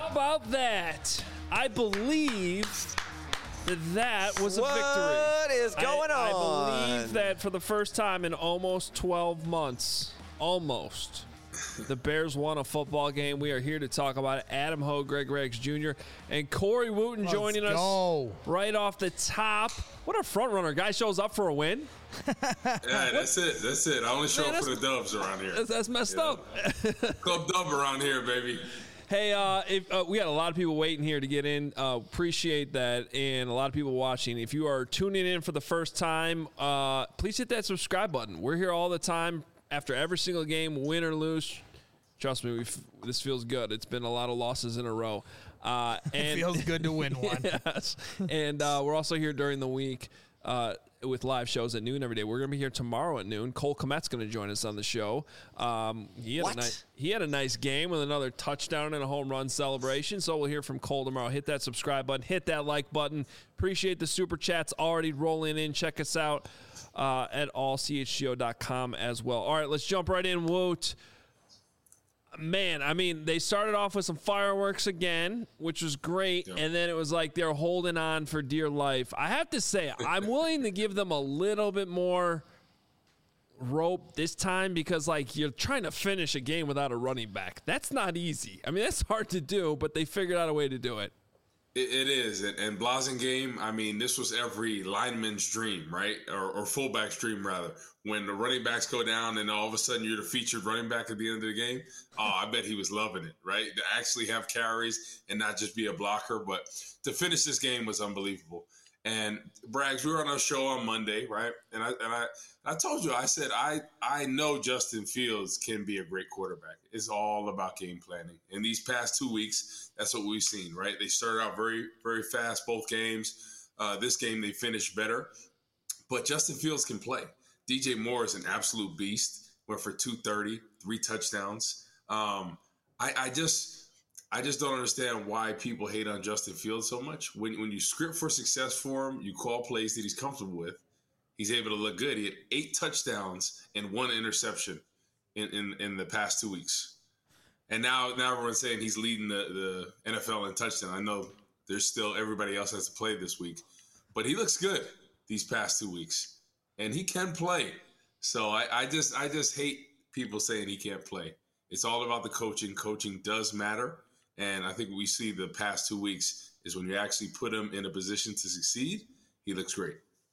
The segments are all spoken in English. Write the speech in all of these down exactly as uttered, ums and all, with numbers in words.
How about that? I believe that that was a what victory. What is going I, on? I believe that for the first time in almost twelve months, almost, the Bears won a football game. We are here to talk about it. Adam Ho, Greg Riggs Junior, and Corey Wooten Let's joining go. us right off the top. What a front runner. Guy shows up for a win. Yeah, that's it. That's it. I only show Man, up for the Dubs around here. That's, that's messed Yeah. up. Club Dub around here, baby. Hey, uh, if, uh, we got a lot of people waiting here to get in. Uh, appreciate that, and a lot of people watching. If you are tuning in for the first time, uh, please hit that subscribe button. We're here all the time after every single game, win or lose. Trust me, we've, this feels good. It's been a lot of losses in a row. Uh, and It feels good to win one. Yes. And uh, we're also here during the week uh, with live shows at noon every day. We're going to be here tomorrow at noon. Cole Kmet's going to join us on the show. Um, he, had What? a nice, he had a nice game with another touchdown and a home run celebration. So we'll hear from Cole tomorrow. Hit that subscribe button. Hit that like button. Appreciate the super chats already rolling in. Check us out uh, at all c h g o dot com as well. All right, let's jump right in. Woot. Man, I mean, they started off with some fireworks again, which was great, Yeah. and then it was like they're holding on for dear life. I have to say, I'm willing to give them a little bit more rope this time because, like, you're trying to finish a game without a running back. That's not easy. I mean, that's hard to do, but they figured out a way to do it. It, it is. And, and Blasingame, I mean, this was every lineman's dream, right? Or, or fullback's dream, rather. When the running backs go down and all of a sudden you're the featured running back at the end of the game. Oh, I bet he was loving it, right? To actually have carries and not just be a blocker. But to finish this game was unbelievable. And Braggs, we were on our show on Monday, right? And I and I I told you, I said I I know Justin Fields can be a great quarterback. It's all about game planning. And these past two weeks, that's what we've seen, right? They started out very very fast both games. Uh, this game they finished better, but Justin Fields can play. D J Moore is an absolute beast. Went for two thirty, three touchdowns. Um, I, I just. I just don't understand why people hate on Justin Fields so much. When when you script for success for him, you call plays that he's comfortable with, he's able to look good. He had eight touchdowns and one interception in, in, in the past two weeks. And now, now everyone's saying he's leading the, the N F L in touchdown. I know there's still everybody else has to play this week. But he looks good these past two weeks. And he can play. So I, I just I just hate people saying he can't play. It's all about the coaching. Coaching does matter. And I think we see the past two weeks is when you actually put him in a position to succeed, he looks great.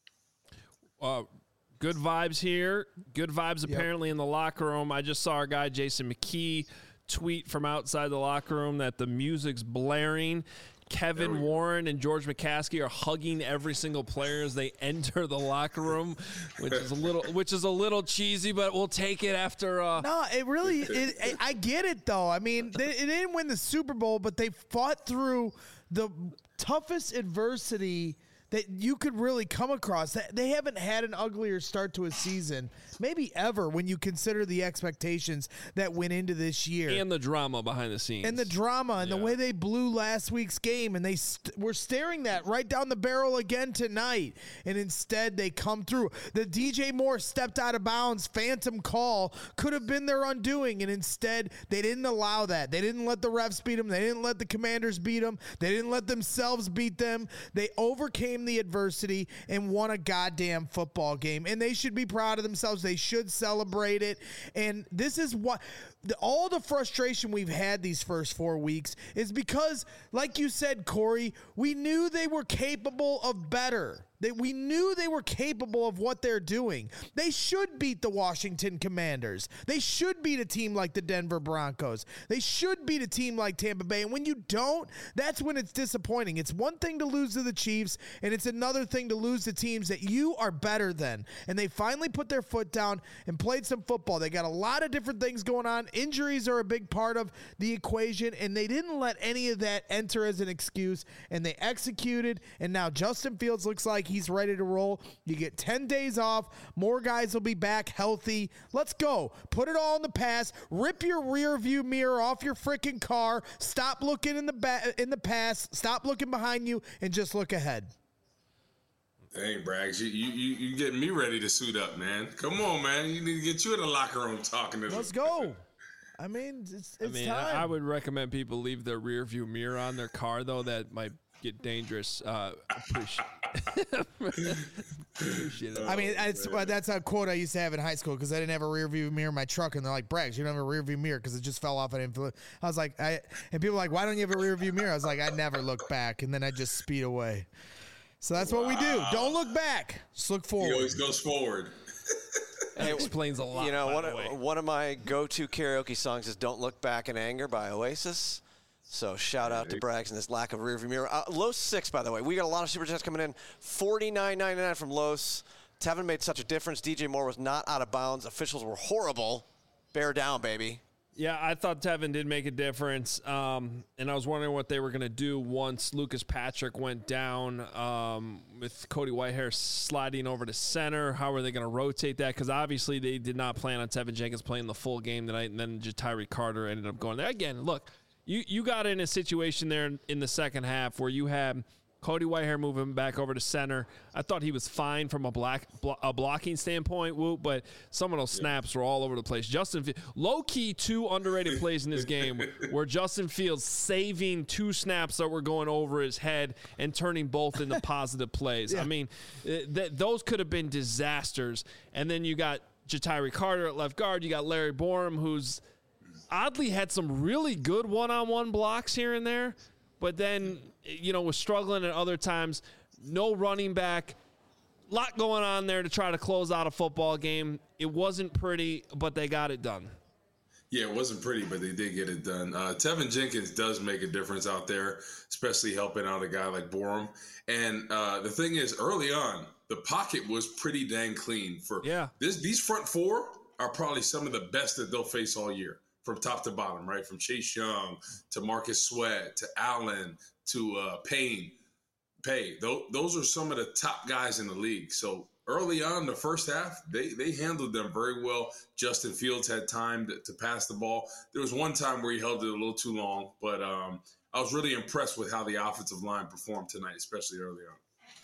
Uh, good vibes here. Good vibes Yep. apparently in the locker room. I just saw our guy Jason McKee tweet from outside the locker room that the music's blaring. Kevin Warren and George McCaskey are hugging every single player as they enter the locker room, which is a little, which is a little cheesy, but we'll take it after. Uh, No, it really. It, it, I get it though. I mean, they, they didn't win the Super Bowl, but they fought through the toughest adversity that you could really come across. They haven't had an uglier start to a season, maybe ever, when you consider the expectations that went into this year. and the drama behind the scenes. And the drama and Yeah. the way they blew last week's game, and they st- were staring that right down the barrel again tonight. And instead, they come through. The D J Moore stepped out of bounds, phantom call could have been their undoing, and instead, they didn't allow that. They didn't let the refs beat them. They didn't let the Commanders beat them. They didn't let themselves beat them. They overcame the adversity and won a goddamn football game, and they should be proud of themselves. They should celebrate it. And this is what the, all the frustration we've had these first four weeks is because, like you said, Corey, we knew they were capable of better. They, we knew they were capable of what they're doing. They should beat the Washington Commanders. They should beat a team like the Denver Broncos. They should beat a team like Tampa Bay. And when you don't, that's when it's disappointing. It's one thing to lose to the Chiefs, and it's another thing to lose to teams that you are better than. And they finally put their foot down and played some football. They got a lot of different things going on. Injuries are a big part of the equation, and they didn't let any of that enter as an excuse, and they executed. And now Justin Fields looks like he's ready to roll. You get ten days off. More guys will be back healthy. Let's go. Put it all in the past. Rip your rear view mirror off your freaking car. Stop looking in the ba- in the past. Stop looking behind you and just look ahead. Dang, Braggs, you, you you you getting me ready to suit up, man. Come on, man. You need to get you in the locker room talking to Let's them. go. I mean, it's, it's I mean, time. I, I would recommend people leave their rear view mirror on their car, though. That might get dangerous. Uh, appreciate, appreciate it. I mean, that's uh, that's a quote I used to have in high school because I didn't have a rear view mirror in my truck, and they're like, "Braggs, you don't have a rear view mirror because it just fell off." I didn't. Feel I was like, I and people were like, "Why don't you have a rear view mirror?" I was like, "I never look back," and then I just speed away. So that's wow. what we do. Don't look back. Just look forward. He always goes forward. That explains a lot. You know, one of, one of my go-to karaoke songs is "Don't Look Back in Anger" by Oasis. So shout out to Braggs and this lack of rearview mirror. Uh, Los six, by the way. We got a lot of super chats coming in. forty-nine ninety-nine from Los. Tevin made such a difference. D J Moore was not out of bounds. Officials were horrible. Bear down, baby. Yeah, I thought Tevin did make a difference, um, and I was wondering what they were going to do once Lucas Patrick went down um, with Cody Whitehair sliding over to center. How are they going to rotate that? Because obviously they did not plan on Tevin Jenkins playing the full game tonight, and then Ja'Tyre Carter ended up going there. Again, look, you, you got in a situation there in the second half where you had – Cody Whitehair moving back over to center. I thought he was fine from a black blo- a blocking standpoint, Whoop, but some of those snaps yeah. were all over the place. Justin, low-key, two underrated plays in this game where Justin Fields saving two snaps that were going over his head and turning both into positive plays. Yeah. I mean, th- those could have been disasters. And then you got Ja'Tyre Carter at left guard. You got Larry Borom, who's oddly had some really good one-on-one blocks here and there. But then, you know, was struggling at other times. No running back. Lot going on there to try to close out a football game. It wasn't pretty, but they got it done. Yeah, it wasn't pretty, but they did get it done. Uh, Tevin Jenkins does make a difference out there, especially helping out a guy like Borom. And uh, the thing is, early on, the pocket was pretty dang clean. For yeah. this, these front four are probably some of the best that they'll face all year. From top to bottom, right? From Chase Young to Marcus Sweat to Allen to uh, Payne. Pay. Those, those are some of the top guys in the league. So early on, the first half, they they handled them very well. Justin Fields had time to, to pass the ball. There was one time where he held it a little too long, but um, I was really impressed with how the offensive line performed tonight, especially early on.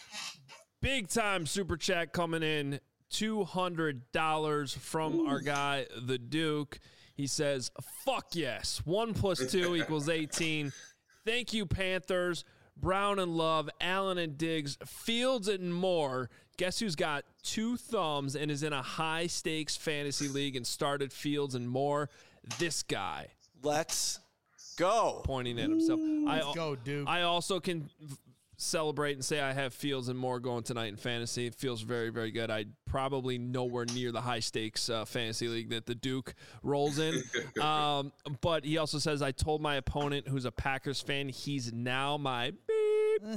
Big time super chat coming in. two hundred dollars from Ooh. Our guy, the Duke. He says, fuck yes. One plus two equals eighteen. Thank you, Panthers. Brown and Love, Allen and Diggs, Fields and Moore. Guess who's got two thumbs and is in a high-stakes fantasy league and started Fields and Moore? This guy. Let's go. Pointing at himself. Ooh, I, let's go, Duke. I also can celebrate and say I have Fields and Moore going tonight in fantasy. It feels very, very good. I probably nowhere near the high stakes uh, fantasy league that the Duke rolls in. um, but he also says, I told my opponent who's a Packers fan, he's now my beep.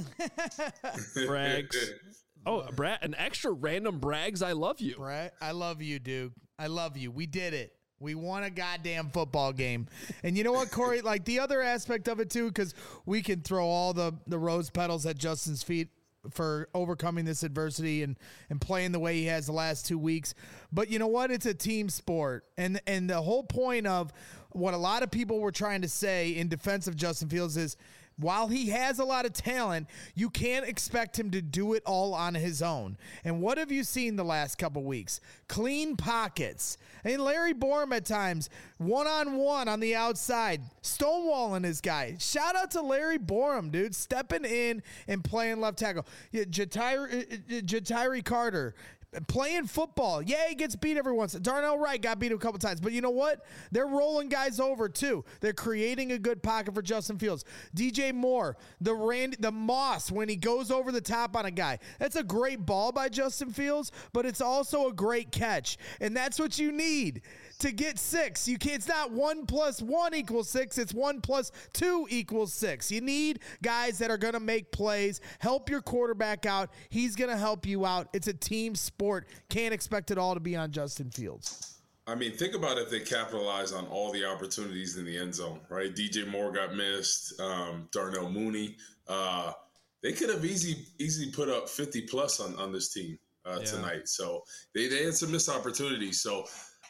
Braggs. Oh, Brad, an extra random Braggs. I love you. Brad, I love you, Duke. I love you. We did it. We won a goddamn football game. And you know what, Corey? Like, the other aspect of it, too, because we can throw all the, the rose petals at Justin's feet for overcoming this adversity and, and playing the way he has the last two weeks. But you know what? It's a team sport. And, and the whole point of what a lot of people were trying to say in defense of Justin Fields is, while he has a lot of talent, you can't expect him to do it all on his own. And what have you seen the last couple weeks? Clean pockets. And Larry Borom at times, one-on-one on the outside, stonewalling his guy. Shout out to Larry Borom, dude, stepping in and playing left tackle. Yeah, Ja'Tyre, Ja'Tyre Carter, playing football. Yeah, he gets beat every once. Darnell Wright got beat a couple times. But you know what? They're rolling guys over, too. They're creating a good pocket for Justin Fields. D J Moore, the Randy, the Moss, when he goes over the top on a guy. That's a great ball by Justin Fields, but it's also a great catch. And that's what you need to get six. You can't, it's not one plus one equals six. It's one plus two equals six. You need guys that are going to make plays, help your quarterback out. He's going to help you out. It's a team sport. Can't expect it all to be on Justin Fields. I mean, think about if they capitalize on all the opportunities in the end zone, right? D J Moore got missed. Um, Darnell Mooney. Uh, they could have easy, easily put up fifty plus on, on this team uh, yeah. tonight. So they, they had some missed opportunities. So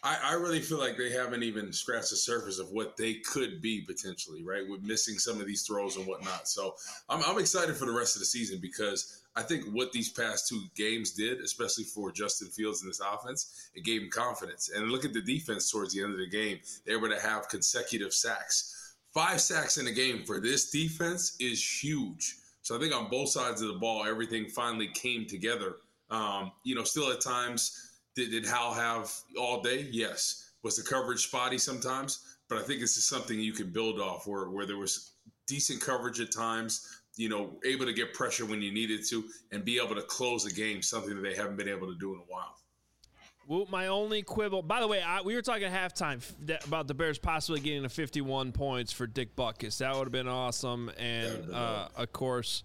I, I really feel like they haven't even scratched the surface of what they could be potentially, right? With missing some of these throws and whatnot. So I'm, I'm excited for the rest of the season because I think what these past two games did, especially for Justin Fields in this offense, it gave him confidence. And look at the defense towards the end of the game. They were able to have consecutive sacks. Five sacks in a game for this defense is huge. So I think on both sides of the ball, everything finally came together. Um, you know, still at times, did, did Hal have all day? Yes. Was the coverage spotty sometimes? But I think it's just something you can build off where, where there was decent coverage at times, you know, able to get pressure when you needed to and be able to close a game, something that they haven't been able to do in a while. Well, my only quibble, by the way, I, we were talking at halftime that, about the Bears possibly getting to fifty-one points for Dick Butkus. That would have been awesome. And, uh, of course,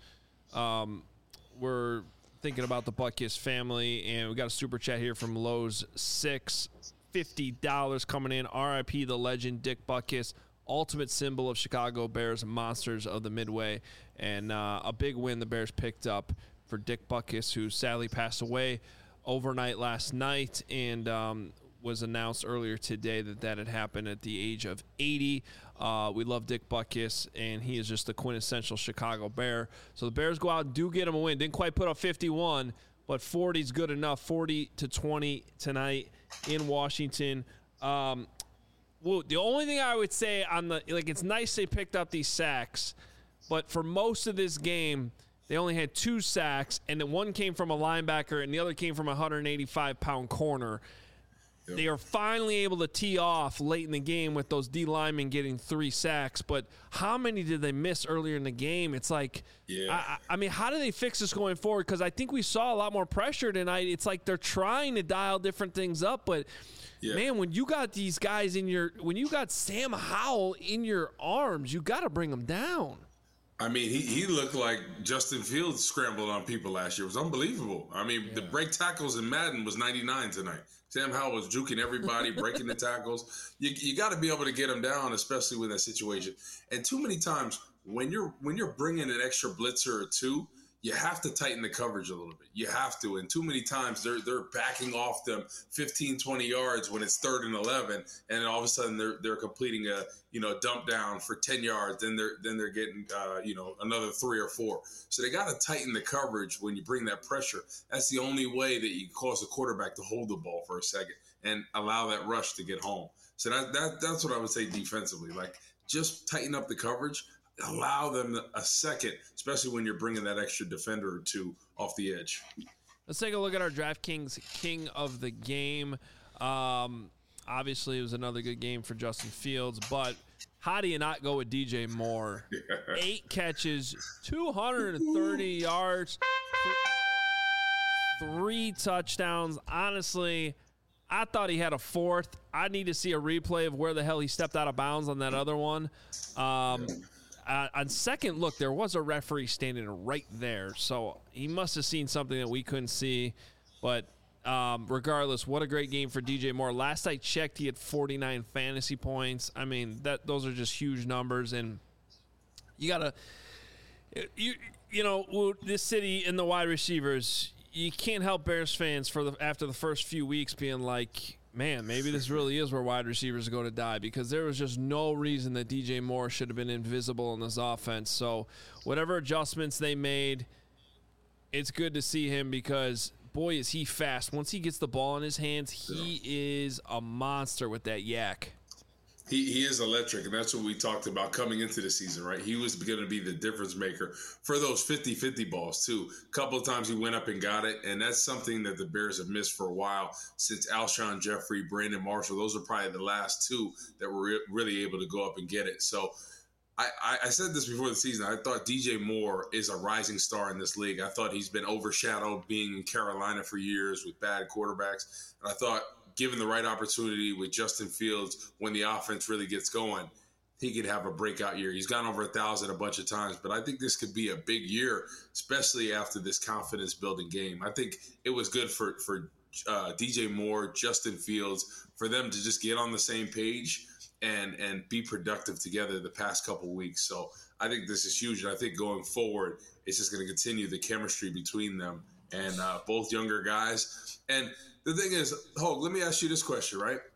um, we're thinking about the Butkus family. And we got a super chat here from Lowe's six, fifty dollars coming in. R I P the legend, Dick Butkus, ultimate symbol of Chicago Bears, monsters of the Midway. And uh, a big win the Bears picked up for Dick Butkus, who sadly passed away overnight last night, and um, was announced earlier today that that had happened at the age of eighty. Uh, we love Dick Butkus, and he is just the quintessential Chicago Bear. So the Bears go out and do get him a win. Didn't quite put up fifty-one, but forty is good enough. forty to twenty tonight in Washington. Um, well, the only thing I would say on the, like, it's nice they picked up these sacks, but for most of this game, they only had two sacks, and then one came from a linebacker and the other came from a one hundred eighty-five pound corner. Yep. They are finally able to tee off late in the game with those D linemen getting three sacks, but how many did they miss earlier in the game? It's like, yeah. I, I mean, how do they fix this going forward? Because I think we saw a lot more pressure tonight. It's like they're trying to dial different things up, but yeah. man, when you got these guys in your, when you got Sam Howell in your arms, you got to bring them down. I mean, he, he looked like Justin Fields scrambled on people last year. It was unbelievable. I mean, yeah. the break tackles in Madden was ninety-nine tonight. Sam Howell was juking everybody, breaking the tackles. You you got to be able to get them down, especially with that situation. And too many times when you're when you're bringing an extra blitzer or two, you have to tighten the coverage a little bit. You have to. And too many times they're they're backing off them fifteen, twenty yards when it's third and eleven, and then all of a sudden they're they're completing a you know dump down for ten yards. Then they're then they're getting uh, you know another three or four. So they got to tighten the coverage when you bring that pressure. That's the only way that you cause a quarterback to hold the ball for a second and allow that rush to get home. So that that that's what I would say defensively. Like just tighten up the coverage. Allow them a second, especially when you're bringing that extra defender or two off the edge. Let's take a look at our DraftKings King of the Game. Um, obviously, it was another good game for Justin Fields, but how do you not go with D J Moore? Yeah. Eight catches, two hundred thirty yards, three touchdowns. Honestly, I thought he had a fourth. I need to see a replay of where the hell he stepped out of bounds on that other one. Um, yeah. Uh, on second look, there was a referee standing right there, so he must have seen something that we couldn't see. But um, regardless, what a great game for D J Moore. Last I checked, he had forty-nine fantasy points. I mean, that those are just huge numbers, and you gotta, you you know, this city and the wide receivers. You can't help Bears fans for the after the first few weeks being like, man, maybe this really is where wide receivers are going to die, because there was just no reason that D J Moore should have been invisible in this offense. So whatever adjustments they made, it's good to see him because, boy, is he fast. Once he gets the ball in his hands, he is a monster with that yak. He he is electric, and that's what we talked about coming into the season, right? He was going to be the difference maker for those fifty-fifty balls, too. A couple of times he went up and got it, and that's something that the Bears have missed for a while since Alshon Jeffrey, Brandon Marshall. Those are probably the last two that were re- really able to go up and get it. So I, I, I said this before the season. I thought D J Moore is a rising star in this league. I thought he's been overshadowed being in Carolina for years with bad quarterbacks, and I thought – given the right opportunity with Justin Fields, when the offense really gets going, he could have a breakout year. He's gone over a thousand a bunch of times, but I think this could be a big year, especially after this confidence-building game. I think it was good for for uh, D J Moore, Justin Fields, for them to just get on the same page and and be productive together the past couple of weeks. So I think this is huge, and I think going forward, it's just going to continue the chemistry between them and uh, both younger guys. And the thing is, Hogue, let me ask you this question, right?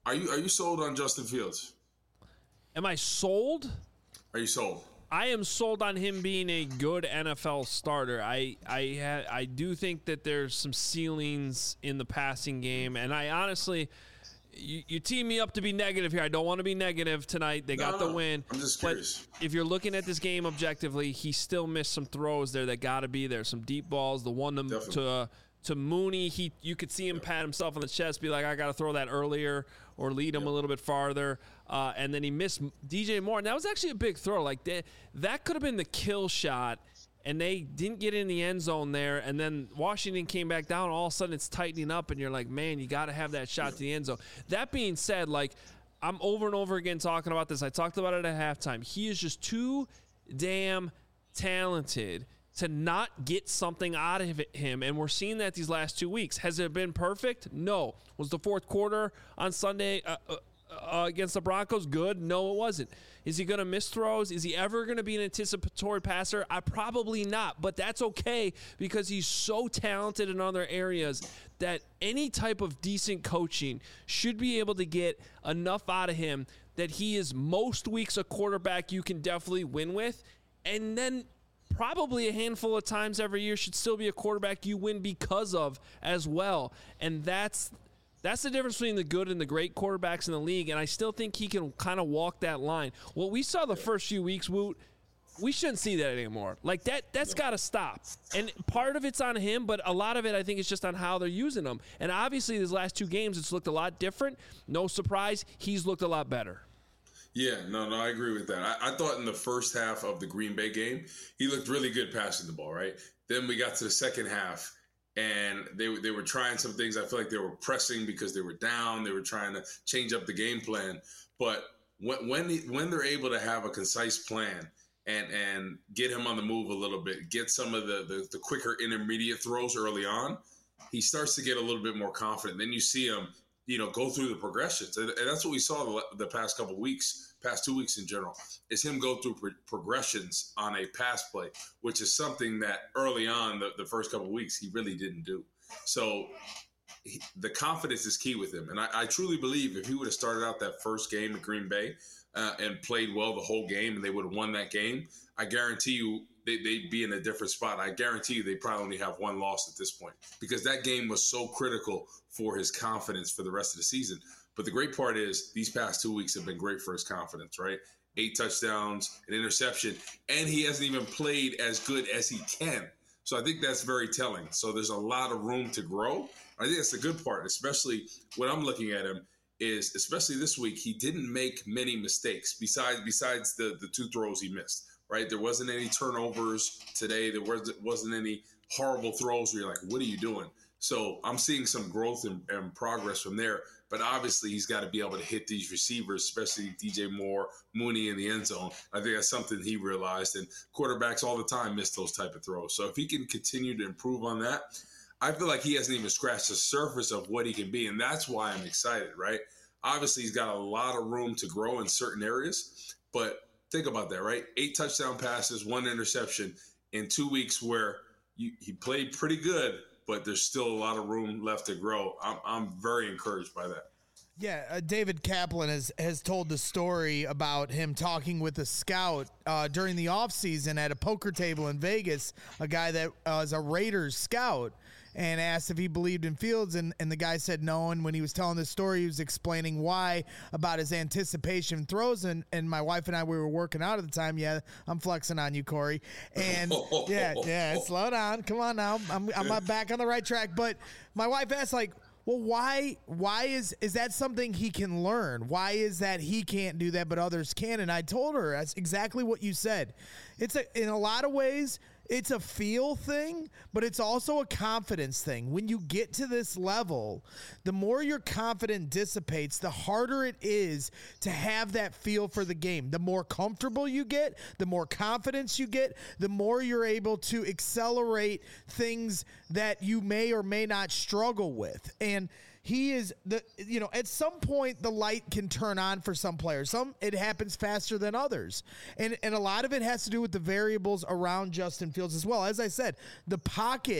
Are you are you sold on Justin Fields? Am I sold? Are you sold? I am sold on him being a good N F L starter. I I ha- I do think that there's some ceilings in the passing game, and I honestly, you, you team me up to be negative here. I don't want to be negative tonight. They No, got no, the win. I'm just but curious. if you're looking at this game objectively, he still missed some throws there that got to be there. Some deep balls. The one to Definitely. to, uh, to Mooney, he you could see him pat himself on the chest, be like, I got to throw that earlier or lead him a little bit farther. Uh, and then he missed D J Moore. And that was actually a big throw. Like that, that could have been the kill shot. And they didn't get in the end zone there. And then Washington came back down. All of a sudden it's tightening up. And you're like, man, you got to have that shot to the end zone. That being said, like, I'm over and over again talking about this. I talked about it at halftime. He is just too damn talented to not get something out of him, and we're seeing that these last two weeks. Has it been perfect? No. Was the fourth quarter on Sunday uh, uh, uh, against the Broncos good? No, it wasn't. Is he going to miss throws? Is he ever going to be an anticipatory passer? I probably not, but that's okay because he's so talented in other areas that any type of decent coaching should be able to get enough out of him that he is most weeks a quarterback you can definitely win with, and then probably a handful of times every year should still be a quarterback you win because of as well. And that's that's the difference between the good and the great quarterbacks in the league. And I still think he can kind of walk that line. What we saw the first few weeks, Woot, we shouldn't see that anymore. Like that, that's got to stop. And part of it's on him, but a lot of it I think is just on how they're using him. And obviously these last two games, it's looked a lot different. No surprise, he's looked a lot better. Yeah, no, no, I agree with that. I, I thought in the first half of the Green Bay game, he looked really good passing the ball, right? Then we got to the second half, and they they were trying some things. I feel like they were pressing because they were down. They were trying to change up the game plan. But when when, he, when they're able to have a concise plan and and get him on the move a little bit, get some of the, the, the quicker intermediate throws early on, he starts to get a little bit more confident. Then you see him, you know, go through the progressions. And, and that's what we saw the, the past couple of weeks, past two weeks in general, is him go through pro- progressions on a pass play, which is something that early on, the, the first couple of weeks, he really didn't do. So he, the confidence is key with him. And I, I truly believe if he would have started out that first game at Green Bay uh, and played well the whole game and they would have won that game, I guarantee you they, they'd be in a different spot. I guarantee you they probably only have one loss at this point because that game was so critical for his confidence for the rest of the season. But the great part is these past two weeks have been great for his confidence, right? Eight touchdowns, an interception, and he hasn't even played as good as he can. So I think that's very telling. So there's a lot of room to grow. I think that's the good part, especially when I'm looking at him is, especially this week, he didn't make many mistakes besides besides the, the two throws he missed, right? There wasn't any turnovers today. There wasn't, wasn't any horrible throws where you're like, what are you doing? So I'm seeing some growth and, and progress from there. But obviously, he's got to be able to hit these receivers, especially D J Moore, Mooney in the end zone. I think that's something he realized. And quarterbacks all the time miss those type of throws. So if he can continue to improve on that, I feel like he hasn't even scratched the surface of what he can be. And that's why I'm excited, right? Obviously, he's got a lot of room to grow in certain areas. But think about that, right? Eight touchdown passes, one interception in two weeks where you, he played pretty good, but there's still a lot of room left to grow. I'm, I'm very encouraged by that. Yeah, uh, David Kaplan has, has told the story about him talking with a scout uh, during the offseason at a poker table in Vegas, a guy that uh, is a Raiders scout, and asked if he believed in Fields, and, and the guy said no, and when he was telling this story, he was explaining why about his anticipation throws, and, and my wife and I, we were working out at the time. Yeah, I'm flexing on you, Corey. And yeah, yeah, slow down. Come on now. I'm, I'm back on the right track. But my wife asked, like, well, why why is is that something he can learn? Why is that he can't do that but others can? And I told her that's exactly what you said. It's a, in a lot of ways, it's a feel thing, but it's also a confidence thing. When you get to this level, the more your confidence dissipates, the harder it is to have that feel for the game. The more comfortable you get, the more confidence you get, the more you're able to accelerate things that you may or may not struggle with. And he is the, you know, at some point the light can turn on for some players. Some, it happens faster than others. And, and a lot of it has to do with the variables around Justin Fields as well. As I said, the pocket,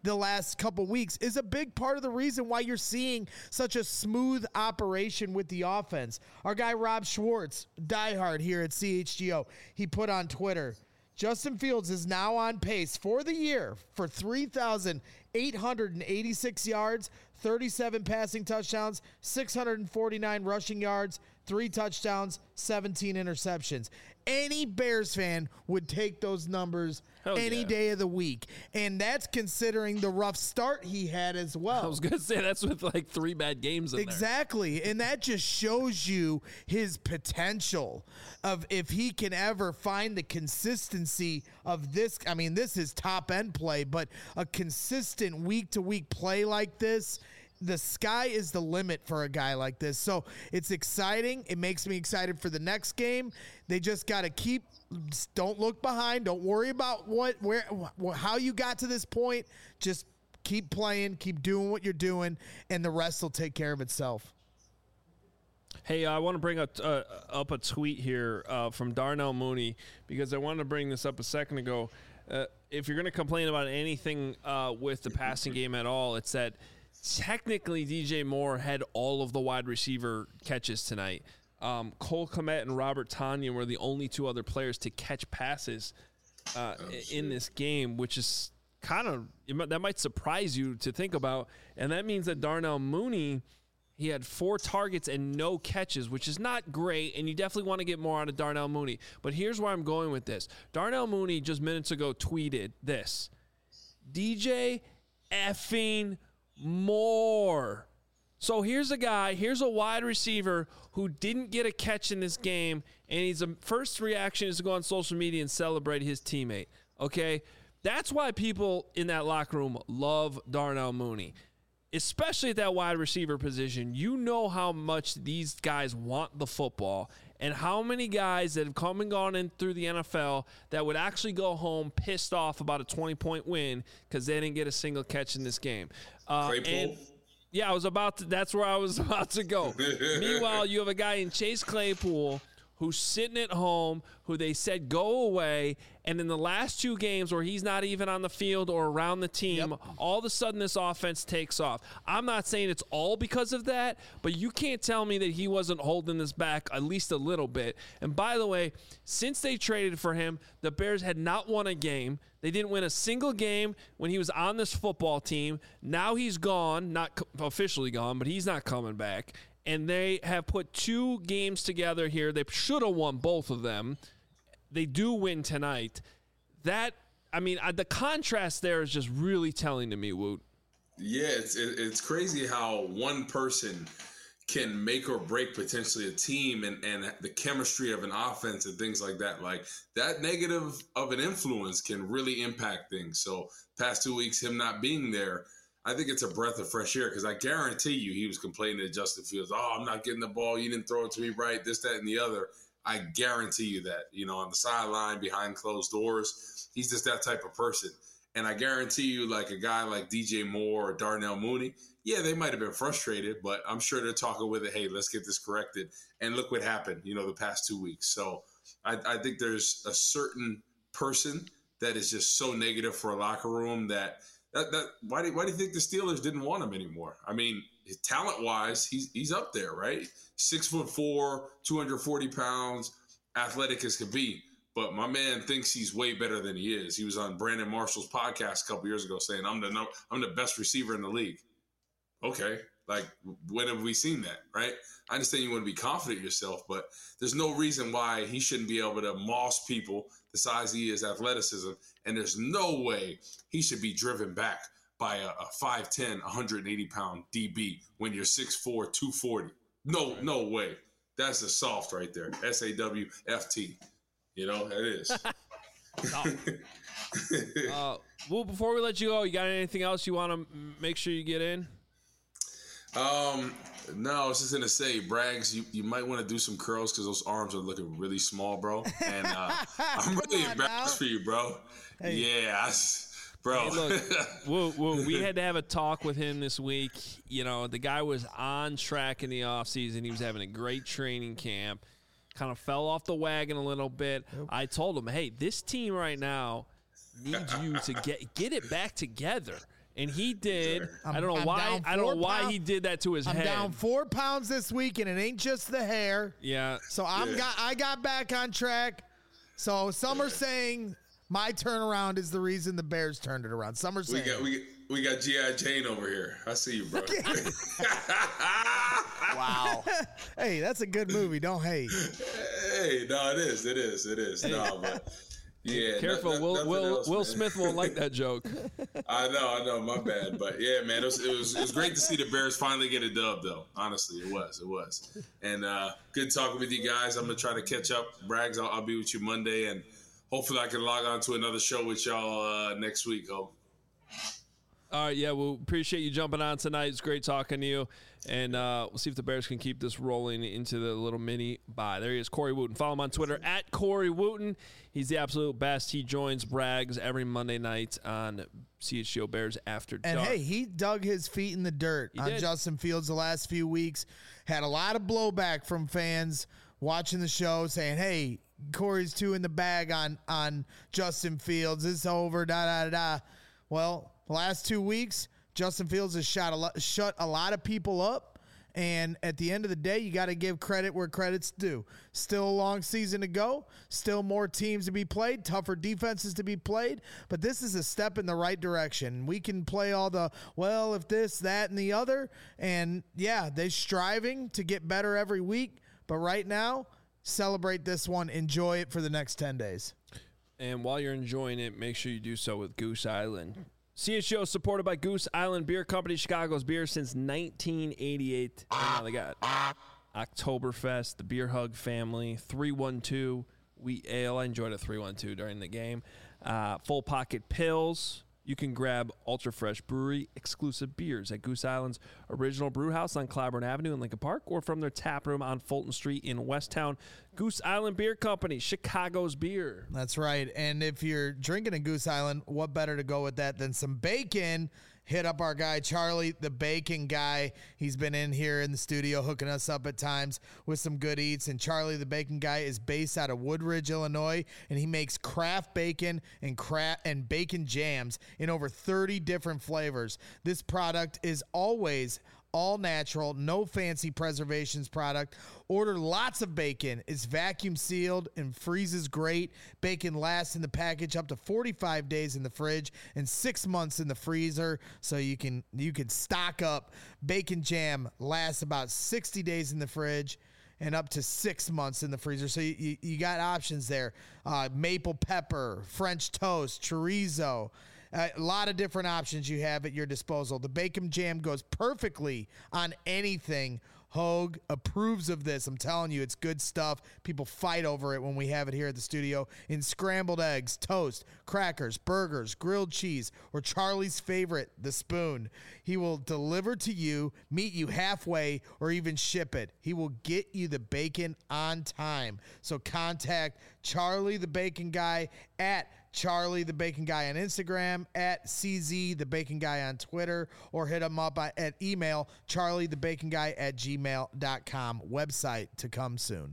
the last couple weeks is a big part of the reason why you're seeing such a smooth operation with the offense. Our guy Rob Schwartz, diehard here at C H G O, he put on Twitter, Justin Fields is now on pace for the year for three thousand eight hundred eighty-six yards, thirty-seven passing touchdowns, six hundred forty-nine rushing yards, three touchdowns, seventeen interceptions. Any Bears fan would take those numbers Hell any yeah. day of the week. And that's considering the rough start he had as well. I was going to say that's with like three bad games in Exactly. there. And that just shows you his potential of if he can ever find the consistency of this. I mean, this is top end play, but a consistent week to week play like this, the sky is the limit for a guy like this. So it's exciting. It makes me excited for the next game. They just got to keep, don't look behind. Don't worry about what, where, wh- how you got to this point. Just keep playing, keep doing what you're doing, and the rest will take care of itself. Hey, I want to bring up, uh, up a tweet here uh, from Darnell Mooney, because I wanted to bring this up a second ago. Uh, if you're going to complain about anything uh, with the passing game at all, it's that technically D J Moore had all of the wide receiver catches tonight. Um, Cole Kmet and Robert Tonyan were the only two other players to catch passes uh, oh, in this game, which is kind of – that might surprise you to think about. And that means that Darnell Mooney, he had four targets and no catches, which is not great, and you definitely want to get more out of Darnell Mooney. But here's where I'm going with this. Darnell Mooney just minutes ago tweeted this, D J effing Moore. So here's a guy, here's a wide receiver who didn't get a catch in this game, and his first reaction is to go on social media and celebrate his teammate, okay? That's why people in that locker room love Darnell Mooney, especially at that wide receiver position. You know how much these guys want the football, and how many guys that have come and gone in through the N F L that would actually go home pissed off about a twenty-point win because they didn't get a single catch in this game. Uh, and yeah, I was about to. That's where I was about to go. Meanwhile, you have a guy in Chase Claypool who's sitting at home, who they said go away, and in the last two games where he's not even on the field or around the team, yep. all of a sudden this offense takes off. I'm not saying it's all because of that, but you can't tell me that he wasn't holding this back at least a little bit. And by the way, since they traded for him, the Bears had not won a game. They didn't win a single game when he was on this football team. Now he's gone, not officially gone, but he's not coming back. And they have put two games together here. They should have won both of them. They do win tonight. That, I mean, the contrast there is just really telling to me, Woot. Yeah, it's it's crazy how one person can make or break potentially a team and, and the chemistry of an offense and things like that. Like, that negative of an influence can really impact things. So past two weeks, him not being there, I think it's a breath of fresh air, because I guarantee you he was complaining to Justin Fields, oh, I'm not getting the ball, you didn't throw it to me right, this, that, and the other. I guarantee you that, you know, on the sideline, behind closed doors, he's just that type of person. And I guarantee you, like a guy like D J Moore or Darnell Mooney, yeah, they might have been frustrated, but I'm sure they're talking with it, hey, let's get this corrected. And look what happened, you know, the past two weeks. So I, I think there's a certain person that is just so negative for a locker room that – That, that why do why do you think the Steelers didn't want him anymore? I mean, talent wise, he's he's up there, right? Six foot four, two hundred forty pounds, athletic as could be. But my man thinks he's way better than he is. He was on Brandon Marshall's podcast a couple years ago saying, "I'm the I'm the best receiver in the league." Okay, like when have we seen that, right? I understand you want to be confident in yourself, but there's no reason why he shouldn't be able to moss people the size he is, athleticism, and there's no way he should be driven back by a, a five ten, one hundred eighty pound D B when you're six four, two forty. No, right. no way. That's the soft right there. S A W F T. You know, it is. uh, well, before we let you go, you got anything else you want to make sure you get in? Um, no, I was just going to say, Braggs, you, you might want to do some curls because those arms are looking really small, bro. And uh, I'm really embarrassed for you, bro. Hey. Yeah, I, bro. Hey, look, whoa, whoa, we had to have a talk with him this week. You know, the guy was on track in the offseason. He was having a great training camp. Kind of fell off the wagon a little bit. Yep. I told him, hey, this team right now needs you to get get it back together. And he did. I'm, I don't know I'm why. I don't know why pound, he did that to his I'm head. I'm down four pounds this week, and it ain't just the hair. Yeah. So I'm Yeah. got. I got back on track. So some are saying my turnaround is the reason the Bears turned it around. Some are We saying. got we we got G I. Jane over here. I see you, bro. Wow. Hey, that's a good movie. Don't hate. Hey, no, it is, it is, it is. No, but yeah. Careful, no- no- Will nothing Will else, Will man. Smith won't like that joke. I know, I know, my bad, but yeah, man, it was, it was it was great to see the Bears finally get a dub, though. Honestly, it was, it was, and uh, good talking with you guys. I'm gonna try to catch up, Braggs. I'll, I'll be with you Monday, and hopefully I can log on to another show with y'all uh, next week. Hope. All right, yeah, we we'll appreciate you jumping on tonight. It's great talking to you, and uh, we'll see if the Bears can keep this rolling into the little mini bye. There he is, Corey Wooten. Follow him on Twitter at Corey Wooten. He's the absolute best. He joins Braggs every Monday night on C H G O Bears After And Dark. hey, he dug his feet in the dirt He on did. Justin Fields the last few weeks. Had a lot of blowback from fans watching the show saying, hey, Corey's two in the bag on, on Justin Fields. It's over, da, da, da, da. Well, the last two weeks, Justin Fields has shot a lot, shut a lot of people up. And at the end of the day, you got to give credit where credit's due. Still a long season to go. Still more teams to be played, tougher defenses to be played. But this is a step in the right direction. We can play all the, well, if this, that, and the other. And, yeah, they're striving to get better every week. But right now, celebrate this one. Enjoy it for the next ten days. And while you're enjoying it, make sure you do so with Goose Island. C H G O is supported by Goose Island Beer Company, Chicago's beer since nineteen eighty-eight. And now they got Oktoberfest, the Beer Hug family, three one two Wheat Ale. I enjoyed a three one two during the game. Uh, full Pocket Pills. You can grab Ultra Fresh Brewery exclusive beers at Goose Island's original brew house on Clybourne Avenue in Lincoln Park, or from their tap room on Fulton Street in Westtown. Goose Island Beer Company, Chicago's beer. That's right. And if you're drinking a Goose Island, what better to go with that than some bacon? Hit up our guy, Charlie, the bacon guy. He's been in here in the studio hooking us up at times with some good eats. And Charlie, the bacon guy, is based out of Woodridge, Illinois, and he makes craft bacon and craft and bacon jams in over thirty different flavors. This product is always all natural, no fancy preservations product. Order lots of bacon. It's vacuum sealed and freezes great. Bacon lasts in the package up to forty-five days in the fridge and six months in the freezer, so you can you can stock up. Bacon jam lasts about sixty days in the fridge and up to six months in the freezer. So you, you, you got options there. Uh, maple pepper, French toast, chorizo. A lot of different options you have at your disposal. The bacon jam goes perfectly on anything. Hogue approves of this. I'm telling you, it's good stuff. People fight over it when we have it here at the studio. In scrambled eggs, toast, crackers, burgers, grilled cheese, or Charlie's favorite, the spoon. He will deliver to you, meet you halfway, or even ship it. He will get you the bacon on time. So contact Charlie the Bacon Guy at Charlie the Bacon Guy on Instagram, at C Z the Bacon Guy on Twitter, or hit him up at email charlie the bacon guy at gmail dot com. Website to come soon.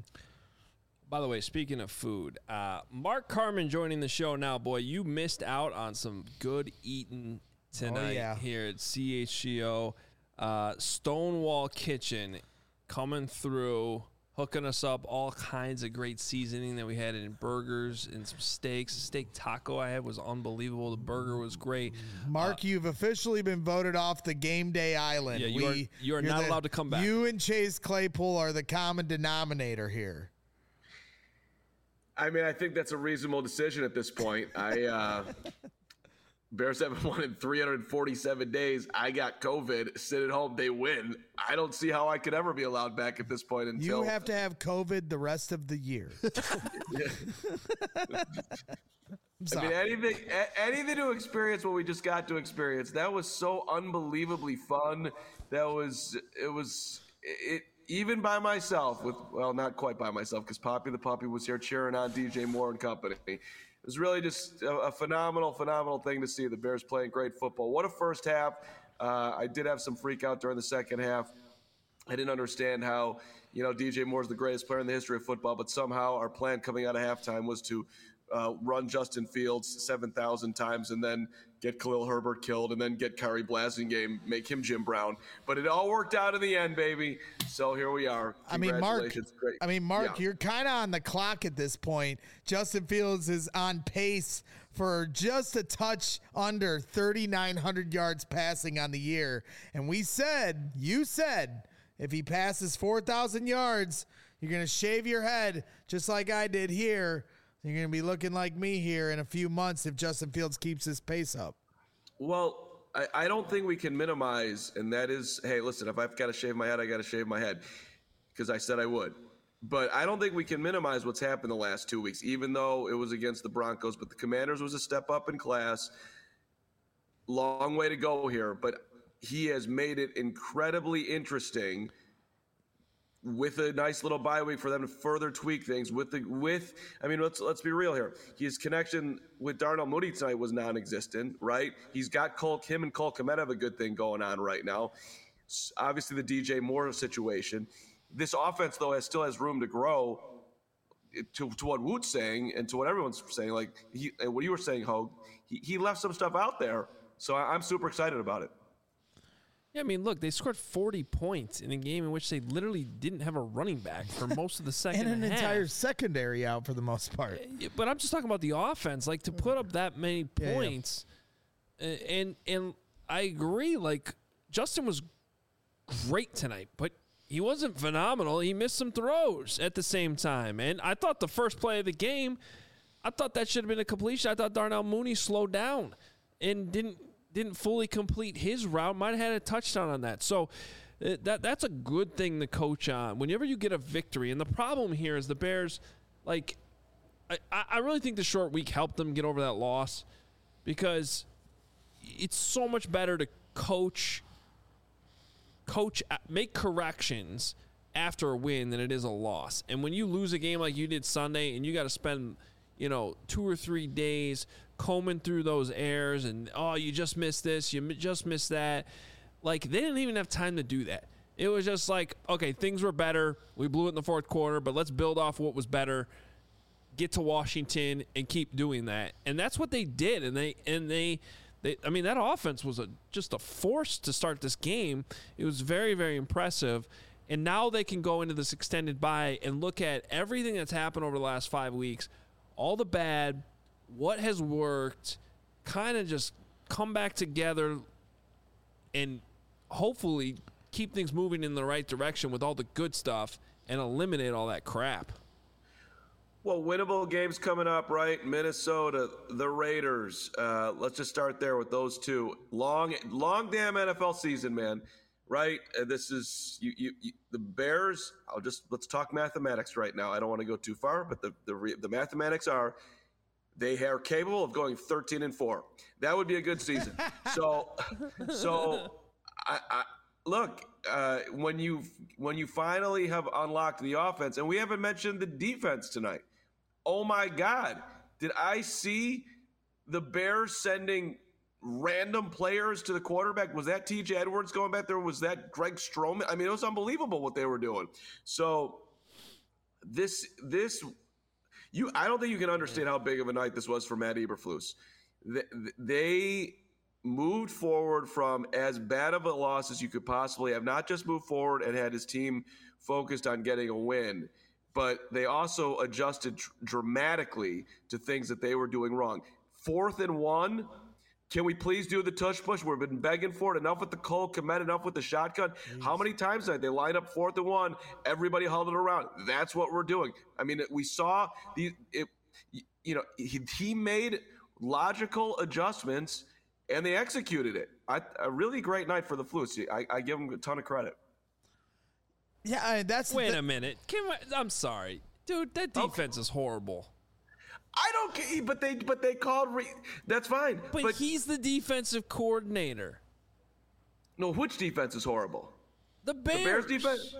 By the way, speaking of food, uh, Mark Carman joining the show now. Boy, you missed out on some good eating tonight Oh, yeah. here at C H G O. Uh, Stonewall Kitchen coming through, hooking us up all kinds of great seasoning that we had in burgers and some steaks. The steak taco I had was unbelievable. The burger was great. Mark, you've officially been voted off the game day island. Yeah, you are- you are you're not the- allowed to come back. You and Chase Claypool are the common denominator here. I mean, I think that's a reasonable decision at this point. I uh, Bears haven't won in three hundred forty-seven days. I got COVID. Sit at home. They win. I don't see how I could ever be allowed back at this point until You have to have COVID the rest of the year. I'm I sorry. mean, anything, a- anything to experience what we just got to experience. That was so unbelievably fun. That was, it was, it, even by myself with, well, not quite by myself because Poppy the Puppy was here cheering on D J Moore and company. It was really just a, a phenomenal, phenomenal thing to see the Bears playing great football. What a first half. Uh, I did have some freak out during the second half. I didn't understand how, you know, D J Moore's the greatest player in the history of football, but somehow our plan coming out of halftime was to uh, run Justin Fields seven thousand times and then get Khalil Herbert killed and then get Kyrie Blasingame, make him Jim Brown. But it all worked out in the end, baby. So here we are. I mean, Mark, Great. I mean, Mark, Yeah. you're kind of on the clock at this point. Justin Fields is on pace for just a touch under thirty-nine hundred yards passing on the year. And we said, you said, if he passes four thousand yards, you're going to shave your head just like I did here. You're going to be looking like me here in a few months if Justin Fields keeps his pace up. Well, I, I don't think we can minimize, and that is, hey, listen, if I've got to shave my head, I got to shave my head because I said I would. But I don't think we can minimize what's happened the last two weeks, even though it was against the Broncos. But the Commanders was a step up in class. Long way to go here, but he has made it incredibly interesting with a nice little bye week for them to further tweak things with the with I mean let's let's be real here. His connection with Darnell Mooney tonight was non-existent, right? He's got Cole him and Cole Kmet have a good thing going on right now. Obviously the D J Moore situation. This offense though has still has room to grow. To, to what Woot's saying and to what everyone's saying, like he and what you were saying, Hogue, he, he left some stuff out there. So I, I'm super excited about it. Yeah, I mean, look, they scored forty points in a game in which they literally didn't have a running back for most of the second And an half. entire secondary out for the most part. But I'm just talking about the offense. Like, to put up that many Yeah, yeah. points, uh, and and I agree, like, Justin was great tonight, but he wasn't phenomenal. He missed some throws at the same time. And I thought the first play of the game, I thought that should have been a completion. I thought Darnell Mooney slowed down and didn't didn't fully complete his route. Might have had a touchdown on that. So uh, that that's a good thing to coach on. Whenever you get a victory, and the problem here is the Bears, like, I, I really think the short week helped them get over that loss because it's so much better to coach, coach, make corrections after a win than it is a loss. And when you lose a game like you did Sunday and you got to spend, you know, two or three days combing through those errors and, oh, you just missed this, you just missed that. Like, they didn't even have time to do that. It was just like, okay, things were better. We blew it in the fourth quarter, but let's build off what was better, get to Washington, and keep doing that. And that's what they did. And they, and they, they I mean, that offense was a, just a force to start this game. It was very, very impressive. And now they can go into this extended bye and look at everything that's happened over the last five weeks, all the bad, what has worked, kind of just come back together and hopefully keep things moving in the right direction with all the good stuff and eliminate all that crap. Well, winnable games coming up, right? Minnesota, the Raiders. Uh, let's just start there with those two. Long, long damn N F L season, man. Right? Uh, this is you, you, you. The Bears. I'll just let's talk mathematics right now. I don't want to go too far, but the the, the mathematics are they are capable of going thirteen and four. That would be a good season. so, so I, I look uh, when you when you finally have unlocked the offense, and we haven't mentioned the defense tonight. Oh my God! Did I see the Bears sending random players to the quarterback? Was that T J Edwards going back there? Was that Greg Stroman? I mean, it was unbelievable what they were doing. So this this you I don't think you can understand how big of a night this was for Matt Eberflus. They, they moved forward from as bad of a loss as you could possibly have, not just moved forward and had his team focused on getting a win, but they also adjusted dr- dramatically to things that they were doing wrong. Fourth and one, can we please do the tush push? We've been begging for it. Enough with the Cole Kmet, enough with the shotgun. Jeez. How many times did they line up fourth and one? Everybody held it around. That's what we're doing. I mean, we saw the, it, you know, he, he made logical adjustments and they executed it. I, a really great night for the Flus. I, I give them a ton of credit. Yeah, I mean, that's Wait the, a minute. Can I, I'm sorry, dude. That defense okay. is horrible. I don't care, but they but they called. Re, that's fine. But, but he's the defensive coordinator. No, which defense is horrible? The Bears. The Bears defense.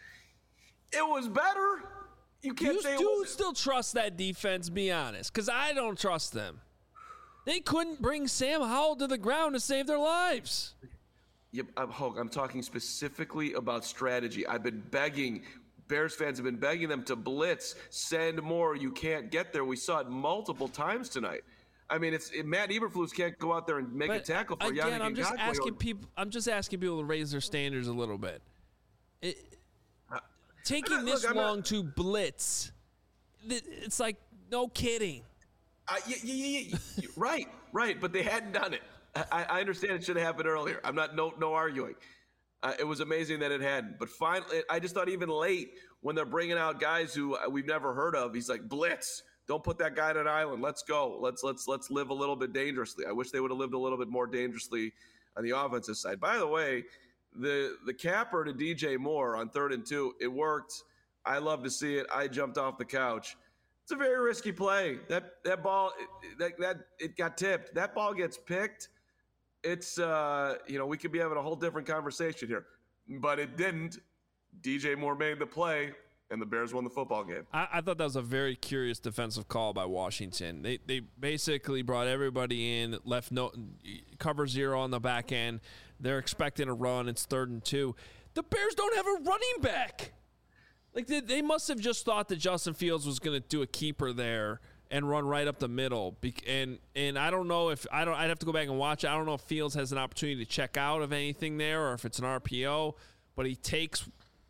It was better. You can't you say. Do it still trust that defense? Be honest, because I don't trust them. They couldn't bring Sam Howell to the ground to save their lives. Yep, I'm, I'm talking specifically about strategy. I've been begging Bears fans have been begging them to blitz, send more. You can't get there. We saw it multiple times tonight. I mean, it's it, Matt Eberflus can't go out there and make But a tackle for again, Yannick I'm just Ngakoue. asking people. I'm just asking people to raise their standards a little bit. It, taking I'm not- this look, I'm not- long to blitz, th- it's like no kidding. Uh, yeah, yeah, yeah, yeah. right, right. But they hadn't done it. I, I understand it should have happened earlier. I'm not no no arguing. Uh, it was amazing that it hadn't. But finally, I just thought even late when they're bringing out guys who we've never heard of, he's like, blitz. Don't put that guy on an island. Let's go. Let's let's let's live a little bit dangerously. I wish they would have lived a little bit more dangerously on the offensive side. By the way, the the capper to D J Moore on third and two, it worked. I love to see it. I jumped off the couch. It's a very risky play. That that ball that that it got tipped. That ball gets picked. It's uh you know we could be having a whole different conversation here, but it didn't. D J Moore made the play. And the Bears won the football game. I, I thought that was a very curious defensive call by Washington. They they basically brought everybody in, left no cover zero on the back end. They're expecting a run. It's third and two. The Bears don't have a running back. Like they, they must have just thought that Justin Fields was going to do a keeper there and run right up the middle. And and I don't know if I don't. I'd have to go back and watch it. I don't know if Fields has an opportunity to check out of anything there or if it's an R P O. But he takes.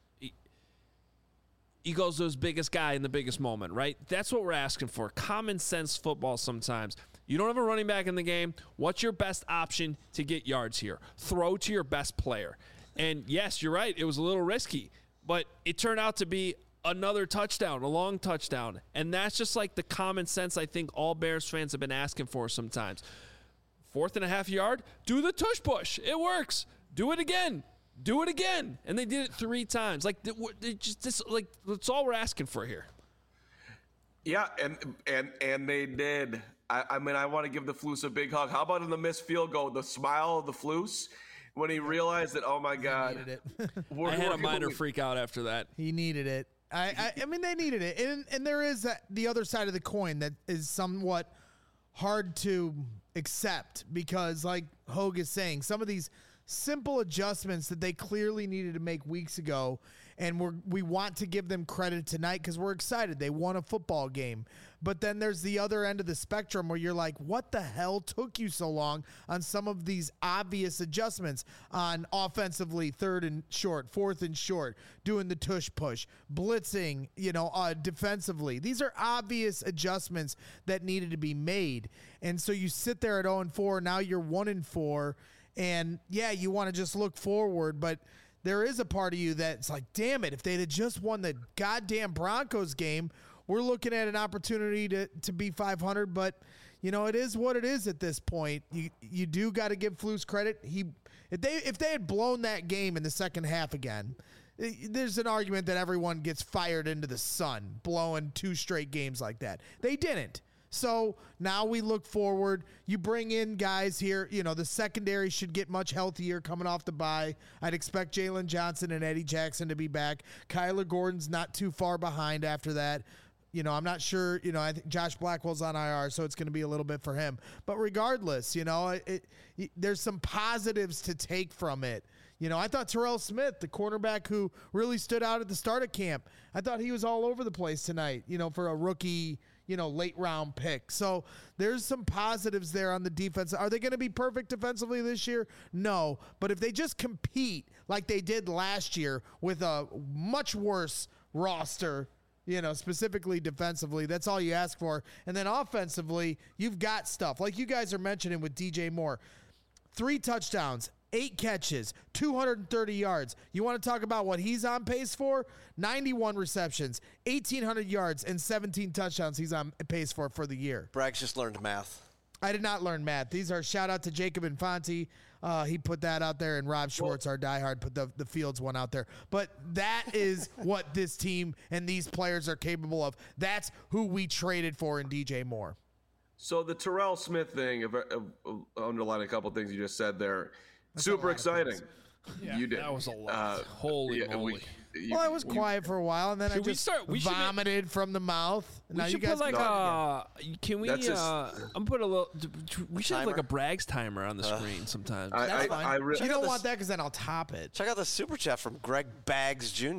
He goes to his biggest guy in the biggest moment, right? That's what we're asking for. Common sense football sometimes. You don't have a running back in the game. What's your best option to get yards here? Throw to your best player. And yes, you're right. It was a little risky, but it turned out to be another touchdown, a long touchdown. And that's just like the common sense I think all Bears fans have been asking for sometimes. Fourth and a half yard, do the tush push. It works. Do it again. Do it again, and they did it three times. Like, they just this, like that's all we're asking for here. Yeah, and and and they did. I, I mean, I want to give the Flus a big hug. How about in the missed field goal, the smile of the Flus when he realized that, oh my God, Needed it. we're, I had we're a minor going- freak out after that. He needed it. I, I, I mean, they needed it, and and there is that, the other side of the coin that is somewhat hard to accept because, like Hogue is saying, some of these simple adjustments that they clearly needed to make weeks ago, and we're we want to give them credit tonight because we're excited. They won a football game. But then there's the other end of the spectrum where you're like, what the hell took you so long on some of these obvious adjustments on offensively, third and short, fourth and short, doing the tush push, blitzing, you know, uh, defensively. These are obvious adjustments that needed to be made. And so you sit there at oh and four, now you're one and four. And yeah, you want to just look forward, but there is a part of you that's like, damn it, if they'd have just won the goddamn Broncos game, we're looking at an opportunity to, to be five hundred. But, you know, it is what it is at this point. You you do got to give Flus credit. He if they if they had blown that game in the second half again, there's an argument that everyone gets fired into the sun, blowing two straight games like that. They didn't. So now we look forward. You bring in guys here. You know, the secondary should get much healthier coming off the bye. I'd expect Jalen Johnson and Eddie Jackson to be back. Kyler Gordon's not too far behind after that. You know, I'm not sure, you know, I think Josh Blackwell's on I R, so it's going to be a little bit for him. But regardless, you know, it, it, there's some positives to take from it. You know, I thought Terrell Smith, the cornerback who really stood out at the start of camp, I thought he was all over the place tonight, you know, for a rookie, you know, late round pick. So there's some positives there on the defense. Are they going to be perfect defensively this year? No. But if they just compete like they did last year with a much worse roster, you know, specifically defensively, that's all you ask for. And then offensively, you've got stuff like you guys are mentioning with D J Moore. Three touchdowns, eight catches, two hundred thirty yards. You want to talk about what he's on pace for? ninety-one receptions, eighteen hundred yards, and seventeen touchdowns he's on pace for for the year. Braggs just learned math. I did not learn math. These are shout out to Jacob Infante. Uh, he put that out there, and Rob Schwartz, our diehard, put the, the Fields one out there. But that is what this team and these players are capable of. That's who we traded for in D J Moore. So the Terrell Smith thing, if, if, if, underline a couple things you just said there, that's super exciting. Yeah, you did. That was a lot. Uh, Holy yeah, moly. we- you- Well, I was you- quiet for a while, and then I Should we just start- we should make- vomited from the mouth. We Now you should guys put like can a. talk again. Can we? That's just- Uh, I'm put a little. We should have like Timer? a Braggs timer on the screen sometimes. I, That's I, fine. I re- you don't this- want that because then I'll top it. Check out the super chat from Greg Baggs Junior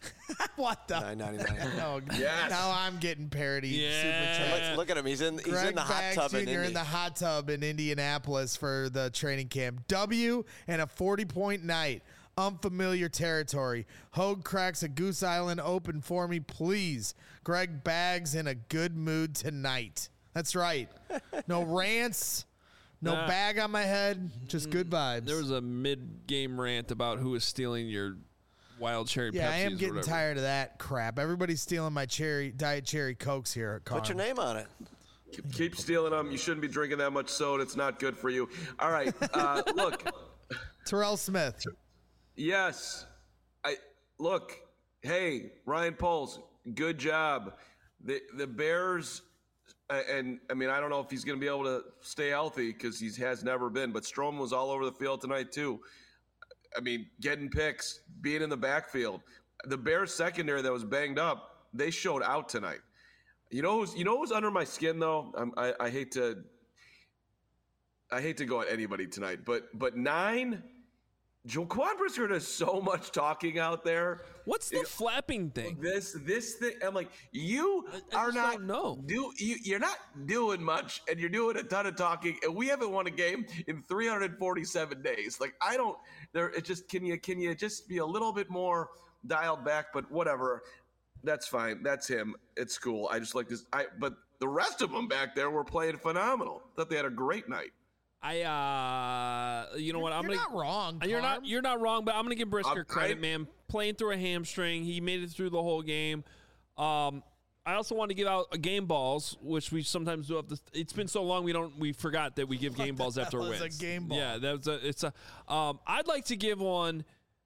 What the? nine ninety-nine. Oh, Yes. Now I'm getting parody. Yeah. Super chat. Let's look at him. He's in. He's Greg in the hot Baggs tub in Junior Indy. in the hot tub in Indianapolis for the training camp. W and a forty-point night. Unfamiliar territory. Hogue cracks a Goose Island open for me, please. Greg Baggs in a good mood tonight. That's right. No rants. No Nah. bag on my head. Just good vibes. There was a mid-game rant about who was stealing your wild cherry yeah, Pepsis I am or getting whatever. tired of that crap. Everybody's stealing my cherry diet cherry Cokes here at Carm. Put your name on it. Keep, keep stealing them. You shouldn't be drinking that much soda. It's not good for you. All right. Uh, look. Terrell Smith. Yes. I look. Hey, Ryan Poles, good job. The the Bears, uh, and I mean I don't know if he's going to be able to stay healthy because he has never been. But Strowman was all over the field tonight too. I mean, getting picks, being in the backfield. The Bears secondary that was banged up, they showed out tonight. You know who's you know who's under my skin though. I'm, I I hate to. I hate to go at anybody tonight, but but nine. Jaquan Brisker does so much talking out there. What's the flapping thing? This this thing, I'm like, you I are just not don't know. do you you're not doing much, and you're doing a ton of talking, and we haven't won a game in three hundred forty-seven days. Like I don't, there. It just can you can you just be a little bit more dialed back? But whatever, that's fine. That's him. It's cool. I just like this. I but the rest of them back there were playing phenomenal. Thought they had a great night. I uh, you know what? I'm You're gonna. not wrong. You're Carm. not. You're not wrong, but I'm gonna give Brisker I'm- credit, I- man. Playing through a hamstring, he made it through the whole game. Um, I also want to give out a game balls, which we sometimes do. Have to, it's been so long we don't. We forgot that we give game balls after hell is a wins. game ball? Yeah, that's a. It's a. Um, I'd like to give one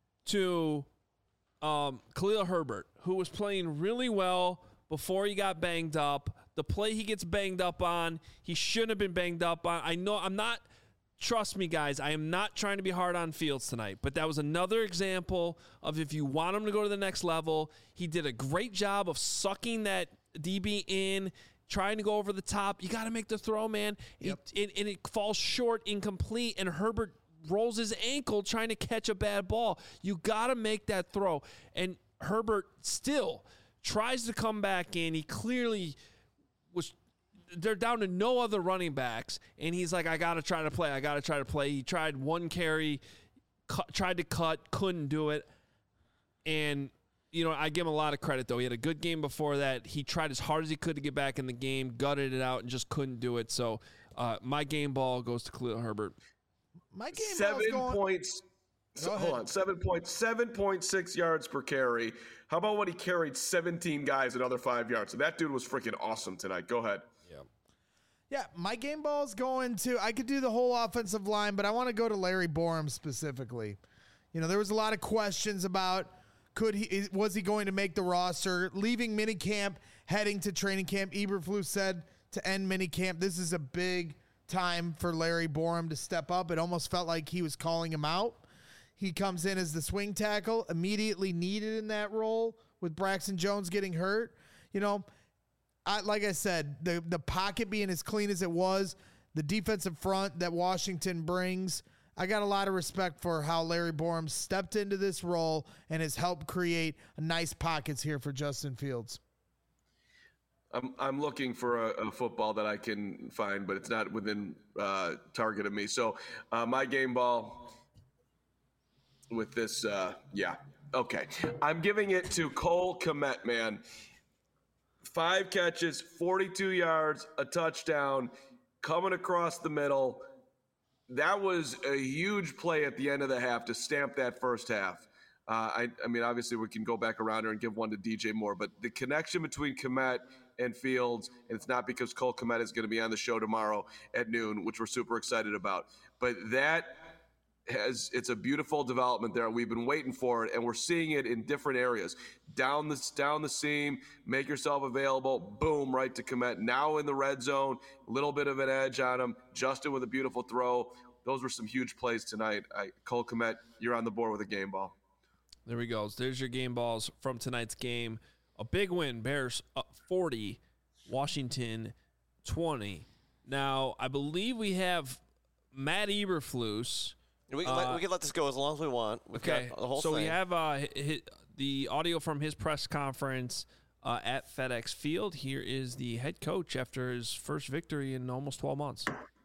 to um, Khalil Herbert, who was playing really well before he got banged up. The play he gets banged up on, he shouldn't have been banged up on. I know I'm not. Trust me, guys, I am not trying to be hard on Fields tonight, but that was another example of if you want him to go to the next level, he did a great job of sucking that D B in, trying to go over the top. You got to make the throw, man. Yep. It, it, and it falls short, incomplete, and Herbert rolls his ankle trying to catch a bad ball. You got to make that throw. And Herbert still tries to come back in. He clearly was – they're down to no other running backs, and he's like, I got to try to play. I got to try to play. He tried one carry, cut, tried to cut, couldn't do it. And, you know, I give him a lot of credit, though. He had a good game before that. He tried as hard as he could to get back in the game, gutted it out, and just couldn't do it. So uh, my game ball goes to Khalil Herbert. My game Seven ball's going, points. So, Go hold ahead. on, seven point seven point six yards per carry. How about when he carried seventeen guys another five yards? So that dude was freaking awesome tonight. Go ahead. Yeah, my game ball's going to, I could do the whole offensive line, but I want to go to Larry Borum specifically. You know, there was a lot of questions about could he, was he going to make the roster? Leaving minicamp, heading to training camp, Eberflus said to end minicamp, this is a big time for Larry Borum to step up. It almost felt like he was calling him out. He comes in as the swing tackle, immediately needed in that role with Braxton Jones getting hurt. You know, I, like I said, the, the pocket being as clean as it was, the defensive front that Washington brings, I got a lot of respect for how Larry Borum stepped into this role and has helped create nice pockets here for Justin Fields. I'm I'm looking for a, a football that I can find, but it's not within uh, target of me. So uh, my game ball with this, uh, yeah, okay. I'm giving it to Cole Kmet, man. Five catches, forty-two yards, a touchdown, coming across the middle. That was a huge play at the end of the half to stamp that first half. Uh, I, I mean, obviously we can go back around here and give one to D J Moore, but the connection between Kmet and Fields, and it's not because Cole Kmet is going to be on the show tomorrow at noon, which we're super excited about. But that has, it's a beautiful development there. We've been waiting for it, and we're seeing it in different areas. Down the, down the seam, make yourself available, boom, right to Kmet. Now in the red zone, a little bit of an edge on him. Justin with a beautiful throw. Those were some huge plays tonight. I, Cole Kmet, you're on the board with a game ball. There we go. There's your game balls from tonight's game. A big win. Bears up forty, Washington twenty. Now, I believe we have Matt Eberflus. We can, Uh, let, we can let this go as long as we want. We've Okay, got the whole so thing. we have uh, hi- hi- the audio from his press conference uh, at FedEx Field. Here is the head coach after his first victory in almost twelve months.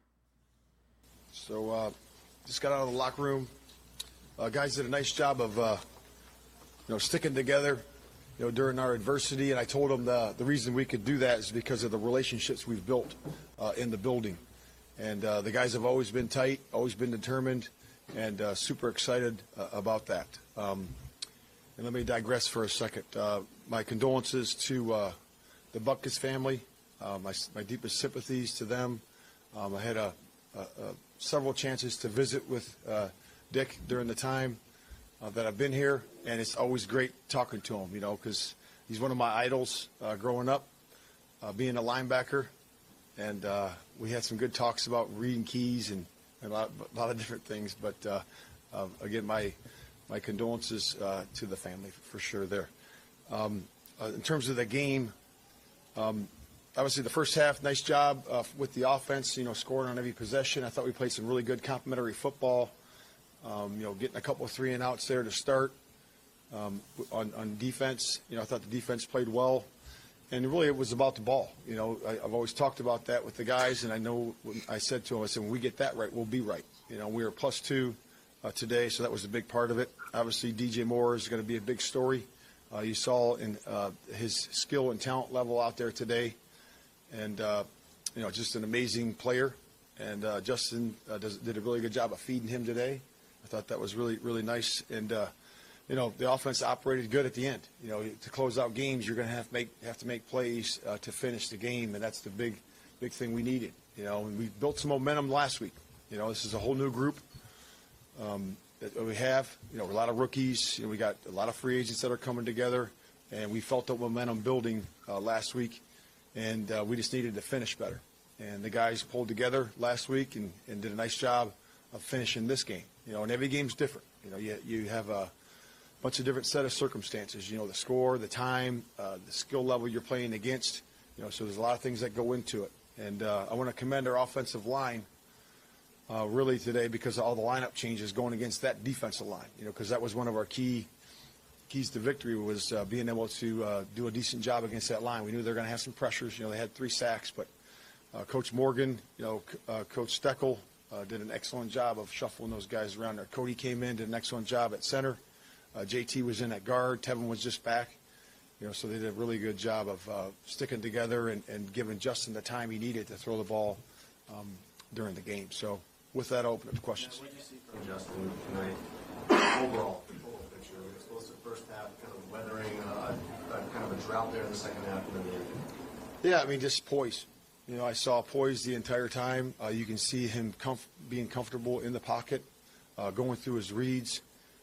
So uh, just got out of the locker room. Uh, guys did a nice job of uh, you know, sticking together, you know, during our adversity. And I told them the, the reason we could do that is because of the relationships we've built uh, in the building. And uh, the guys have always been tight, always been determined, and uh, super excited uh, about that. Um, and let me digress for a second. Uh, my condolences to uh, the Butkus family. Uh, my, my deepest sympathies to them. Um, I had a, a, a several chances to visit with uh, Dick during the time uh, that I've been here, and it's always great talking to him, you know, because he's one of my idols uh, growing up, uh, being a linebacker. And uh, we had some good talks about reading keys and, and a, lot, a lot of different things. But, uh, uh, again, my my condolences uh, to the family for sure there. Um, uh, in terms of the game, um, obviously the first half, nice job uh, with the offense, you know, scoring on every possession. I thought we played some really good complementary football, um, you know, getting a couple of three and outs there to start. Um, on, on defense, you know, I thought the defense played well. And really, it was about the ball. You know, I, I've always talked about that with the guys, and I know when I said to them, I said, when we get that right, we'll be right. You know, we were plus two uh, today, so that was a big part of it. Obviously, D J Moore is going to be a big story. Uh, you saw in uh, his skill and talent level out there today, and uh, you know, just an amazing player. And uh, Justin uh, does, did a really good job of feeding him today. I thought that was really, really nice. And uh, you know, the offense operated good at the end. You know, to close out games, you're going to have to make have to make plays uh, to finish the game, and that's the big, big thing we needed. You know, and we built some momentum last week. You know, this is a whole new group um, that we have. You know, a lot of rookies. You know, we got a lot of free agents that are coming together, and we felt the momentum building uh, last week, and uh, we just needed to finish better. And the guys pulled together last week and, and did a nice job of finishing this game. You know, and every game's different. You know, you you have a bunch of different set of circumstances, you know, the score, the time, uh, the skill level you're playing against, you know, so there's a lot of things that go into it. And uh, I want to commend our offensive line uh, really today because of all the lineup changes going against that defensive line, you know, because that was one of our key keys to victory was uh, being able to uh, do a decent job against that line. We knew they were going to have some pressures. You know, they had three sacks, but uh, Coach Morgan, you know, uh, Coach Steckel uh, did an excellent job of shuffling those guys around there. Cody came in, did an excellent job at center. Uh, J T was in at guard. Tevin was just back. You know, so they did a really good job of uh, sticking together and, and giving Justin the time he needed to throw the ball um, during the game. So with that, I'll open up to questions. What did you see from Justin tonight? Overall, overall picture. We were supposed to first half kind of weathering uh, a, kind of a drought there in the second half and then the end. Yeah, I mean, just poise. You know, I saw poise the entire time. Uh, you can see him comf- being comfortable in the pocket, uh, going through his reads.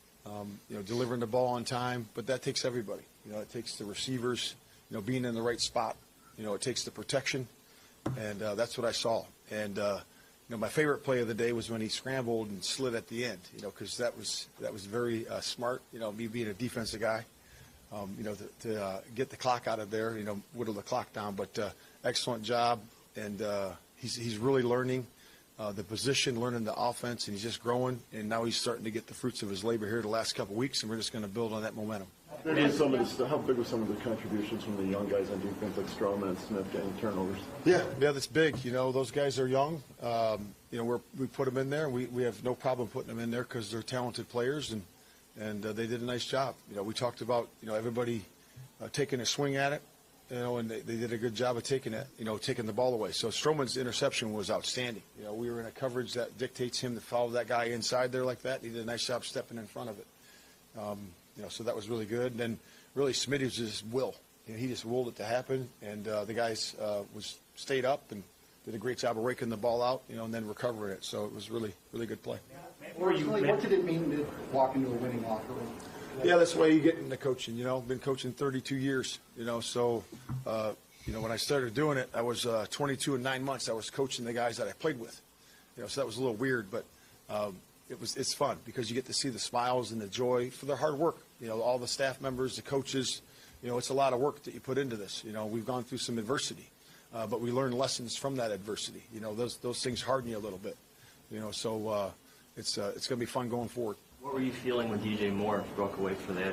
Um, you know, delivering the ball on time, but that takes everybody. You know, it takes the receivers, you know, being in the right spot. You know, it takes the protection, and uh, that's what I saw. And uh, you know, my favorite play of the day was when he scrambled and slid at the end. You know, because that was that was very uh, smart. You know, me being a defensive guy, um, you know, to, to uh, get the clock out of there. You know, whittle the clock down. But uh, excellent job, and uh, he's he's really learning. Uh, the position, learning the offense, and he's just growing. And now he's starting to get the fruits of his labor here the last couple of weeks, and we're just going to build on that momentum. How big, some of the, how big were some of the contributions from the young guys on defense, like Stroman and Smith, getting turnovers? Yeah, yeah, that's big. You know, those guys are young. Um, you know, we're, we put them in there, and we, we have no problem putting them in there because they're talented players, and and uh, they did a nice job. You know, we talked about you know everybody uh, taking a swing at it. You know, and they, they did a good job of taking it, you know, taking the ball away. So Stroman's interception was outstanding. You know, we were in a coverage that dictates him to follow that guy inside there like that. He did a nice job stepping in front of it. Um, you know, so that was really good. And then really Smitty was just will. You know, he just willed it to happen. And uh, the guys uh, was stayed up and did a great job of raking the ball out, you know, and then recovering it. So it was really, really good play. Personally, what did it mean to walk into a winning locker room? Yeah, that's the way you get into coaching, you know. Been coaching thirty-two years, you know. So, uh, you know, when I started doing it, I was uh, twenty-two and nine months. I was coaching the guys that I played with, you know. So that was a little weird, but um, it was it's fun because you get to see the smiles and the joy for their hard work. You know, all the staff members, the coaches. You know, it's a lot of work that you put into this. You know, we've gone through some adversity, uh, but we learn lessons from that adversity. You know, those those things harden you a little bit. You know, so uh, it's uh, it's going to be fun going forward. What were you feeling when D J Moore broke away for that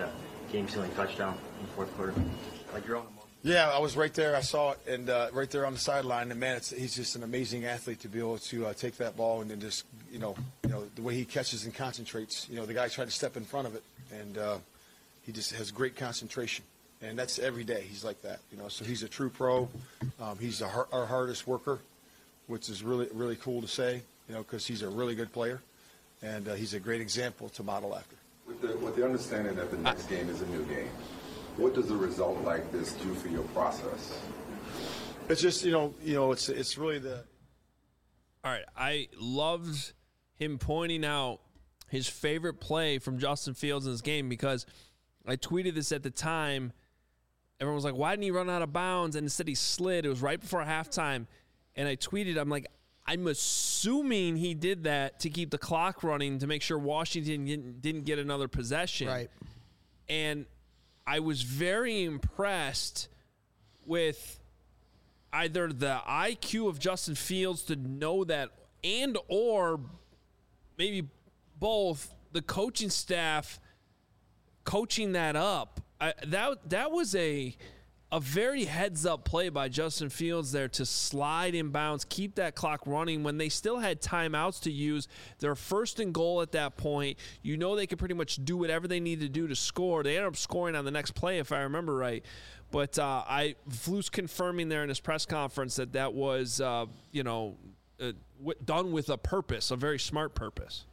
game-sealing touchdown in the fourth quarter. Like your own emotion. Yeah, I was right there. I saw it, and uh, right there on the sideline. And man, it's, he's just an amazing athlete to be able to uh, take that ball and then just, you know, you know, the way he catches and concentrates. You know, the guy tried to step in front of it, and uh, he just has great concentration. And that's every day. He's like that, you know. So he's a true pro. Um, he's a, our hardest worker, which is really, really cool to say, you know, because he's a really good player, and uh, he's a great example to model after. With the, with the understanding that the next game is a new game, what does a result like this do for your process? It's just, you know, you know, it's it's really the. All right, I loved him pointing out his favorite play from Justin Fields in this game because I tweeted this at the time. Everyone was like, why didn't he run out of bounds? And instead he slid. It was right before halftime. And I tweeted, I'm like, I'm assuming he did that to keep the clock running to make sure Washington didn't, didn't get another possession. Right. And I was very impressed with either the I Q of Justin Fields to know that and or maybe both the coaching staff coaching that up. I, that that was a a very heads-up play by Justin Fields there to slide inbounds, keep that clock running when they still had timeouts to use. They're first and goal at that point. You know they could pretty much do whatever they need to do to score. They ended up scoring on the next play, if I remember right. But uh, I Flus confirming there in his press conference that that was, uh, you know, uh, w- done with a purpose, a very smart purpose.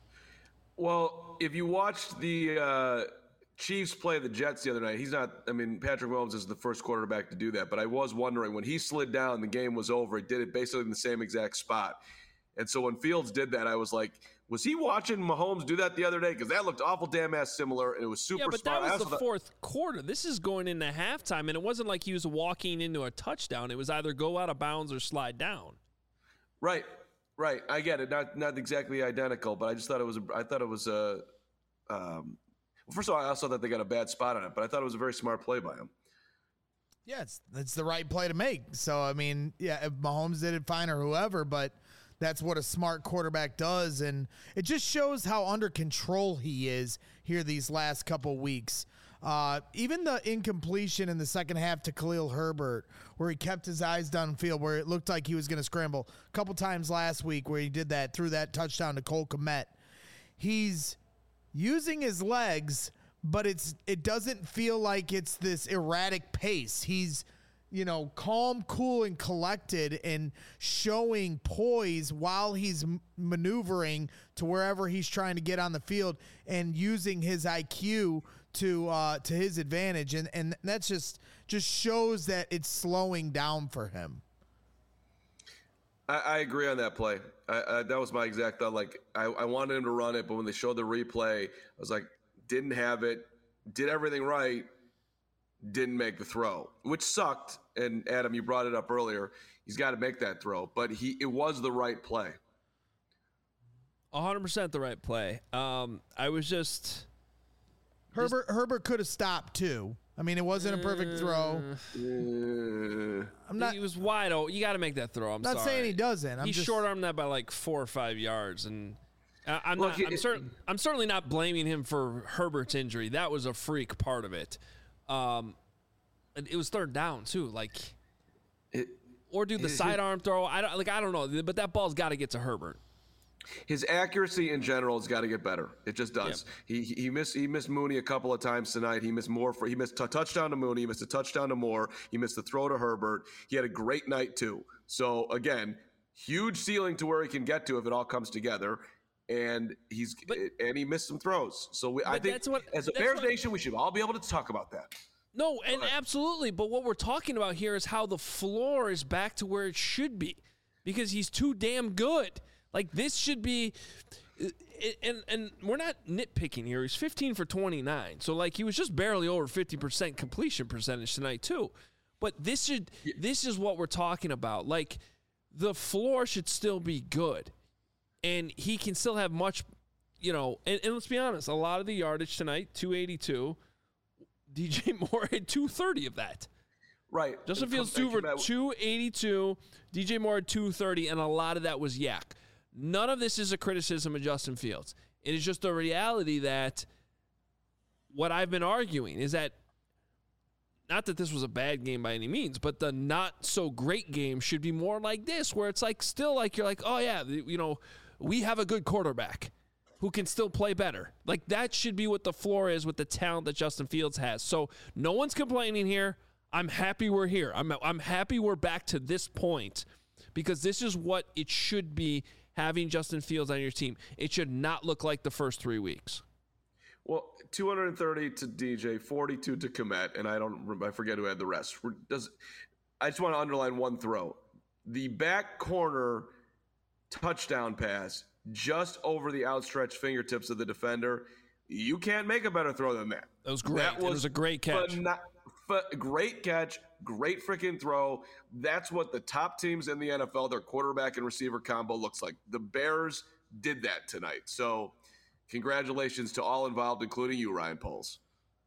Well, if you watched the uh, Chiefs play the Jets the other night, he's not, I mean, Patrick Mahomes is the first quarterback to do that, but I was wondering, when he slid down, the game was over. It did it basically in the same exact spot. And so when Fields did that, I was like, was he watching Mahomes do that the other day? Because that looked awful damn ass similar, and it was super smart. Yeah, but smart. that was the thought- fourth quarter. This is going into halftime, and it wasn't like he was walking into a touchdown. It was either go out of bounds or slide down. Right. Right, I get it. Not not exactly identical, but I just thought it was. A, I thought it was a. Um, well, first of all, I also thought they got a bad spot on it, but I thought it was a very smart play by him. Yeah, it's it's the right play to make. So I mean, yeah, if Mahomes did it fine or whoever, but that's what a smart quarterback does, and it just shows how under control he is here these last couple weeks. Uh, even the incompletion in the second half to Khalil Herbert, where he kept his eyes downfield, where it looked like he was going to scramble. A couple times last week where he did that, threw that touchdown to Cole Kmet. He's using his legs, but it's it doesn't feel like it's this erratic pace. He's, you know, calm, cool, and collected and showing poise while he's m- maneuvering to wherever he's trying to get on the field and using his I Q to uh, to his advantage, and and that's just just shows that it's slowing down for him. I, I agree on that play. I, I, that was my exact thought. Like I, I wanted him to run it, but when they showed the replay, I was like, didn't have it, did everything right, didn't make the throw, which sucked. And Adam, you brought it up earlier. He's got to make that throw, but he it was the right play. one hundred percent the right play. Um, I was just. Herbert Herbert could have stopped too. I mean, it wasn't a perfect throw. Uh, I'm not. He was wide open. You got to make that throw. I'm not sorry. saying he doesn't. I'm he just short armed that by like four or five yards, and I, I'm Look, not. it- I'm, cer- I'm certainly not blaming him for Herbert's injury. That was a freak part of it. Um, and it was third down too. Like, it, or do the it- sidearm throw. I don't like. I don't know. But that ball's got to get to Herbert. His accuracy in general has got to get better. It just does. He he missed he missed Mooney a couple of times tonight. He missed more for he missed a touchdown to Mooney. He missed a touchdown to Moore. He missed the throw to Herbert. He had a great night too. So again, huge ceiling to where he can get to if it all comes together. And he's But- and he missed some throws. So we, I But think that's what- as a that's Bears what- Nation, we should all be able to talk about that. No, and absolutely. But what we're talking about here is how the floor is back to where it should be, because he's too damn good. Like, this should be, and and we're not nitpicking here. He's fifteen for twenty-nine. So, like, he was just barely over fifty percent completion percentage tonight, too. But this should, this is what we're talking about. Like, the floor should still be good. And he can still have much, you know, and, and let's be honest, a lot of the yardage tonight, two eighty-two, D J Moore had two thirty of that. Right. Justin And Fields come two back for to that- two eighty-two, D J Moore had two thirty, and a lot of that was yak. None of this is a criticism of Justin Fields. It is just a reality that what I've been arguing is that, not that this was a bad game by any means, but the not so great game should be more like this, where it's like still like you're like, oh yeah, you know, we have a good quarterback who can still play better. Like that should be what the floor is with the talent that Justin Fields has. So no one's complaining here. I'm happy we're here. I'm I'm happy we're back to this point because this is what it should be having Justin Fields on your team. It should not look like the first three weeks. Well, two hundred thirty to D J, forty-two to Kmet, and I don't, I forget who had the rest. Does I just want to underline one throw: the back corner touchdown pass just over the outstretched fingertips of the defender. You can't make a better throw than that. That was great. That was, it was a great catch. Not, great catch, great freaking throw. That's what the top teams in the N F L, their quarterback and receiver combo looks like. The Bears did that tonight. So. Congratulations to all involved, including you, Ryan Poles.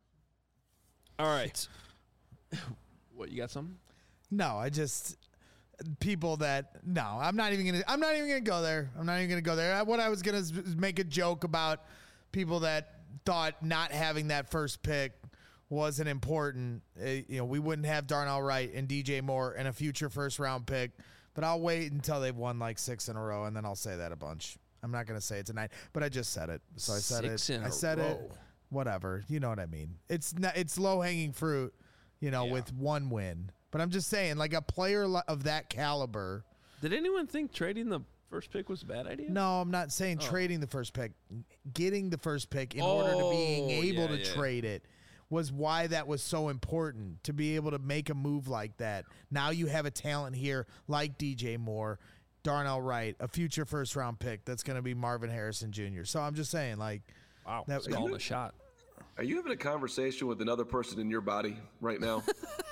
All right. What, you got something? No, I just people that no, I'm not even gonna. I'm not even gonna go there. I'm not even gonna go there. What I was gonna is make a joke about people that thought not having that first pick wasn't important. Uh, you know, we wouldn't have Darnell Wright and D J Moore and a future first round pick. But I'll wait until they've won like six in a row, and then I'll say that a bunch. I'm not going to say it tonight, but I just said it. So I said Six it. In I a said row. it. Whatever. You know what I mean? It's not, it's low hanging fruit, you know, Yeah. with one win. But I'm just saying, like a player li- of that caliber. Did anyone think trading the first pick was a bad idea? No, I'm not saying Oh. trading the first pick. Getting the first pick in order to being Oh, able yeah, to yeah. trade it was why that was so important, to be able to make a move like that. Now you have a talent here like D J Moore, Darnell Wright, a future first round pick that's going to be Marvin Harrison Junior So I'm just saying, like, wow, that, that's calling a shot. Are you having a conversation with another person in your body right now?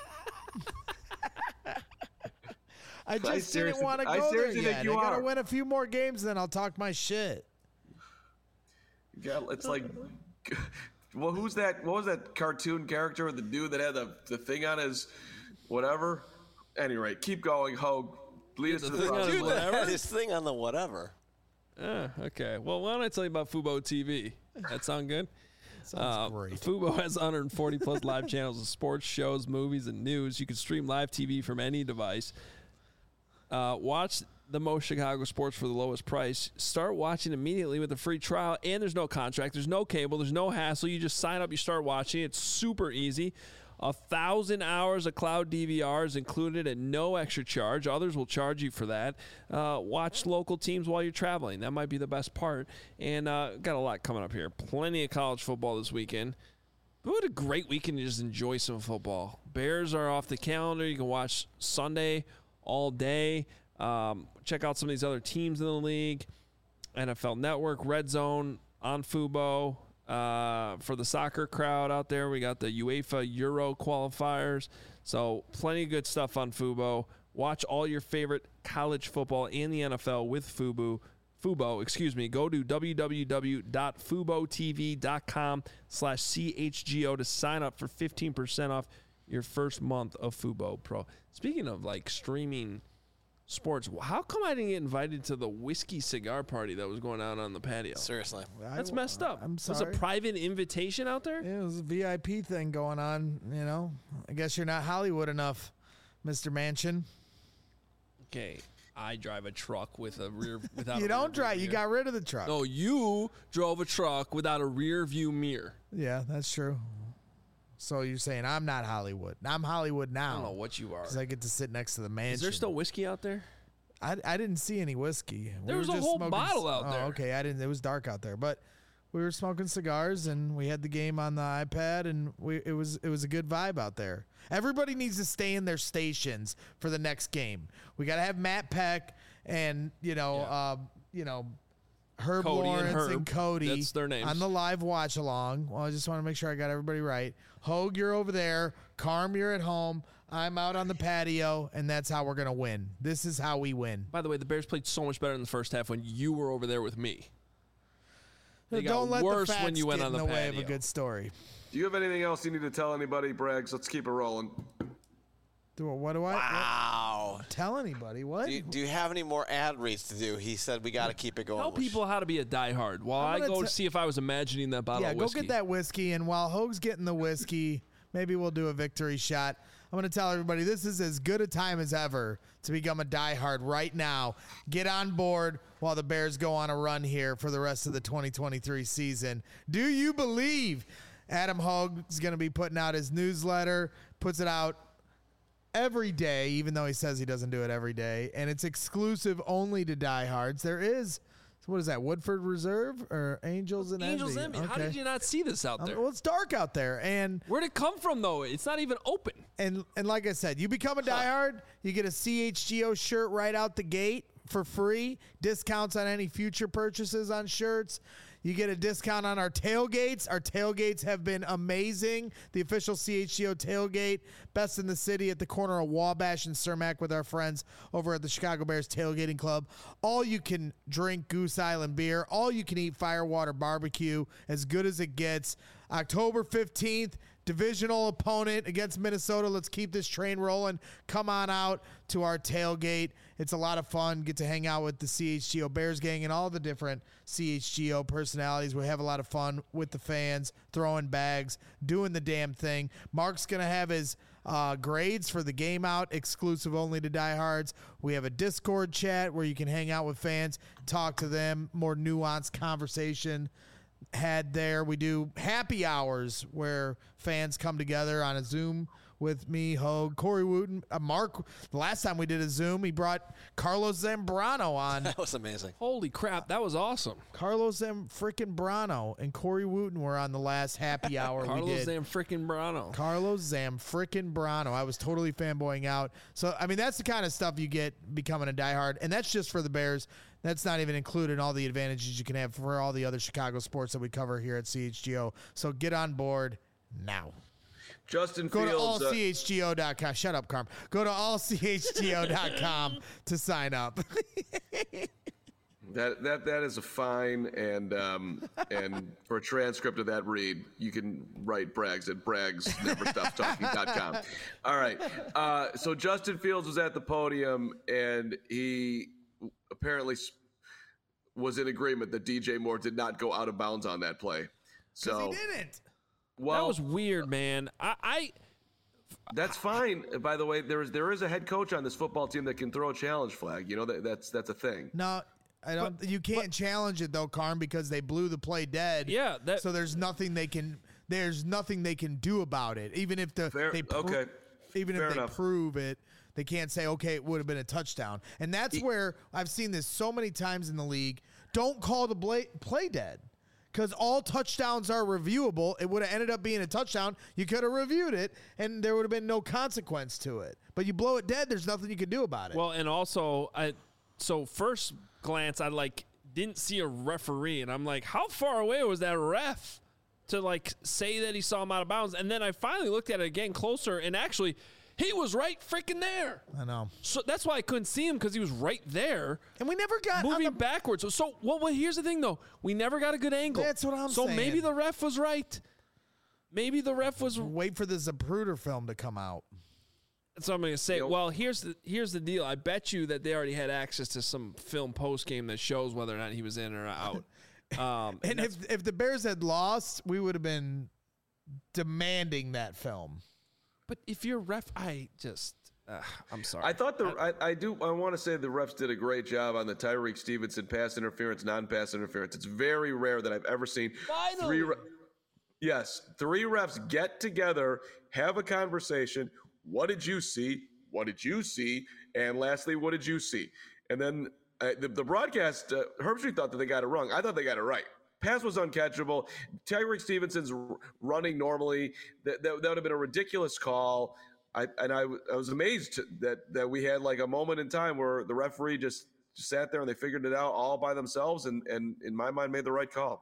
I just I didn't seriously- want to I go there seriously think yet. you I got to are. win a few more games, then I'll talk my shit. Yeah, it's like, well, who's that? What was that cartoon character with the dude that had the, the thing on his whatever? Anyway, keep going, Hogue. Lead us to the Dude, promised that land. had his thing on the whatever. Uh, okay. Well, why don't I tell you about Fubo T V? That sound good? Sounds great. Fubo has one hundred forty plus live channels of sports, shows, movies, and news. You can stream live T V from any device. Uh, watch the most Chicago sports for the lowest price. Start watching immediately with a free trial, and there's no contract. There's no cable. There's no hassle. You just sign up. You start watching. It's super easy. A thousand hours of cloud D V R is included at no extra charge. Others will charge you for that. Uh, watch local teams while you're traveling. That might be the best part. And uh, got a lot coming up here. Plenty of college football this weekend. But what a great weekend to just enjoy some football. Bears are off the calendar. You can watch Sunday all day. Um, check out some of these other teams in the league. N F L Network, Red Zone on Fubo. Uh, for the soccer crowd out there, we got the UEFA Euro qualifiers. So plenty of good stuff on Fubo. Watch all your favorite college football and the N F L with Fubo. Fubo, excuse me. Go to www.fubotv.com slash CHGO to sign up for fifteen percent off your first month of Fubo Pro. Speaking of like streaming sports, how come I didn't get invited to the whiskey cigar party that was going on on the patio? Seriously. That's messed up. I'm Was sorry. a private invitation out there? Yeah, it was a V I P thing going on, you know. I guess you're not Hollywood enough, Mister Manchin. Okay, I drive a truck with a rear without. You a don't rear drive. view You mirror. got rid of the truck. No, you drove a truck without a rear view mirror. Yeah, that's true. So you're saying I'm not Hollywood. I'm Hollywood now. I don't know what you are. Because I get to sit next to the mansion. Is there still whiskey out there? I, I didn't see any whiskey. There We was were a just whole smoking bottle c- out oh, there. Okay, I didn't. It was dark out there, but we were smoking cigars and we had the game on the iPad, and we it was it was a good vibe out there. Everybody needs to stay in their stations for the next game. We got to have Matt Peck and you know uh, you know Herb Cody and Lawrence and, Herb. Cody. That's their names. on the live watch along. Well, I just want to make sure I got everybody right. Hogue, you're over there. Carm, you're at home. I'm out on the patio, and that's how we're gonna win. This is how we win. By the way, the Bears played so much better in the first half when you were over there with me. They got Don't let worse the facts when you went get on in the the way of a patio. good story. Do you have anything else you need to tell anybody, Braggs? Let's keep it rolling. Do what do I? Wow. No. tell anybody. What? Do you, do you have any more ad reads to do? He said we got to keep it going. Tell people how to be a diehard while I'm I gonna go t- to see if I was imagining that bottle yeah, of go whiskey. get that whiskey, and while Hoag's getting the whiskey, maybe we'll do a victory shot. I'm going to tell everybody this is as good a time as ever to become a diehard right now. Get on board while the Bears go on a run here for the rest of the twenty twenty-three season. Do you believe Adam Hoag is going to be putting out his newsletter, puts it out every day, even though he says he doesn't do it every day, and it's exclusive only to diehards. There is, what is that, Woodford Reserve or Angels and Angels Envy? Envy. How did you not see this out Um, there? well, it's dark out there, and where'd it come from though? It's not even open. And and like I said, you become a diehard, you get a C H G O shirt right out the gate for free. Discounts on any future purchases on shirts. You get a discount on our tailgates. Our tailgates have been amazing. The official C H G O tailgate, best in the city at the corner of Wabash and Cermak with our friends over at the Chicago Bears Tailgating Club. All you can drink Goose Island beer. All you can eat Firewater barbecue. As good as it gets. October fifteenth, divisional opponent against Minnesota. Let's keep this train rolling. Come on out to our tailgate. It's a lot of fun. Get to hang out with the C H G O Bears gang and all the different C H G O personalities. We have a lot of fun with the fans, throwing bags, doing the damn thing. Mark's going to have his uh, grades for the game out, exclusive only to diehards. We have a Discord chat where you can hang out with fans, talk to them, more nuanced conversation had there. We do happy hours where fans come together on a Zoom with me, Hoag, Corey Wooten, uh, Mark. The last time we did a Zoom, he brought Carlos Zambrano on. That was amazing. Holy crap, that was awesome. Carlos Zam frickin' Brano and Corey Wooten were on the last happy hour we Carlos did. Zam frickin' Brano. Carlos Zam frickin' Brano. I was totally fanboying out. So, I mean, that's the kind of stuff you get becoming a diehard, and that's just for the Bears. That's not even included in all the advantages you can have for all the other Chicago sports that we cover here at C H G O. So get on board now. Justin Go Fields. to all uh, C H G O dot com. Shut up, Carm. Go to all C H G O dot com to sign up. That that that is a fine, and um, and for a transcript of that read, you can write Braggs at braggs never stop talking dot com. All right. Uh, so Justin Fields was at the podium, and he apparently was in agreement that D J Moore did not go out of bounds on that play. So he didn't. Well, that was weird, man. I, I That's fine. By the way, there is there is a head coach on this football team that can throw a challenge flag. You know that that's that's a thing. No, I don't. You can't challenge it though, Carm, because they blew the play dead. Yeah, that- so there's nothing they can. There's nothing they can do about it. Even if the Fair- they pro- okay. even Fair if they enough. prove it, they can't say, okay, it would have been a touchdown. And that's where I've seen this so many times in the league. Don't call the bla- play dead. Because all touchdowns are reviewable. It would have ended up being a touchdown. You could have reviewed it, and there would have been no consequence to it. But you blow it dead, there's nothing you can do about it. Well, and also, I so first glance, I like didn't see a referee, and I'm like, how far away was that ref to like say that he saw him out of bounds? And then I finally looked at it again closer, and actually, he was right freaking there. I know. So that's why I couldn't see him, because he was right there. And we never got moving on the- backwards. So, so well, well, here's the thing, though. We never got a good angle. That's what I'm so saying. So maybe the ref was right. Maybe the ref was. Wait for the Zapruder film to come out. That's what I'm going to say. Well, here's the here's the deal. I bet you that they already had access to some film post game that shows whether or not he was in or out. Um, And if if the Bears had lost, we would have been demanding that film. But if you're ref, I just, uh, I'm sorry. I thought the I, I do I want to say the refs did a great job on the Tyreek Stevenson pass interference, non-pass interference. It's very rare that I've ever seen Finally. three. Re- yes, three refs get together, have a conversation. What did you see? What did you see? And lastly, what did you see? And then uh, the, the broadcast, uh, Herbstreit thought that they got it wrong. I thought they got it right. Pass was uncatchable. Tyreek Stevenson's r- running normally. That, that, that would have been a ridiculous call. I, and I, I was amazed that, that we had like a moment in time where the referee just, just sat there and they figured it out all by themselves and, and in my mind made the right call.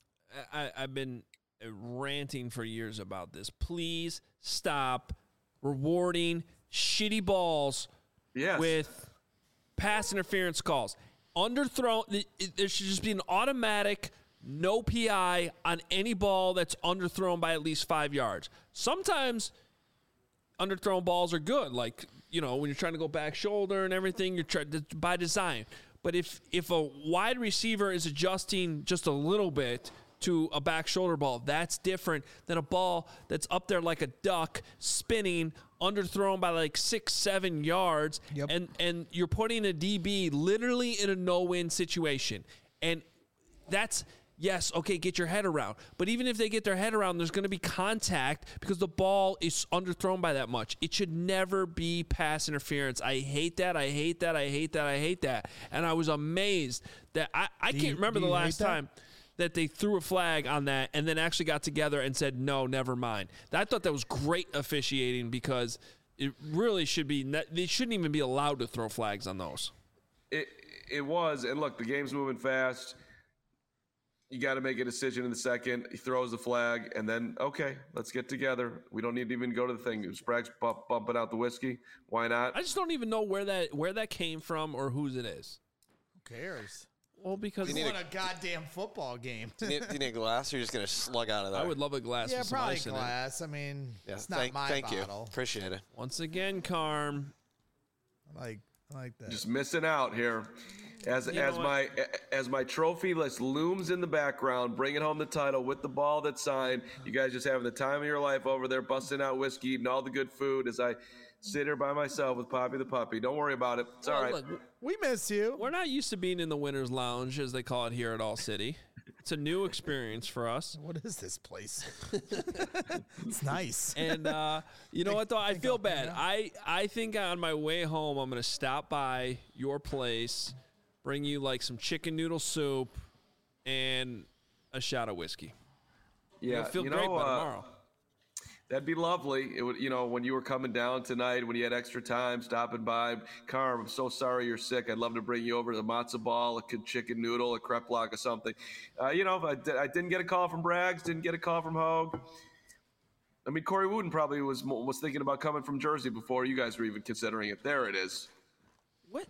I, I've been ranting for years about this. Please stop rewarding shitty balls yes. with pass interference calls. Underthrown, it, it, there should just be an automatic no P I on any ball that's underthrown by at least five yards. Sometimes underthrown balls are good, like you know, when you're trying to go back shoulder and everything, you're trying to, by design. But if if a wide receiver is adjusting just a little bit to a back shoulder ball, that's different than a ball that's up there like a duck, spinning, underthrown by like six, seven yards, yep. and and you're putting a D B literally in a no-win situation. And that's, yes, okay, get your head around. But even if they get their head around, there's going to be contact because the ball is underthrown by that much. It should never be pass interference. I hate that. I hate that. I hate that. I hate that. And I was amazed that I, I can't you, remember the last that? time that they threw a flag on that and then actually got together and said, no, never mind. I thought that was great officiating because it really should be, they shouldn't even be allowed to throw flags on those. It it was, and look, the game's moving fast. You got to make a decision in the second. He throws the flag, and then, okay, let's get together. We don't need to even go to the thing. Sprague's bump, bumping out the whiskey. Why not? I just don't even know where that where that came from or whose it is. Who cares? Well, because you want a, a goddamn football game. do, you need, do you need a glass, or you're just going to slug out of there? I would love a glass yeah, with some probably ice in glass. it. I mean, yeah, it's not thank, my thank bottle. you. Appreciate it. Once again, Carm. I like, I like that. Just missing out here. As You as know my as my trophy list looms in the background, bringing home the title with the ball that's signed. You guys just having the time of your life over there, busting out whiskey, eating all the good food as I sit here by myself with Poppy the puppy. Don't worry about it. It's Well, all right. look, we miss you. We're not used to being in the winner's lounge, as they call it here at All City. It's a new experience for us. What is this place? It's nice. And uh, you know what, though? I feel bad. I, I think on my way home, I'm going to stop by your place, bring you like some chicken noodle soup and a shot of whiskey. Yeah, You'll feel you great know, by uh, tomorrow. That'd be lovely. It would, you know, when you were coming down tonight, when you had extra time, stopping by. Carm, I'm so sorry you're sick. I'd love to bring you over to the matzo ball, a good chicken noodle, a crepe block, or something. Uh, you know, I, I didn't get a call from Braggs, didn't get a call from Hogue. I mean, Corey Wooden probably was was thinking about coming from Jersey before you guys were even considering it. There it is. What?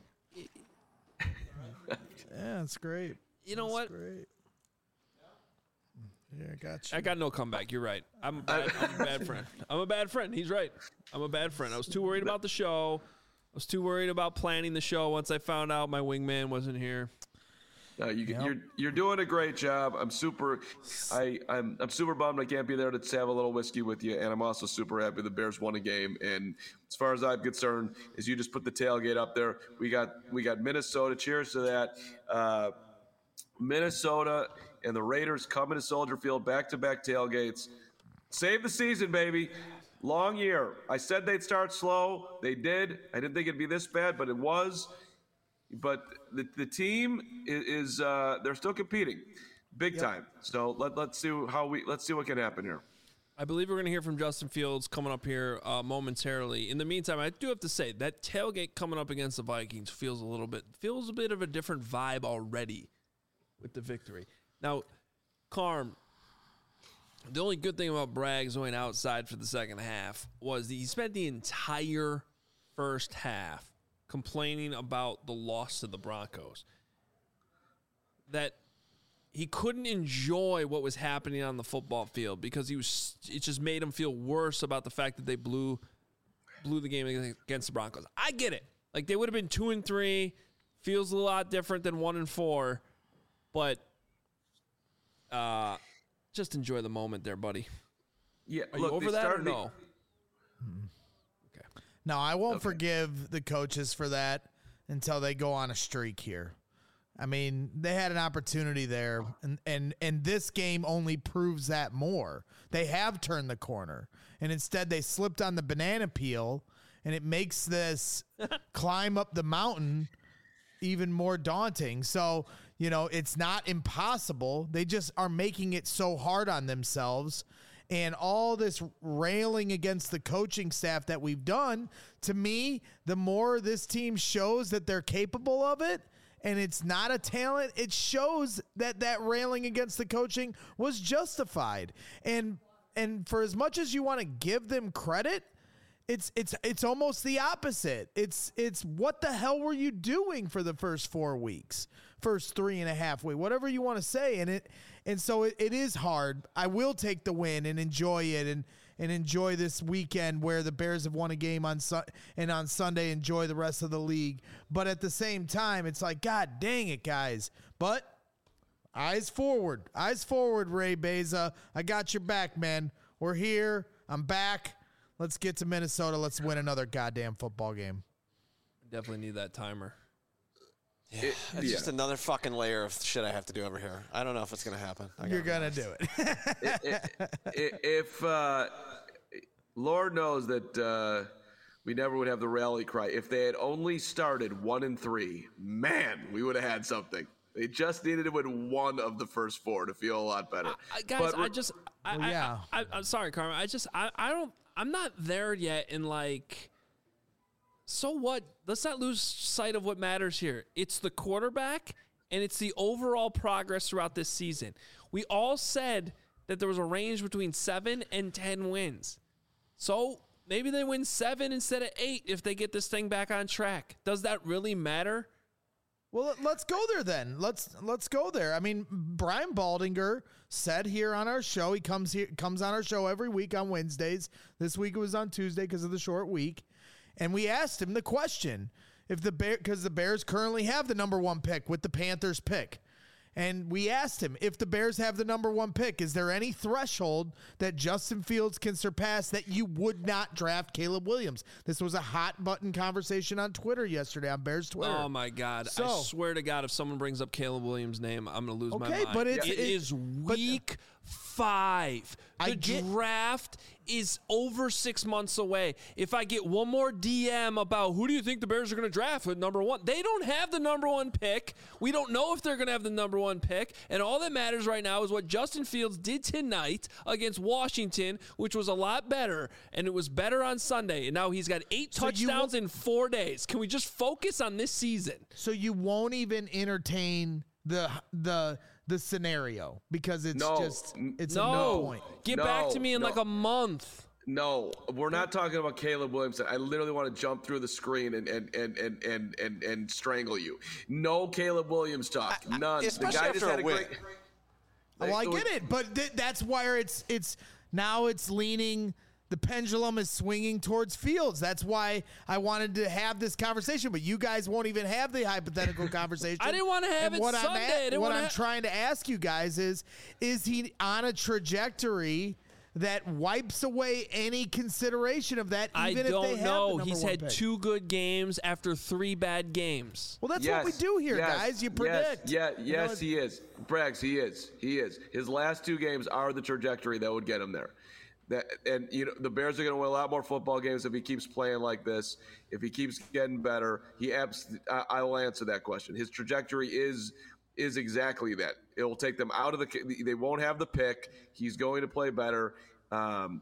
Yeah, it's great. You know That's what? Great. Yeah, I got you. I got no comeback. You're right. I'm a bad, I'm a bad friend. I'm a bad friend. He's right. I'm a bad friend. I was too worried about the show. I was too worried about planning the show once I found out my wingman wasn't here. No, you, Yep. you're you're doing a great job. I'm super, I I'm I'm super bummed I can't be there to have a little whiskey with you, and I'm also super happy the Bears won a game. And as far as I'm concerned, is you just put the tailgate up there. We got we got Minnesota. Cheers to that. Uh, Minnesota and the Raiders coming to Soldier Field, back-to-back tailgates. Save the season, baby. Long year. I said they'd start slow. They did. I didn't think it'd be this bad, but it was. But the the team is, is uh, they're still competing, big Yep. time. So let let's see how we let's see what can happen here. I believe we're going to hear from Justin Fields coming up here uh, momentarily. In the meantime, I do have to say that tailgate coming up against the Vikings feels a little bit feels a bit of a different vibe already with the victory. Now, Carm, the only good thing about Braggs going outside for the second half was that he spent the entire first half complaining about the loss to the Broncos. That he couldn't enjoy what was happening on the football field because he was. It just made him feel worse about the fact that they blew blew the game against the Broncos. I get it. Like they would have been two and three. Feels a lot different than one and four, but uh, just enjoy the moment there, buddy. Yeah, Are look, you over they that or started the- no? No, I won't Okay. forgive the coaches for that until they go on a streak here. I mean, they had an opportunity there, and, and, and this game only proves that more. They have turned the corner, and instead they slipped on the banana peel, and it makes this climb up the mountain even more daunting. So, you know, it's not impossible. They just are making it so hard on themselves. And all this railing against the coaching staff that we've done, to me, the more this team shows that they're capable of it, and it's not a talent, it shows that that railing against the coaching was justified. And and for as much as you want to give them credit, it's it's it's almost the opposite. It's it's what the hell were you doing for the first four weeks, first three and a half week, whatever you want to say. And it and so it, it is hard. I will take the win and enjoy it and and enjoy this weekend where the Bears have won a game on su- and on Sunday enjoy the rest of the league. But at the same time, it's like, God dang it, guys. But eyes forward. Eyes forward, Ray Beza. I got your back, man. We're here. I'm back. Let's get to Minnesota. Let's win another goddamn football game. Definitely need that timer. Yeah, It- it's yeah. just another fucking layer of shit I have to do over here. I don't know if it's going to happen. I You're gotta going be to honest. do it. I- I- if uh, Lord knows that uh, we never would have the rally cry. If they had only started one and three, man, we would have had something. They just needed to win one of the first four to feel a lot better. I, guys, But I re- just, I, Well, I- yeah. I, I, I'm sorry, Carmen. I just, I, I don't, I'm not there yet in like, so what? Let's not lose sight of what matters here. It's the quarterback and it's the overall progress throughout this season. We all said that there was a range between seven and ten wins. So maybe they win seven instead of eight if they get this thing back on track. Does that really matter? Well, let's go there then. Let's let's go there. I mean, Brian Baldinger said here on our show, he comes here comes on our show every week on Wednesdays. This week it was on Tuesday because of the short week, and we asked him the question: if the Bear, because the Bears currently have the number one pick with the Panthers pick. And we asked him, if the Bears have the number one pick, is there any threshold that Justin Fields can surpass that you would not draft Caleb Williams? This was a hot button conversation on Twitter yesterday, on Bears Twitter. Oh my God! So- I swear to God, if someone brings up Caleb Williams' name, I'm gonna lose my Okay, mind. but it's- it it- is but- week five. I The get- draft is over six months away. If I get one more D M about who do you think the Bears are going to draft with number one, they don't have the number one pick. We don't know if they're going to have the number one pick. And all that matters right now is what Justin Fields did tonight against Washington, which was a lot better. And it was better on Sunday. And now he's got eight So you touchdowns will- in four days. Can we just focus on this season? So you won't even entertain the the the scenario because it's No. just it's a No. no point. Get No, back to me in no. like a month. No, we're not talking about Caleb Williamson. I literally want to jump through the screen and and and and and and, and strangle you. No Caleb Williams talk. None. especially the guy after just had a a win. great. Well, I get it, but th- that's where it's it's now it's leaning. The pendulum is swinging towards Fields. That's why I wanted to have this conversation, but you guys won't even have the hypothetical conversation. I didn't wanna have And it what I'm Sunday. at- I didn't what wanna I'm ha- trying to ask you guys is: is he on a trajectory that wipes away any consideration of that? I Even if they don't have the know. number He's one had pick? two good games after three bad games. Well, that's what we Yes, do here, yes, guys. You yes, predict. Yeah, You know, yes, he is. Braggs, he is. He is. His last two games are the trajectory that would get him there. That and you know the Bears are going to win a lot more football games if he keeps playing like this. If he keeps getting better, he abs- I, I will answer that question. His trajectory is is exactly that. It will take them out of the. They won't have the pick. He's going to play better. Um,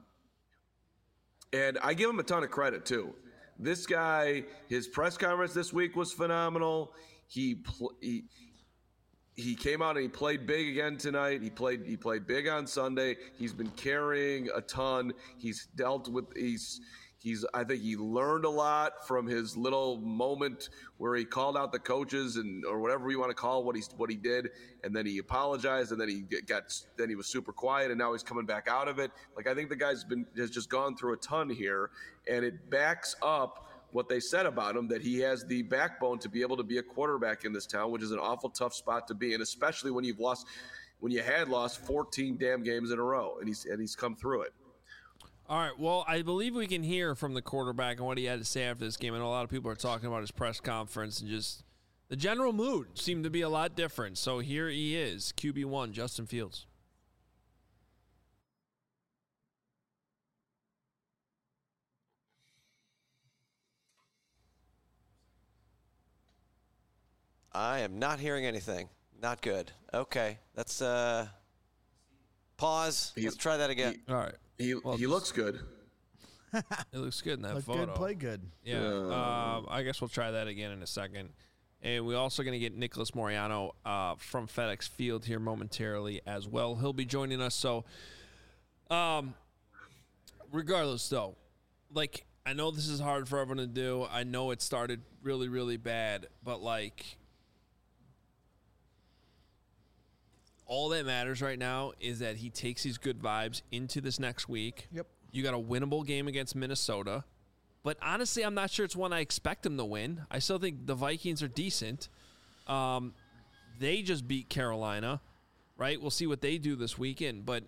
and I give him a ton of credit too. This guy, his press conference this week was phenomenal. He pl- he. He came out and he played big again tonight. He played he played big on Sunday. He's been carrying a ton. He's dealt with he's he's I think he learned a lot from his little moment where he called out the coaches and or whatever you want to call what he what he did, and then he apologized and then he got then he was super quiet and now he's coming back out of it. Like I think the guy's been has just gone through a ton here, and it backs up what they said about him, that he has the backbone to be able to be a quarterback in this town, which is an awful tough spot to be in, especially when you've lost, when you had lost fourteen damn games in a row, and he's and he's come through it. All right. Well, I believe we can hear from the quarterback and what he had to say after this game. I know a lot of people are talking about his press conference and just the general mood seemed to be a lot different. So here he is, Q B one, Justin Fields. I am not hearing anything. Not good. Okay, let's uh, pause. He- let's try that again. All right. He Well, he looks good. It looks good in that Look photo. good, play good. Yeah. Um, I guess we'll try that again in a second. And we're also going to get Nicholas Moriano uh, from FedEx Field here momentarily as well. He'll be joining us. So, um, regardless, though, like, I know this is hard for everyone to do. I know it started really, really bad. But, like, all that matters right now is that he takes these good vibes into this next week. Yep. You got a winnable game against Minnesota. But honestly, I'm not sure it's one I expect them to win. I still think the Vikings are decent. Um, they just beat Carolina, right? We'll see what they do this weekend. But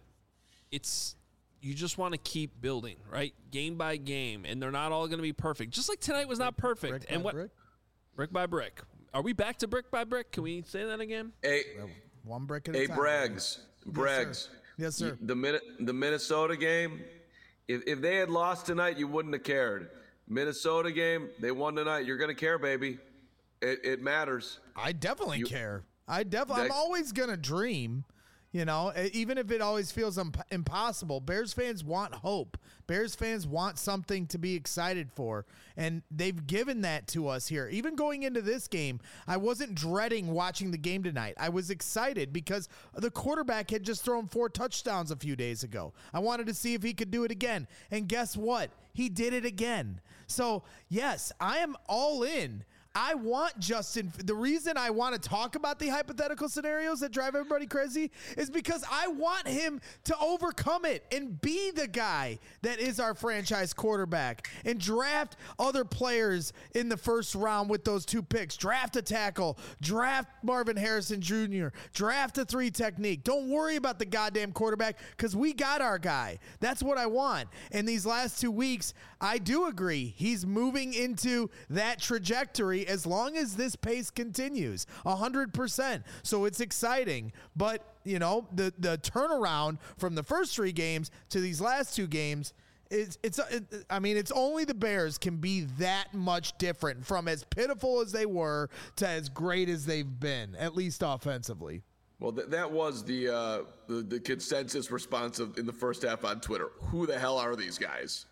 it's you just want to keep building, right? Game by game. And they're not all going to be perfect. Just like tonight was not perfect. Brick and by what brick? Brick by brick. Are we back to brick by brick? Can we say that again? Hey, One brick at a hey, time. Braggs, Braggs. Yes, sir. The minute the Minnesota game, if if they had lost tonight, you wouldn't have cared. Minnesota game, they won tonight. You're gonna care, baby. It it matters. I definitely You- care. I definitely. I'm That- always gonna dream. You know, e- even if it always feels imp- impossible, Bears fans want hope. Bears fans want something to be excited for, and they've given that to us here. Even going into this game, I wasn't dreading watching the game tonight. I was excited because the quarterback had just thrown four touchdowns a few days ago. I wanted to see if he could do it again, and guess what? He did it again. So, yes, I am all in. I want Justin. The reason I want to talk about the hypothetical scenarios that drive everybody crazy is because I want him to overcome it and be the guy that is our franchise quarterback and draft other players in the first round with those two picks. Draft a tackle, draft Marvin Harrison Junior, draft a three technique. Don't worry about the goddamn quarterback because we got our guy. That's what I want. And these last two weeks, I do agree. He's moving into that trajectory as long as this pace continues, one hundred percent. So it's exciting. But, you know, the, the turnaround from the first three games to these last two games, it's, it's it, I mean, it's only the Bears can be that much different from as pitiful as they were to as great as they've been, at least offensively. Well, th- that was the, uh, the the consensus response of, in the first half on Twitter. Who the hell are these guys?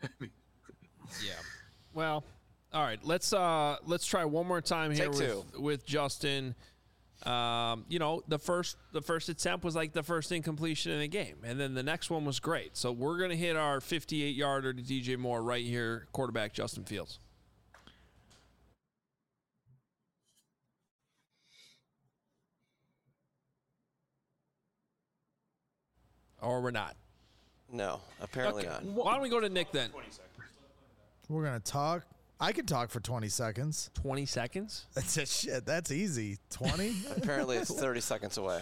Yeah. Well, all right. Let's uh let's try one more time here Take with, with Justin. Um, you know, the first the first attempt was like the first incompletion in the game, and then the next one was great. So we're gonna hit our fifty-eight yarder to D J Moore right here, quarterback Justin Fields. Or we're not. No, apparently Okay. not. Why don't we go to Nick then? We're going to talk. I could talk for twenty seconds. twenty seconds? That's a shit. That's easy. twenty? Apparently it's thirty seconds away.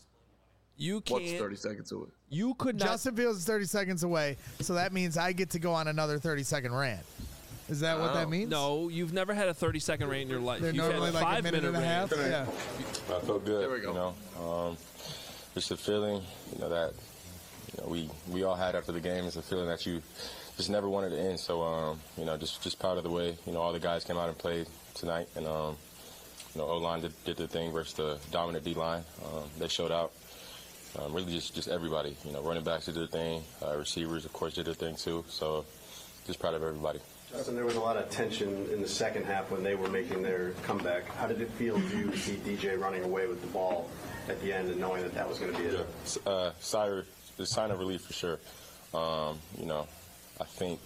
You can't. What's thirty seconds away? You could not. Justin Fields is thirty seconds away, so that means I get to go on another thirty second rant. Is that what that means? No, you've never had a thirty second rant in your life. They're You've normally had like a five minute and a half. rant. Yeah. I felt good. There we go. You know, um, just a feeling, you know, that you know, we we all had after the game. It's a feeling that you just never wanted to end. So, um, you know, just just proud of the way, you know, all the guys came out and played tonight. And, um, you know, O-line did, did their thing versus the dominant D-line. Um, they showed out. Um, really just, just everybody. You know, running backs did their thing. Uh, receivers, of course, did their thing too. So just proud of everybody. Justin, there was a lot of tension in the second half when they were making their comeback. How did it feel to you to see D J running away with the ball at the end and knowing that that was going to be it? Yeah. Uh, sigh, the sign of relief for sure. Um, you know, I think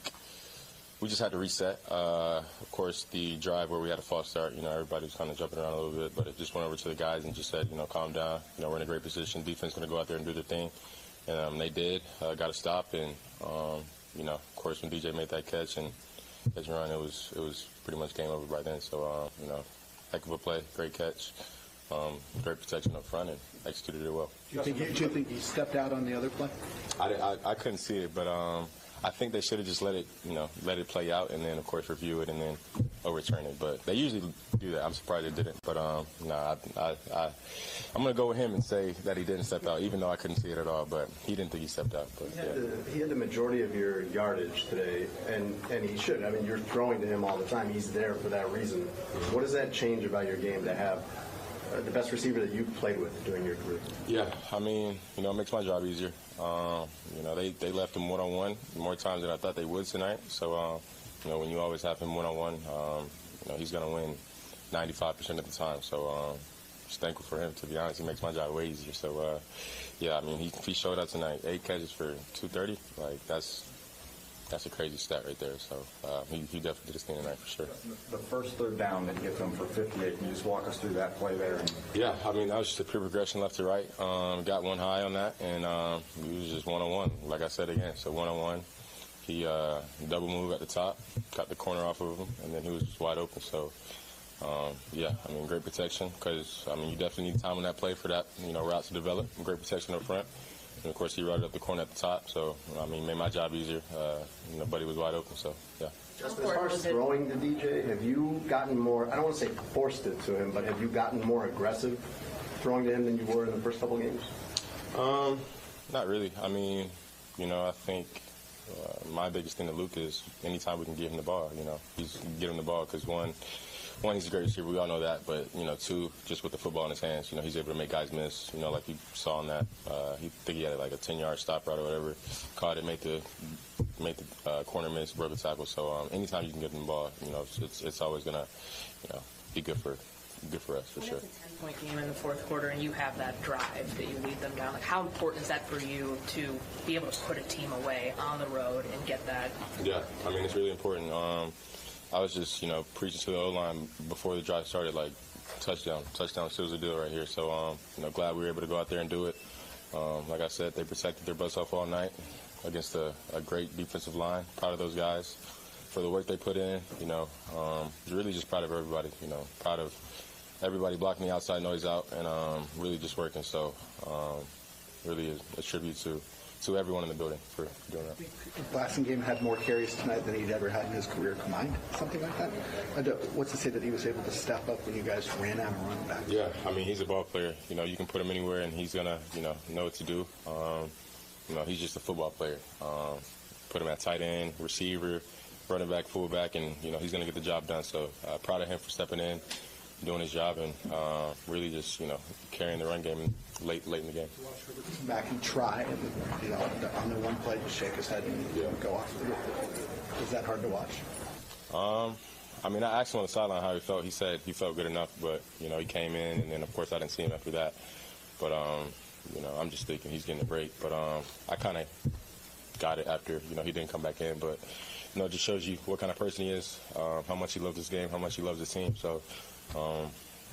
we just had to reset. Uh, of course, the drive where we had a false start, you know, everybody was kind of jumping around a little bit, but it just went over to the guys and just said, you know, calm down. You know, we're in a great position. Defense going to go out there and do their thing. And um, they did. Uh, got a stop. And, um, you know, of course, when D J made that catch and catch and run, it was, it was pretty much game over by then. So, uh, you know, heck of a play, great catch, um, great protection up front, and executed it well. Do you think, do you think he stepped out on the other play? I, I, I couldn't see it, but um, I think they should have just let it, you know, let it play out, and then of course review it, and then overturn it. But they usually do that. I'm surprised they didn't. But um, no, nah, I, I, I, I'm gonna go with him and say that he didn't step out, even though I couldn't see it at all. But he didn't think he stepped out. But He had, yeah. the, he had the majority of your yardage today, and, and he should. I mean, you're throwing to him all the time. He's there for that reason. What does that change about your game to have uh, the best receiver that you've played with during your career? Yeah, I mean, you know, it makes my job easier. Um, you know, they, they left him one-on-one more times than I thought they would tonight. So, uh, you know, when you always have him one-on-one, um, you know, he's going to win ninety-five percent of the time. So, um, just thankful for him, to be honest. He makes my job way easier. So, uh, yeah, I mean, he, he showed up tonight. Eight catches for two thirty. Like, that's that's a crazy stat right there. So, uh, he, he definitely did his thing tonight for sure. The first third down that you get them for fifty-eight, can you just walk us through that play there? Yeah, I mean, that was just a pure progression left to right. Um, got one high on that, and um, we was just one-on-one, like I said again. So one-on-one, he uh, double moved at the top, got the corner off of him, and then he was just wide open. So, um, yeah, I mean, great protection because, I mean, you definitely need time on that play for that, you know, route to develop. Great protection up front. And, of course, he routed up the corner at the top. So, I mean, made my job easier. Uh, you know, Buddy was wide open, so, yeah. Justin, as far as throwing to D J, have you gotten more, I don't want to say forced it to him, but have you gotten more aggressive throwing to him than you were in the first couple games? Um, not really. I mean, you know, I think uh, my biggest thing to Luke is anytime we can give him the ball, you know, he's get him the ball because one, one, he's a great receiver. We all know that. But, you know, two, just with the football in his hands, you know, he's able to make guys miss, you know, like you saw on that. Uh, he think he had like a ten-yard stop route or whatever. Caught it, made the made the uh, corner miss, broke the tackle. So um, anytime you can give him the ball, you know, it's, it's, it's always going to, you know, be good for good for us, for sure. It's a ten-point game in the fourth quarter, and you have that drive that you lead them down. Like, how important is that for you to be able to put a team away on the road and get that? Yeah, I mean, it's really important. Um, I was just, you know, preaching to the O-line before the drive started, like, touchdown. Touchdown seals the deal right here. So, um, you know, glad we were able to go out there and do it. Um, like I said, they protected their butts off all night against a, a great defensive line. Proud of those guys for the work they put in. You know, um, really just proud of everybody, you know, proud of everybody blocking the outside noise out and um, really just working. So, um, really a, a tribute to to everyone in the building for doing that. The Blasting game had more carries tonight than he'd ever had in his career combined, something like that. And, uh, what's to say that he was able to step up when you guys ran out of running back? Yeah, I mean, he's a ball player. You know, you can put him anywhere and he's going to, you know, know what to do. Um, you know, he's just a football player. Um, put him at tight end, receiver, running back, fullback, and, you know, he's going to get the job done. So uh, proud of him for stepping in, doing his job, and uh, really just, you know, carrying the run game late late in the game. Back and try, and, you know, on the one play, just shake his head and yeah. go off. Is that hard to watch? Um, I mean, I asked him on the sideline how he felt. He said he felt good enough, but, you know, he came in, and then, of course, I didn't see him after that. But, um, you know, I'm just thinking he's getting a break. But um, I kind of got it after, you know, he didn't come back in. But, you know, it just shows you what kind of person he is, um, how much he loves this game, how much he loves his team. So, um,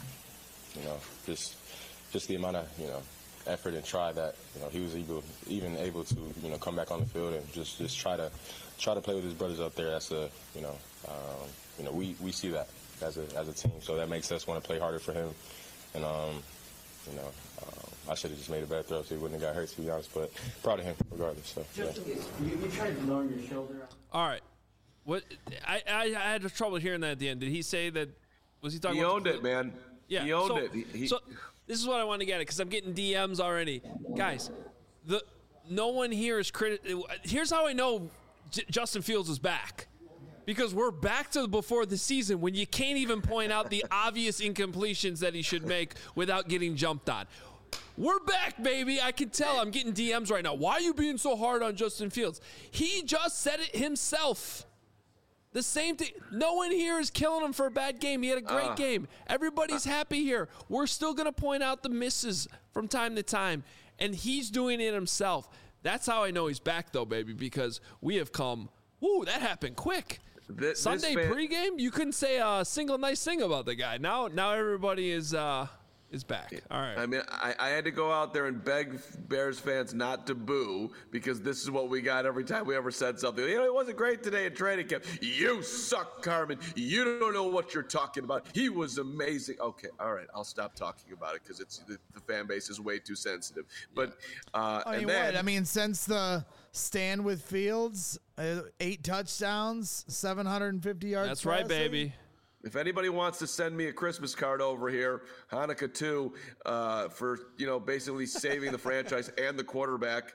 you know, just just the amount of, you know, effort and try that, you know, he was able, even able to, you know, come back on the field and just, just try to try to play with his brothers up there. That's a, you know, um, you know, we, we see that as a as a team. So that makes us want to play harder for him. And, um, you know, um, I should have just made a better throw so he wouldn't have got hurt, to be honest. But proud of him regardless. So, yeah. you, you tried lowering your shoulder. All right. What I, I I had trouble hearing that at the end. Did he say that? Was he talking? He about owned it, man. Yeah, he owned so, it. He, he, so this is what I want to get at because I'm getting D Ms already, guys. The no one here is credit. Here's how I know J- Justin Fields is back, because we're back to before the season when you can't even point out the obvious incompletions that he should make without getting jumped on. We're back, baby. I can tell. I'm getting D Ms right now. Why are you being so hard on Justin Fields? He just said it himself. The same thing. No one here is killing him for a bad game. He had a great uh, game. Everybody's uh, happy here. We're still going to point out the misses from time to time, and he's doing it himself. That's how I know he's back, though, baby, because we have come, woo, that happened quick. Th- Sunday fan- pregame, you couldn't say a single nice thing about the guy. Now now everybody is uh, is back. Yeah. All right. I mean, I, I had to go out there and beg Bears fans not to boo because this is what we got every time we ever said something. You know, it wasn't great today at training camp. You suck, Carmen. You don't know what you're talking about. He was amazing. Okay, all right. I'll stop talking about it because it's the, the fan base is way too sensitive. But uh, I mean, and then, what? I mean, since the stand with Fields, uh, eight touchdowns, seven hundred fifty yards. That's right, baby. If anybody wants to send me a Christmas card over here, Hanukkah too, uh, for, you know, basically saving the franchise and the quarterback,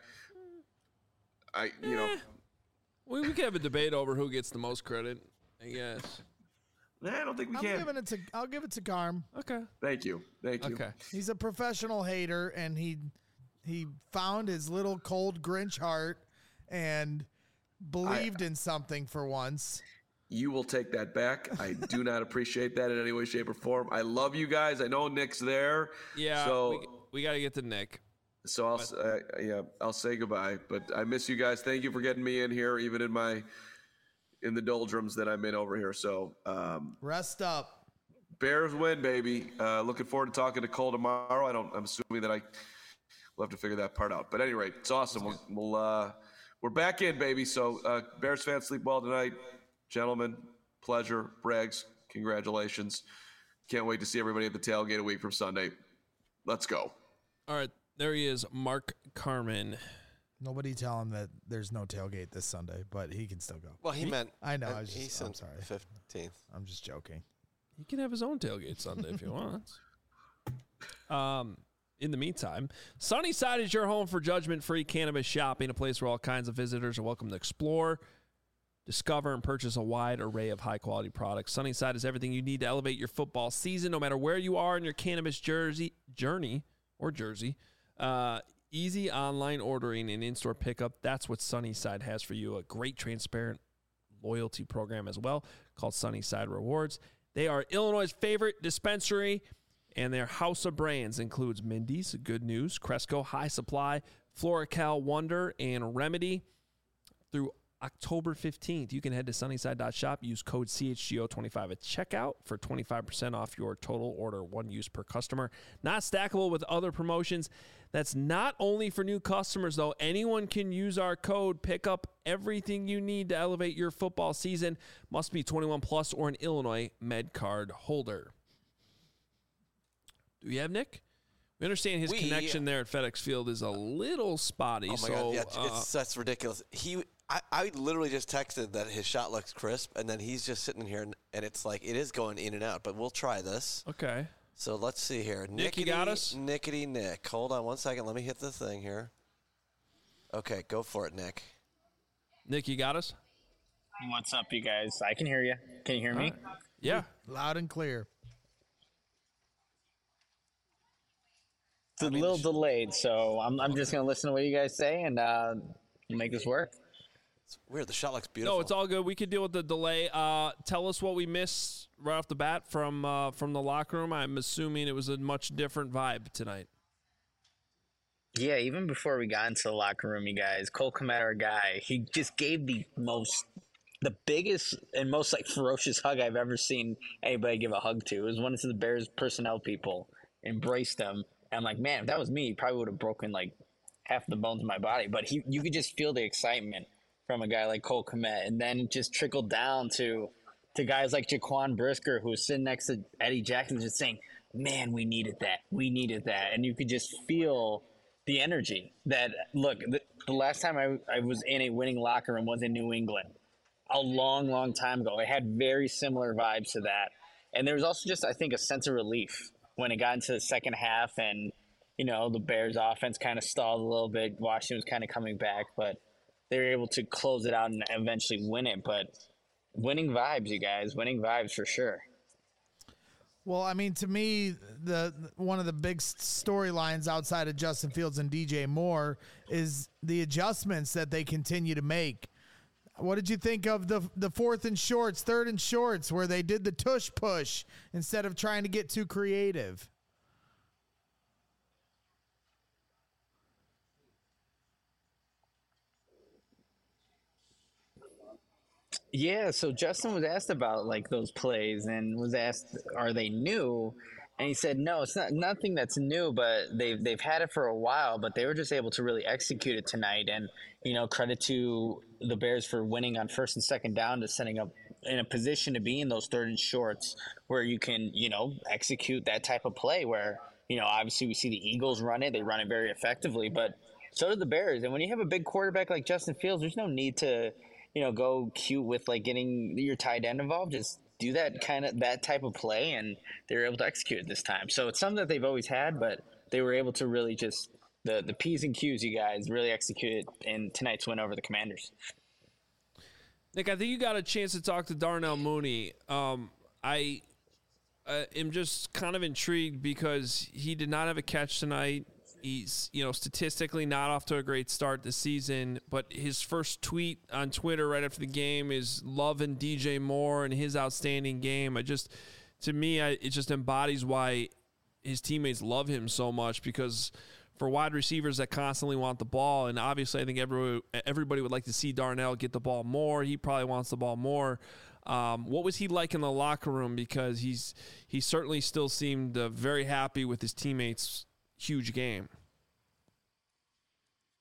I, you know. Eh, we, we could have a debate over who gets the most credit, I guess. Nah, I don't think we I'm can. Giving it to, I'll give it to Garm. Okay. Thank you. Thank you. Okay. He's a professional hater, and he he found his little cold Grinch heart and believed I, in something for once. You will take that back. I do not appreciate that in any way, shape, or form. I love you guys. I know Nick's there. Yeah, so we, we got to get to Nick. So I'll uh, yeah I'll say goodbye. But I miss you guys. Thank you for getting me in here, even in my in the doldrums that I'm in over here. So um, rest up. Bears win, baby. Uh, looking forward to talking to Cole tomorrow. I don't. I'm assuming that I will have to figure that part out. But at any rate, it's awesome. We'll. we'll uh, we're back in, baby. So uh, Bears fans, sleep well tonight. Gentlemen, pleasure. Braggs, congratulations. Can't wait to see everybody at the tailgate a week from Sunday. Let's go. All right, there he is, Mark Carman. Nobody tell him that there's no tailgate this Sunday, but he can still go. Well, he, he meant. I know. Uh, I was just, I'm sorry. fifteenth. I'm just joking. He can have his own tailgate Sunday if he wants. Um, in the meantime, Sunnyside is your home for judgment-free cannabis shopping, a place where all kinds of visitors are welcome to explore, discover, and purchase a wide array of high-quality products. Sunnyside is everything you need to elevate your football season, no matter where you are in your cannabis jersey journey or jersey. Uh, easy online ordering and in-store pickup. That's what Sunnyside has for you. A great, transparent loyalty program as well called Sunnyside Rewards. They are Illinois' favorite dispensary, and their house of brands includes Mindy's, Good News, Cresco, High Supply, Floracal, Wonder, and Remedy. Through October fifteenth, you can head to sunnyside dot shop, use code C H G O twenty-five at checkout for twenty-five percent off your total order, one use per customer. Not stackable with other promotions. That's not only for new customers, though. Anyone can use our code, pick up everything you need to elevate your football season. Must be twenty-one plus or an Illinois Med Card holder. Do we have Nick? We understand his we, connection there at FedEx Field is a little spotty. Oh, my so, God. Yeah, uh, it's, that's ridiculous. He... I, I literally just texted that his shot looks crisp, and then he's just sitting here, and, and it's like it is going in and out. But we'll try this. Okay. So let's see here. Nick, you got us? Nickety Nick. Hold on one second. Let me hit the thing here. Okay, go for it, Nick. Nick, you got us? What's up, you guys? I can hear you. Can you hear me? Right. Yeah. Loud and clear. It's a little delayed, so I'm, I'm just going to listen to what you guys say and uh, make this work. It's weird. The shot looks beautiful. No, it's all good. We could deal with the delay. Uh, tell us what we missed right off the bat from uh, from the locker room. I'm assuming it was a much different vibe tonight. Yeah, even before we got into the locker room, you guys, Cole Kmet, our guy, he just gave the most, the biggest and most like ferocious hug I've ever seen anybody give a hug to. It was one of the Bears personnel people embraced him. And I'm like, man, if that was me, he probably would have broken like half the bones in my body. But he, you could just feel the excitement from a guy like Cole Kmet, and then just trickled down to to guys like Jaquan Brisker, who was sitting next to Eddie Jackson, just saying, man, we needed that. We needed that. And you could just feel the energy that, look, the, the last time I, I was in a winning locker room was in New England a long, long time ago. It had very similar vibes to that. And there was also just, I think, a sense of relief when it got into the second half and, you know, the Bears offense kind of stalled a little bit. Washington was kind of coming back, but they were able to close it out and eventually win it. But winning vibes, you guys, winning vibes for sure. Well, I mean, to me, the one of the big storylines outside of Justin Fields and D J Moore is the adjustments that they continue to make. What did you think of the the fourth and shorts, third and shorts, where they did the tush push instead of trying to get too creative? Yeah, so Justin was asked about like those plays and was asked, are they new? And he said, no, it's not nothing that's new, but they've they've had it for a while, but they were just able to really execute it tonight. And, you know, credit to the Bears for winning on first and second down, to setting up in a position to be in those third and shorts where you can, you know, execute that type of play where, you know, obviously we see the Eagles run it. They run it very effectively, but so do the Bears. And when you have a big quarterback like Justin Fields, there's no need to, you know, go cute with like getting your tight end involved. Just do that kind of that type of play, and they were able to execute it this time. So it's something that they've always had, but they were able to really just the the P's and Q's, you guys, really executed in tonight's win over the Commanders. Nick, I think you got a chance to talk to Darnell Mooney. Um, I uh, am just kind of intrigued because he did not have a catch tonight. He's, you know, statistically not off to a great start this season, but his first tweet on Twitter right after the game is loving D J Moore and his outstanding game. I just, to me, I, it just embodies why his teammates love him so much, because for wide receivers that constantly want the ball, and obviously I think everybody, everybody would like to see Darnell get the ball more. He probably wants the ball more. Um, what was he like in the locker room? Because he's he certainly still seemed uh, very happy with his teammates' huge game.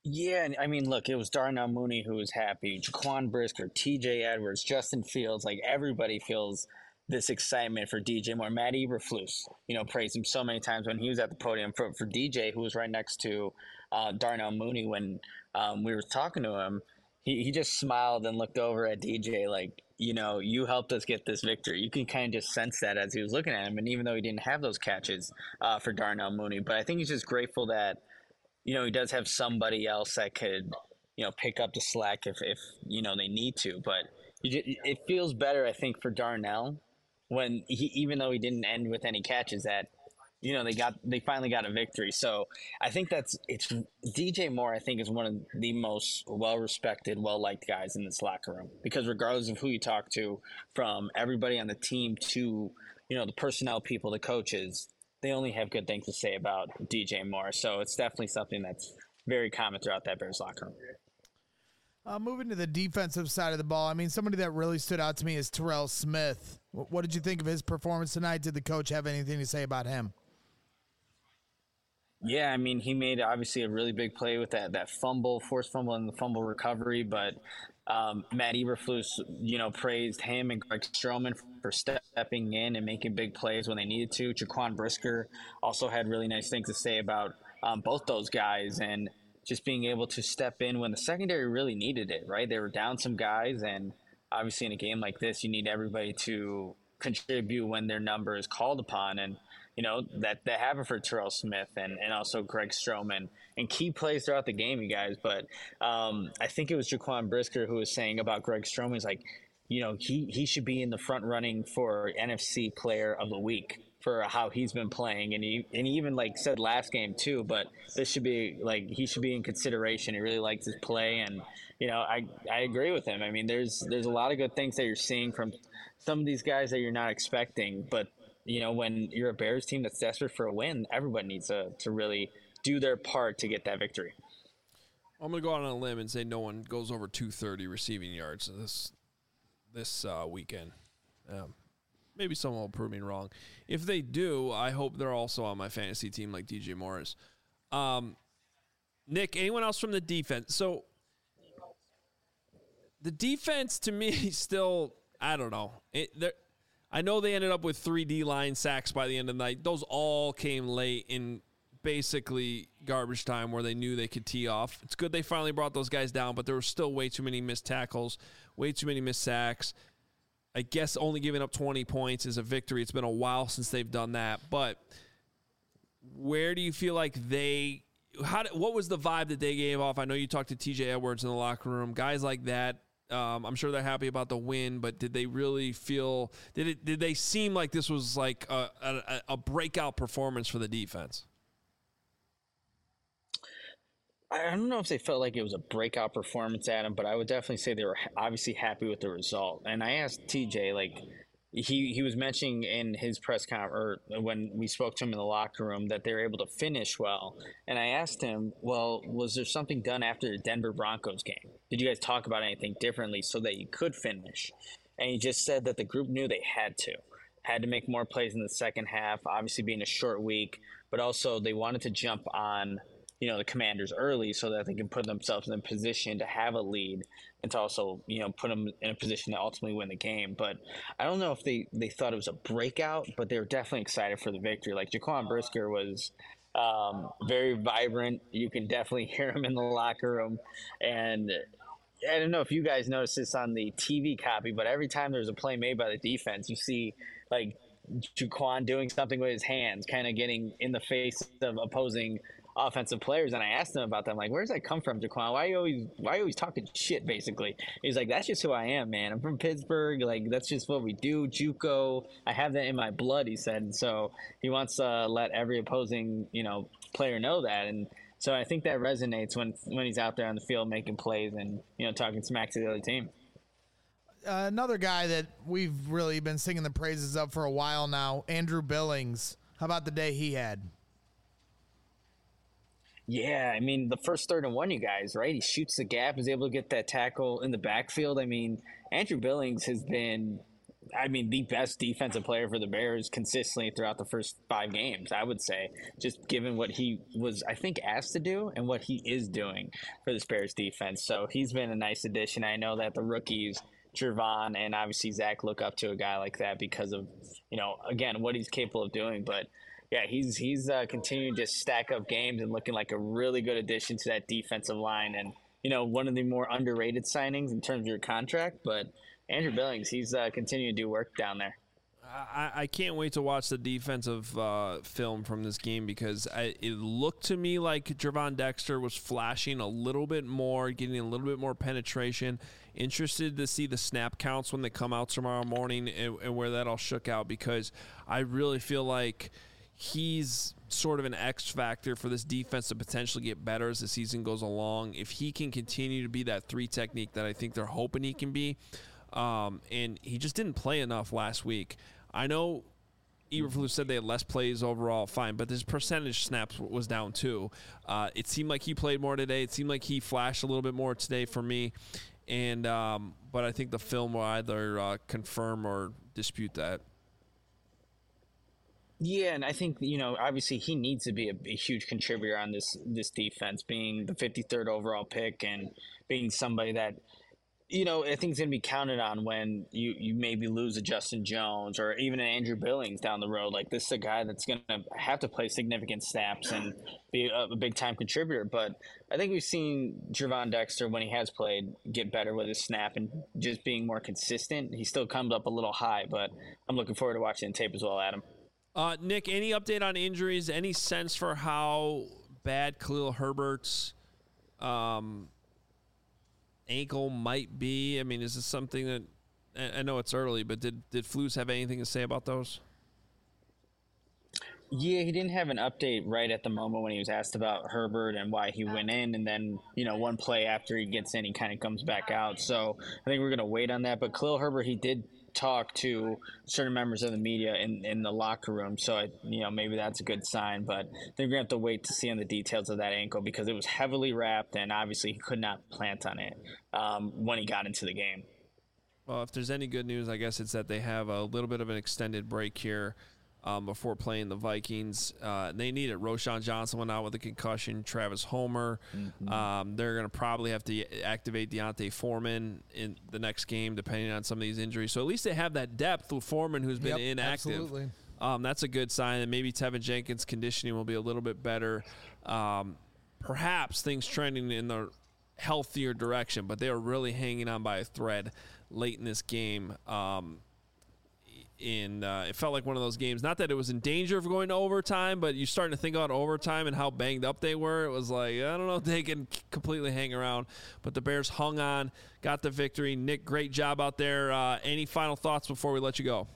Yeah, and I mean, look, it was Darnell Mooney who was happy, Jaquan Brisker, T J Edwards, Justin Fields. Like, everybody feels this excitement for D J Moore. Matt Eberflus, you know, praised him so many times when he was at the podium for, for D J, who was right next to uh, Darnell Mooney when um, we were talking to him. He, he just smiled and looked over at D J like, you know, you helped us get this victory. You can kind of just sense that as he was looking at him. And even though he didn't have those catches uh, for Darnell Mooney, but I think he's just grateful that, you know, he does have somebody else that could, you know, pick up the slack if, if you know, they need to. But you just, it feels better, I think, for Darnell when he, even though he didn't end with any catches, that, you know, they got, they finally got a victory. So I think that's, it's D J Moore, I think, is one of the most well-respected, well-liked guys in this locker room, because regardless of who you talk to, from everybody on the team to, you know, the personnel people, the coaches, they only have good things to say about D J Moore. So it's definitely something that's very common throughout that Bears locker room. Uh, moving to the defensive side of the ball, I mean, somebody that really stood out to me is Terrell Smith. What, what did you think of his performance tonight? Did the coach have anything to say about him? Yeah, I mean, he made obviously a really big play with that that fumble, forced fumble, and the fumble recovery. But um, Matt Eberflus, you know, praised him and Greg Stroman for stepping in and making big plays when they needed to. Jaquan Brisker also had really nice things to say about um, both those guys and just being able to step in when the secondary really needed it, right? They were down some guys, and obviously in a game like this, you need everybody to contribute when their number is called upon. And you know, that, that happened for Terrell Smith and, and also Greg Stroman and key plays throughout the game, you guys. But um, I think it was Jaquan Brisker who was saying about Greg Stroman, he's like, you know, he, he should be in the front running for N F C Player of the Week for how he's been playing. And he, and he even, like, said last game, too. But this should be, like, he should be in consideration. He really likes his play. And, you know, I, I agree with him. I mean, there's there's a lot of good things that you're seeing from some of these guys that you're not expecting. But you know, when you're a Bears team that's desperate for a win, everybody needs to, to really do their part to get that victory. I'm going to go out on a limb and say no one goes over two thirty receiving yards this this uh, weekend. Um, maybe someone will prove me wrong. If they do, I hope they're also on my fantasy team like D J Morris. Um, Nick, anyone else from the defense? So the defense to me still, I don't know. It, I know they ended up with three D-line sacks by the end of the night. Those all came late in basically garbage time where they knew they could tee off. It's good they finally brought those guys down, but there were still way too many missed tackles, way too many missed sacks. I guess only giving up twenty points is a victory. It's been a while since they've done that. But where do you feel like they how – what was the vibe that they gave off? I know you talked to T J Edwards in the locker room. Guys like that. Um, I'm sure they're happy about the win, but did they really feel did it? Did they seem like this was like a, a, a breakout performance for the defense? I don't know if they felt like it was a breakout performance, Adam, but I would definitely say they were obviously happy with the result. And I asked T J, like, he, he was mentioning in his press conference, or when we spoke to him in the locker room, that they were able to finish well. And I asked him, well, was there something done after the Denver Broncos game? Did you guys talk about anything differently so that you could finish? And he just said that the group knew they had to. Had to make more plays in the second half, obviously being a short week, but also they wanted to jump on, you know, the Commanders early so that they can put themselves in a position to have a lead and to also, you know, put them in a position to ultimately win the game. But I don't know if they, they thought it was a breakout, but they were definitely excited for the victory. Like Jaquan Brisker was um, very vibrant. You can definitely hear him in the locker room. And I don't know if you guys noticed this on the T V copy, but every time there's a play made by the defense, you see like Jaquan doing something with his hands, kind of getting in the face of opposing offensive players. And I asked him about them, like, where's that come from, Jaquan? Why are you always why are you always talking shit, basically? He's like, that's just who I am, man. I'm from Pittsburgh. Like, that's just what we do. JUCO. I have that in my blood, he said. And so he wants to uh, let every opposing, you know, player know that. And so I think that resonates when when he's out there on the field making plays and, you know, talking smack to the other team. Uh, another guy that we've really been singing the praises of for a while now, Andrew Billings. How about the day he had? Yeah, I mean, the first third and one, you guys, right? He shoots the gap, is able to get that tackle in the backfield. I mean, Andrew Billings has been I mean, the best defensive player for the Bears consistently throughout the first five games, I would say, just given what he was, I think, asked to do and what he is doing for the Bears defense. So he's been a nice addition. I know that the rookies, Jervon and obviously Zach, look up to a guy like that because of, you know, again, what he's capable of doing. But yeah, he's he's uh, continuing to just stack up games and looking like a really good addition to that defensive line. And, you know, one of the more underrated signings in terms of your contract. But Andrew Billings, he's uh, continuing to do work down there. I, I can't wait to watch the defensive uh, film from this game because I, it looked to me like Gervon Dexter was flashing a little bit more, getting a little bit more penetration. Interested to see the snap counts when they come out tomorrow morning and, and where that all shook out because I really feel like he's sort of an X factor for this defense to potentially get better as the season goes along. If he can continue to be that three technique that I think they're hoping he can be, um, and he just didn't play enough last week. I know Eberflus said they had less plays overall, fine, but his percentage snaps was down too. Uh, it seemed like he played more today. It seemed like he flashed a little bit more today for me, and um, but I think the film will either uh, confirm or dispute that. Yeah, and I think, you know, obviously he needs to be a, a huge contributor on this this defense, being the fifty-third overall pick and being somebody that, you know, I think is going to be counted on when you, you maybe lose a Justin Jones or even an Andrew Billings down the road. Like, this is a guy that's going to have to play significant snaps and be a, a big-time contributor. But I think we've seen Gervon Dexter, when he has played, get better with his snap and just being more consistent. He still comes up a little high, but I'm looking forward to watching the tape as well, Adam. Uh, Nick, any update on injuries? Any sense for how bad Khalil Herbert's um, ankle might be? I mean, is this something that – I know it's early, but did, did Flus have anything to say about those? Yeah, he didn't have an update right at the moment when he was asked about Herbert and why he went in. And then, you know, one play after he gets in, he kind of comes back out. So I think we're going to wait on that. But Khalil Herbert, he did – talk to certain members of the media in, in the locker room. So, I, you know, maybe that's a good sign. But they're going to have to wait to see on the details of that ankle because it was heavily wrapped and obviously he could not plant on it um, when he got into the game. Well, if there's any good news, I guess it's that they have a little bit of an extended break here um, before playing the Vikings. Uh, they need it. Roschon Johnson went out with a concussion. Travis Homer. Mm-hmm. Um, they're going to probably have to activate Deontay Foreman in the next game, depending on some of these injuries. So at least they have that depth with Foreman, who's been yep, inactive. Absolutely. Um, that's a good sign. And maybe Tevin Jenkins' conditioning will be a little bit better. Um, perhaps things trending in the healthier direction, but they are really hanging on by a thread late in this game. Um, in uh, it felt like one of those games, not that it was in danger of going to overtime, but you're starting to think about overtime and how banged up they were. It was like, I don't know if they can completely hang around, but the Bears hung on, got the victory. Nick, great job out there. Uh, any final thoughts before we let you go?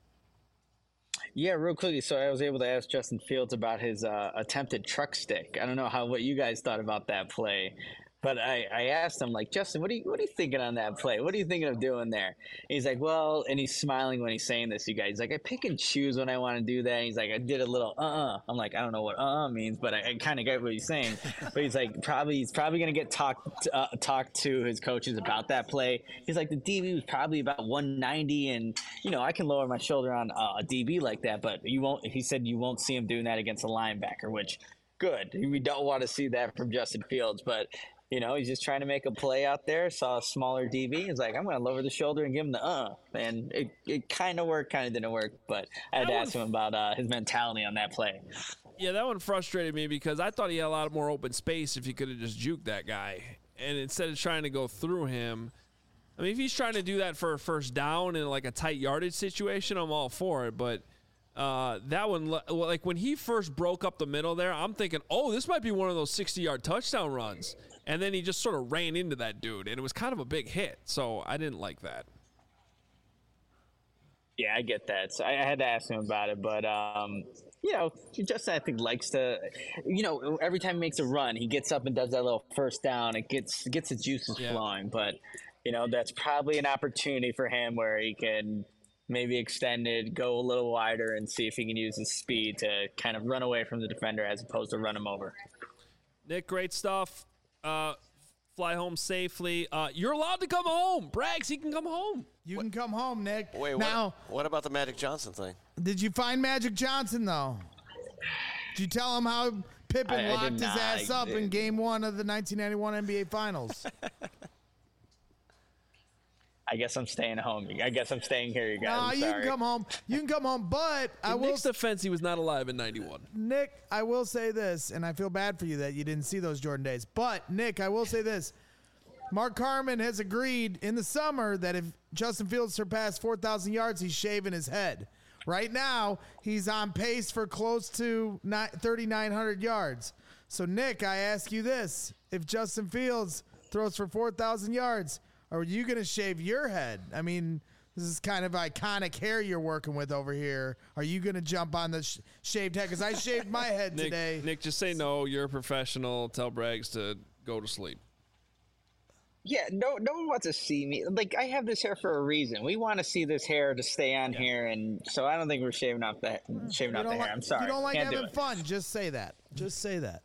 Yeah, real quickly. So I was able to ask Justin Fields about his uh, attempted truck stick. I don't know how what you guys thought about that play. But I, I asked him, like, Justin, what are you what are you thinking on that play? What are you thinking of doing there? And he's like, well, and he's smiling when he's saying this, you guys. He's like, I pick and choose when I want to do that. And he's like, I did a little uh-uh. I'm like, I don't know what uh-uh means, but I, I kind of get what he's saying. But he's like, probably he's probably going to get talked uh, talk to his coaches about that play. He's like, the D B was probably about one ninety, and, you know, I can lower my shoulder on uh, a D B like that, but you won't. He said you won't see him doing that against a linebacker, which, good. We don't want to see that from Justin Fields, but – you know, he's just trying to make a play out there. Saw a smaller D B. He's like, I'm going to lower the shoulder and give him the uh. And it, it kind of worked, kind of didn't work. But I had to ask him about uh, his mentality on that play. Yeah, that one frustrated me because I thought he had a lot more open space if he could have just juked that guy. And instead of trying to go through him, I mean, if he's trying to do that for a first down in like a tight yardage situation, I'm all for it. But uh, that one, like when he first broke up the middle there, I'm thinking, oh, this might be one of those sixty-yard touchdown runs. And then he just sort of ran into that dude, and it was kind of a big hit. So I didn't like that. Yeah, I get that. So I had to ask him about it. But, um, you know, Justin, I think, likes to, you know, every time he makes a run, he gets up and does that little first down. It gets gets the juices yeah. flowing. But, you know, that's probably an opportunity for him where he can maybe extend it, go a little wider, and see if he can use his speed to kind of run away from the defender as opposed to run him over. Nick, great stuff. Uh, fly home safely. Uh, you're allowed to come home. Braggs, he can come home. You can come home, Nick. Wait, now, what, what about the Magic Johnson thing? Did you find Magic Johnson, though? Did you tell him how Pippen I- I locked did his not. ass I up in did. game one of the nineteen ninety-one N B A Finals? I guess I'm staying home. I guess I'm staying here, you guys. Nah, I'm you sorry. can come home. You can come home, but I In will Nick's defense, he was not alive in ninety-one. Nick, I will say this, and I feel bad for you that you didn't see those Jordan days. But, Nick, I will say this. Mark Carman has agreed in the summer that if Justin Fields surpassed four thousand yards, he's shaving his head. Right now, he's on pace for close to thirty-nine hundred yards. So, Nick, I ask you this. If Justin Fields throws for four thousand yards, are you going to shave your head? I mean, this is kind of iconic hair you're working with over here. Are you going to jump on the sh- shaved head? Because I shaved my head Nick, today. Nick, just say no. You're a professional. Tell Braggs to go to sleep. Yeah, no, no one wants to see me. Like, I have this hair for a reason. We want to see this hair to stay on here, and so I don't think we're shaving off the shaving You off the don't hair. like- I'm sorry. You don't like Can't do having it. fun. Just say that. Just say that.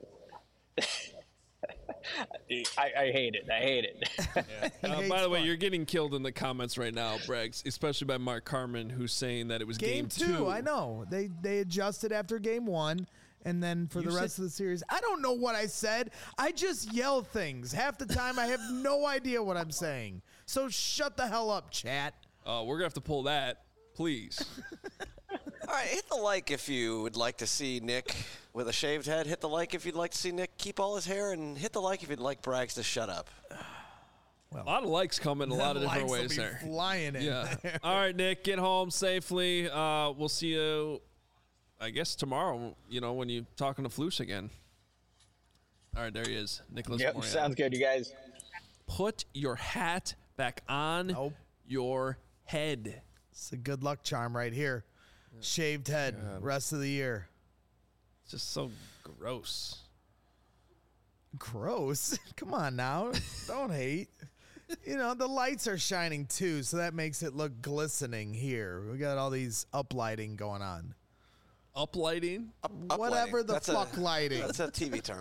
I, I hate it. I hate it. Uh, by the way, you're getting killed in the comments right now, Braggs, especially by Mark Carman, who's saying that it was game, Game two, I know. They they adjusted after game one, and then for You the rest said- of the series, I don't know what I said. I just yell things. Half the time, I have no idea what I'm saying. So shut the hell up, chat. Uh, we're gonna have to pull that, please. All right, hit the like if you would like to see Nick with a shaved head. Hit the like if you'd like to see Nick keep all his hair, and hit the like if you'd like Braggs to shut up. a lot of likes coming a lot of different Likes will ways be there. flying in Yeah. there. All right, Nick, get home safely. Uh, we'll see you, I guess, tomorrow, you know, when you're talking to Flus again. All right, there he is. Nicholas Yep, Moreau. sounds good, you guys. Put your hat back on your head. It's a good luck charm right here. Shaved head, rest of the year. It's just so gross. Gross? Come on now. Don't hate. You know, the lights are shining too, so that makes it look glistening here. We got all these uplighting going on. Uplighting? Up, Whatever uplighting. the That's fuck a, lighting. That's a T V term.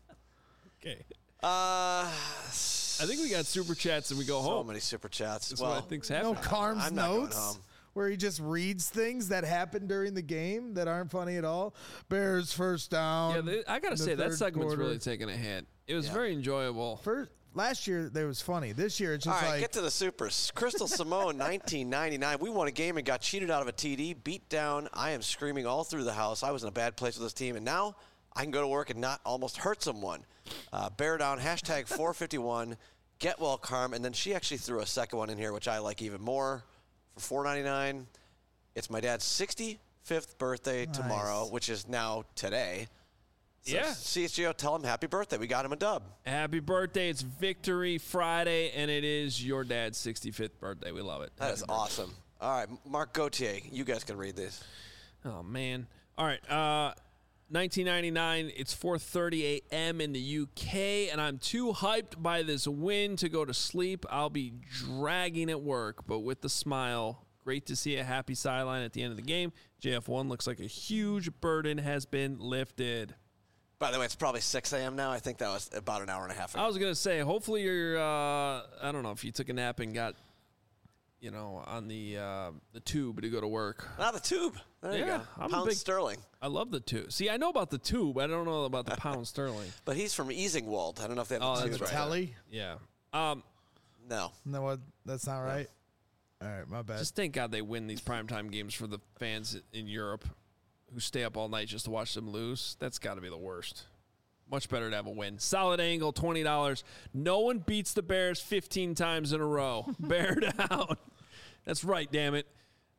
Okay. Uh, I think we got super chats and we go so home. many super chats. That's well, what I think's No happening. Carm's I'm not going notes home. where he just reads things that happened during the game that aren't funny at all. Bears first down. Yeah, they, I gotta in the say that third segment's quarter. really taking a hit. It was Yeah. very enjoyable. First last year there was funny. This year it's All just right, like get to the supers. Crystal Simone, nineteen ninety-nine. We won a game and got cheated out of a T D, beat down. I am screaming all through the house. I was in a bad place with this team, and now I can go to work and not almost hurt someone. Uh, bear down, hashtag four fifty-one. Get well, Carm. And then she actually threw a second one in here, which I like even more, for four ninety-nine. It's my dad's sixty-fifth birthday Nice. tomorrow, which is now today. So Yeah. C H G O, tell him happy birthday. We got him a dub. Happy birthday. It's Victory Friday, and it is your dad's sixty-fifth birthday. We love it. That Happy is birthday. awesome. All right, Mark Gauthier, you guys can read this. Oh, man. All right. Uh, nineteen ninety-nine, it's four thirty a.m. in the U K, and I'm too hyped by this win to go to sleep. I'll be dragging at work, but with the smile. Great to see a happy sideline at the end of the game. J F one looks like a huge burden has been lifted. By the way, it's probably six a.m. now. I think that was about an hour and a half ago. I was going to say, hopefully you're, uh, I don't know, if you took a nap and got, you know, on the uh, the tube to go to work. Not the tube. There you Yeah, go. I'm a Pound big- sterling. I love the tube. See, I know about the tube. I don't know about the pound sterling. But he's from Easingwold. I don't know if they have Oh, the that's tube. right. Telly? Yeah. Um, No. No, what? That's not right. All right, my bad. Just thank God they win these primetime games for the fans in Europe who stay up all night just to watch them lose. That's got to be the worst. Much better to have a win. Solid angle, twenty dollars. No one beats the Bears fifteen times in a row. Bear down. That's right, damn it.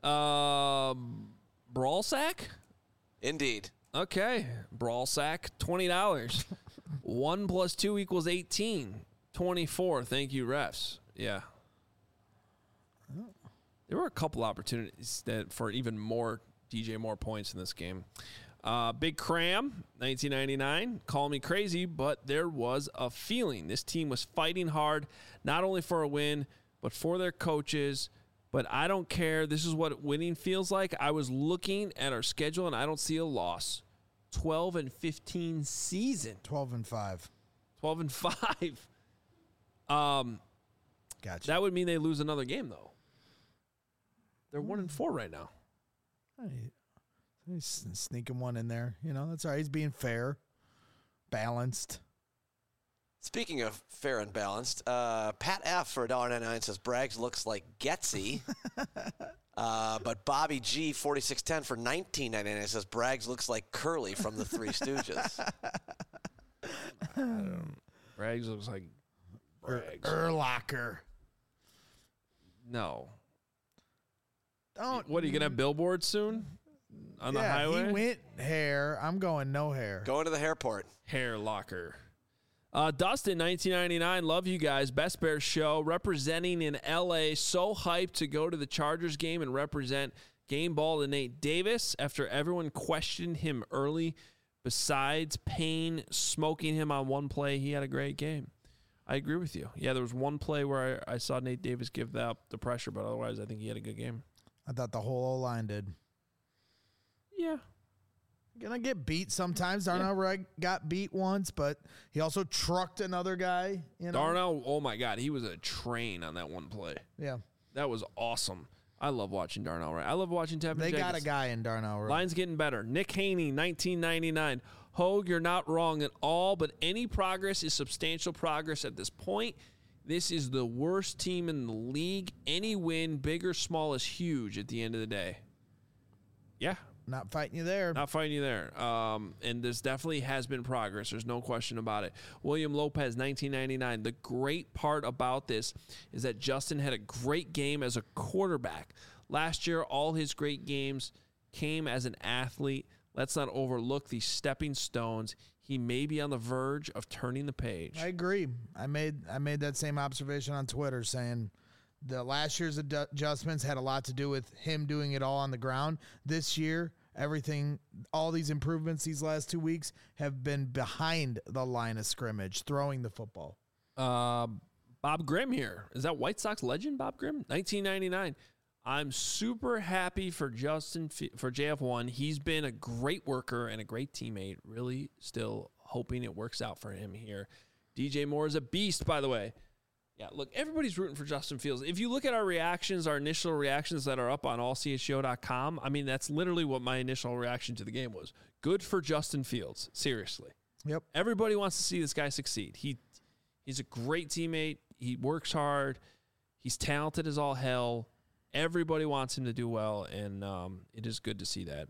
Um, Brawl Sack? Indeed. Okay. Brawl Sack, twenty dollars. one plus two equals eighteen. twenty-four. Thank you, refs. Yeah. There were a couple opportunities that for even more D J Moore points in this game. Uh, Big Cram, nineteen ninety-nine. Call me crazy, but there was a feeling. This team was fighting hard, not only for a win, but for their coaches. But I don't care. This is what winning feels like. I was looking at our schedule, and I don't see a loss. twelve and fifteen season. twelve and five. twelve and five. Um, gotcha. That would mean they lose another game, though. They're one and four right now. Hey, he's sneaking one in there. You know, that's all right. He's being fair, balanced. Speaking of fair and balanced, uh, Pat F for one dollar ninety-nine says Braggs looks like Getsy. uh, but Bobby G forty-six ten for nineteen ninety-nine says Braggs looks like Curly from the Three Stooges. Braggs looks like Braggs. Urlacher. No. Don't. What, are you going to have billboards soon on yeah, the highway? He went hair. I'm going no hair. Going to the hairport. Hair locker. Uh, Dustin, nineteen ninety-nine, love you guys. Best Bears show, representing in L A. So hyped to go to the Chargers game and represent game ball to Nate Davis after everyone questioned him early. Besides Payne smoking him on one play, he had a great game. I agree with you. Yeah, there was one play where I, I saw Nate Davis give up the pressure, but otherwise I think he had a good game. I thought the whole O-line did. Yeah. Gonna get beat sometimes. Darnell Wright got beat once, but he also trucked another guy. You know? Darnell, oh my God, he was a train on that one play. Yeah. That was awesome. I love watching Darnell Wright. I love watching Tevin They Jenkins. got a guy in Darnell Wright. Line's getting better. Nick Haney, nineteen ninety-nine. Hogue, you're not wrong at all, but any progress is substantial progress at this point. This is the worst team in the league. Any win, big or small, is huge at the end of the day. Yeah. Not fighting you there. Not fighting you there. Um, and this definitely has been progress. There's no question about it. William Lopez, nineteen ninety-nine. The great part about this is that Justin had a great game as a quarterback. Last year, all his great games came as an athlete. Let's not overlook these stepping stones. He may be on the verge of turning the page. I agree. I made I made that same observation on Twitter, saying the last year's ad- adjustments had a lot to do with him doing it all on the ground. This year, everything, all these improvements these last two weeks have been behind the line of scrimmage, throwing the football. Uh, Bob Grimm here. Is that White Sox legend, Bob Grimm? nineteen ninety-nine. I'm super happy for Justin, for J F one. He's been a great worker and a great teammate. Really still hoping it works out for him here. D J Moore is a beast, by the way. Yeah, look, everybody's rooting for Justin Fields. If you look at our reactions, our initial reactions that are up on all c h o dot com, I mean, that's literally what my initial reaction to the game was. Good for Justin Fields. Seriously. Yep. Everybody wants to see this guy succeed. He He's a great teammate. He works hard. He's talented as all hell. Everybody wants him to do well, and um, it is good to see that.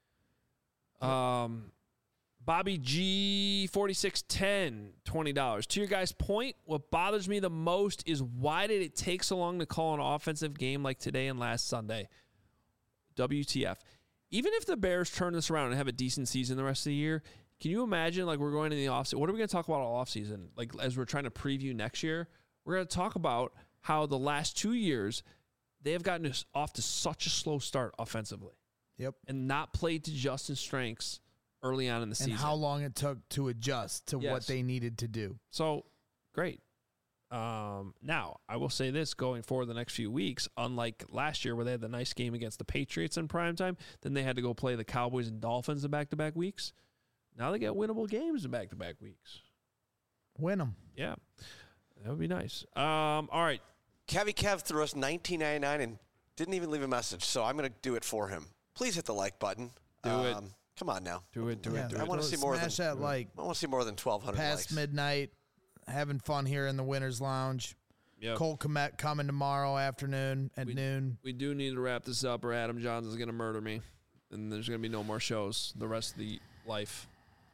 Um, Bobby G, forty-six ten, twenty dollars. To your guys' point, what bothers me the most is why did it take so long to call an offensive game like today and last Sunday? W T F. Even if the Bears turn this around and have a decent season the rest of the year, can you imagine, like, we're going in the offseason? What are we going to talk about all offseason? Like, as we're trying to preview next year, we're going to talk about how the last two years – they have gotten us off to such a slow start offensively. Yep. And not played to Justin's strengths early on in the and season. And how long it took to adjust to yes. what they needed to do. So, great. Um, now, I will say this going forward the next few weeks, unlike last year where they had the nice game against the Patriots in primetime, then they had to go play the Cowboys and Dolphins in back-to-back weeks. Now they got winnable games in back-to-back weeks. Win them. Yeah. That would be nice. Um, all right. Kevy Kev threw us nineteen ninety-nine and didn't even leave a message, so I'm going to do it for him. Please hit the like button. Do um, it. Come on now. Do it. Do yeah, it. Do I it. want to see more than that like. I want to see more than twelve hundred past likes. midnight, having fun here in the Winners Lounge. Yep. Cole Kmet coming tomorrow afternoon at we, noon. We do need to wrap this up, or Adam Johns is going to murder me, and there's going to be no more shows the rest of the life.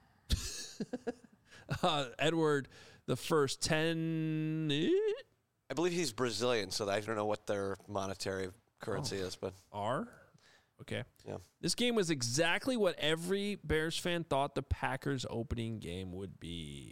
uh, Edward, the first ten. I believe he's Brazilian, so I don't know what their monetary currency oh. is, but R. Okay. Yeah. This game was exactly what every Bears fan thought the Packers' opening game would be.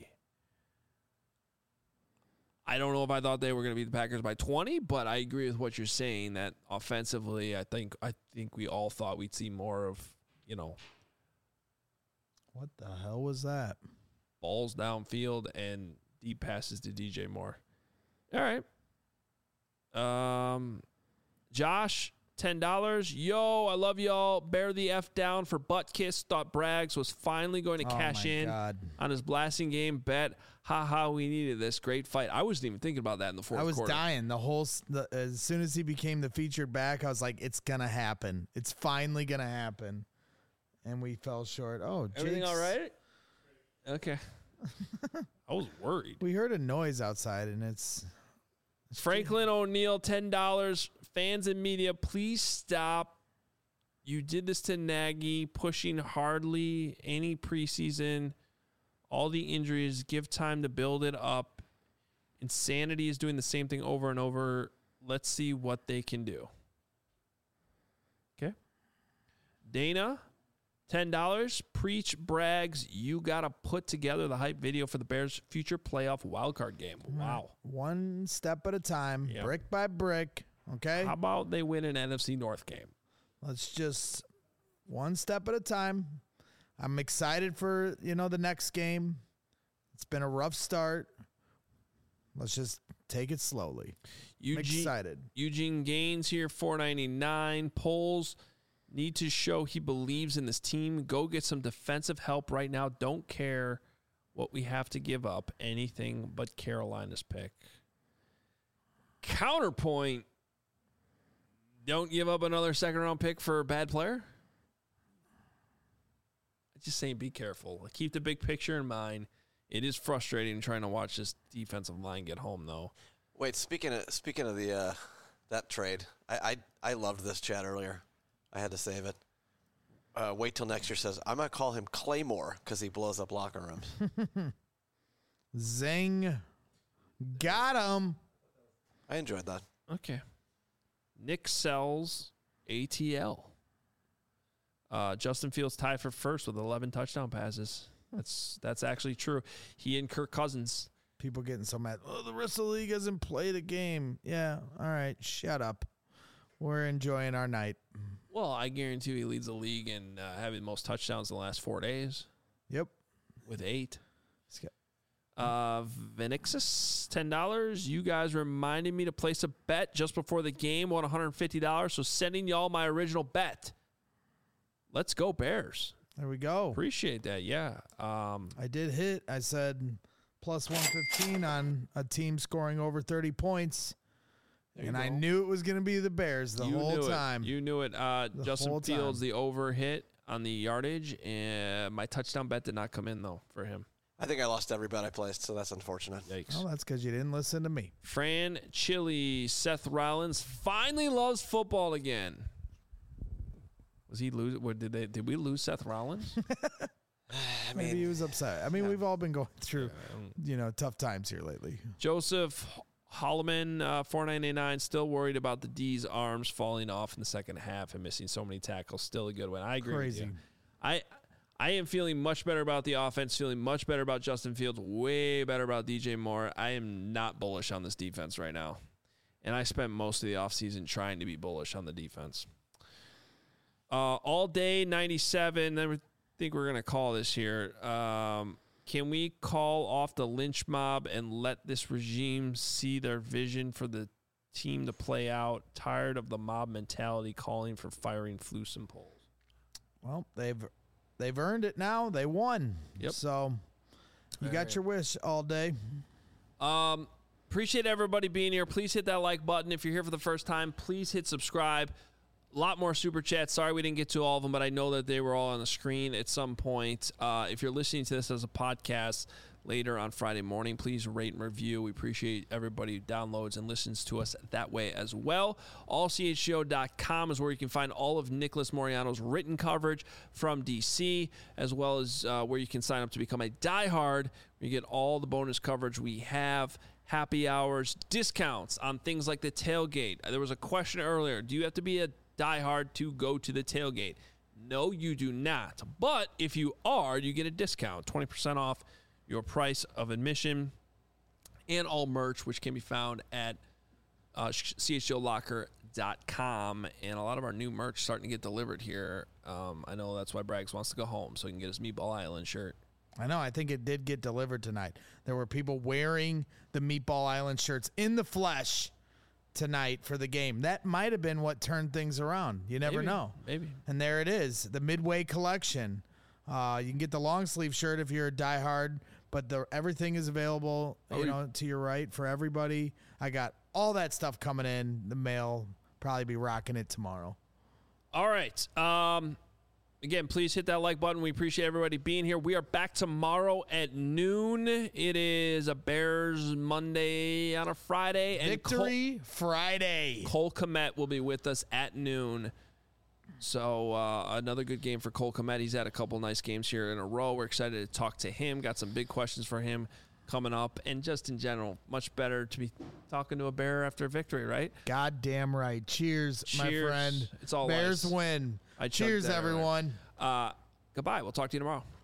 I don't know if I thought they were going to beat the Packers by twenty, but I agree with what you're saying that offensively, I think I think we all thought we'd see more of, you know, what the hell was that? Balls downfield and deep passes to D J Moore. All right. Um, Josh, ten dollars. Yo, I love y'all. Bear the F down for butt kiss. Thought Braggs was finally going to Oh, cash my in God. on his blasting game bet. Ha ha, we needed this. Great fight. I wasn't even thinking about that in the fourth I was quarter. dying the whole. s- The, as soon as he became the featured back, I was like, "It's gonna happen. It's finally gonna happen." And we fell short. Oh, Everything Jake's- all right? Okay. I was worried. We heard a noise outside, and it's Franklin O'Neill, ten dollars. Fans and media, please stop. You did this to Nagy, pushing hardly any preseason. All the injuries, give time to build it up. Insanity is doing the same thing over and over. Let's see what they can do. Okay. Dana, ten dollars. Preach Braggs. You got to put together the hype video for the Bears' future playoff wildcard game. Wow. one step at a time, Yep. brick by brick. Okay. How about they win an N F C North game? Let's just one step at a time. I'm excited for, you know, the next game. It's been a rough start. Let's just take it slowly. I'm excited. Eugene Gaines here, four ninety-nine. Polls need to show he believes in this team. Go get some defensive help right now. Don't care what we have to give up. Anything but Carolina's pick. Counterpoint. Don't give up another second round pick for a bad player. Just saying, be careful. Keep the big picture in mind. It is frustrating trying to watch this defensive line get home, though. Wait, speaking of speaking of the uh, that trade, I, I I loved this chat earlier. I had to save it. Uh, wait till next year says I'm gonna call him Claymore because he blows up locker rooms. Zing. Got him. I enjoyed that. Okay. Nick Sells, A T L. Uh, Justin Fields tied for first with eleven touchdown passes. That's that's actually true. He and Kirk Cousins. People getting so mad. Oh, the rest of the league hasn't played a game. Yeah. All right. Shut up. We're enjoying our night. Well, I guarantee you he leads the league in uh, having most touchdowns in the last four days. Yep. With eight. Uh, Venixus, ten dollars. You guys reminded me to place a bet just before the game, won one hundred fifty dollars. So sending y'all my original bet. Let's go Bears. There we go. Appreciate that. Yeah. Um, I did hit. I said plus one fifteen on a team scoring over thirty points. you And I go. knew it was going to be the Bears the you whole knew time. It. You knew it. Uh, The Justin whole Fields, time. the over hit on the yardage. And my touchdown bet did not come in, though, for him. I think I lost every bet I placed, so that's unfortunate. Yikes. Oh, that's because you didn't listen to me. Fran Chili, Seth Rollins finally loves football again. Was he lose? What did they? Did we lose Seth Rollins? I Maybe mean, he was upset. I mean, we've all been going through, you know, tough times here lately. Joseph Holloman, uh, four ninety-nine. Still worried about the D's arms falling off in the second half and missing so many tackles. Still a good one. I agree Crazy. with you. I I am feeling much better about the offense. Feeling much better about Justin Fields. Way better about D J Moore. I am not bullish on this defense right now, and I spent most of the offseason trying to be bullish on the defense. Uh, all day ninety-seven. I think we're gonna call this here. Um, can we call off the lynch mob and let this regime see their vision for the team to play out? Tired of the mob mentality calling for firing Flus and Poles. Well, they've they've earned it now. They won. Yep. So you got your wish all day. Um, appreciate everybody being here. Please hit that like button. If you're here for the first time, please hit subscribe. A lot more super chats. Sorry we didn't get to all of them, but I know that they were all on the screen at some point. Uh, if you're listening to this as a podcast later on Friday morning, please rate and review. We appreciate everybody who downloads and listens to us that way as well. all c h g o dot com is where you can find all of Nicholas Moriano's written coverage from D C, as well as uh, where you can sign up to become a diehard. You get all the bonus coverage we have. Happy hours, discounts on things like the tailgate. There was a question earlier. Do you have to be a diehard to go to the tailgate? No, you do not. But if you are, you get a discount, twenty percent off your price of admission and all merch, which can be found at uh, c h g o locker dot com. And a lot of our new merch starting to get delivered here. Um, I know that's why Braggs wants to go home, so he can get his Meatball Island shirt. I know. I think it did get delivered tonight. There were people wearing the Meatball Island shirts in the flesh tonight for the game. That might have been what turned things around. You never Maybe, know. maybe. And there it is, the Midway collection. Uh, you can get the long sleeve shirt if you're a diehard, but the everything is available, Oh, you we- know, to your right for everybody. I got all that stuff coming in the mail. Probably be rocking it tomorrow. All right. Um, again, please hit that like button. We appreciate everybody being here. We are back tomorrow at noon. It is a Bears Monday on a Friday. And Victory Friday. Cole Kmet will be with us at noon. So uh, another good game for Cole Kmet. He's had a couple nice games here in a row. We're excited to talk to him. Got some big questions for him coming up. And just in general, much better to be talking to a Bear after a victory, right? Goddamn right. Cheers, my Cheers. friend. It's all Bears ice. win. I chugged Cheers, that earlier. everyone. Uh, goodbye. We'll talk to you tomorrow.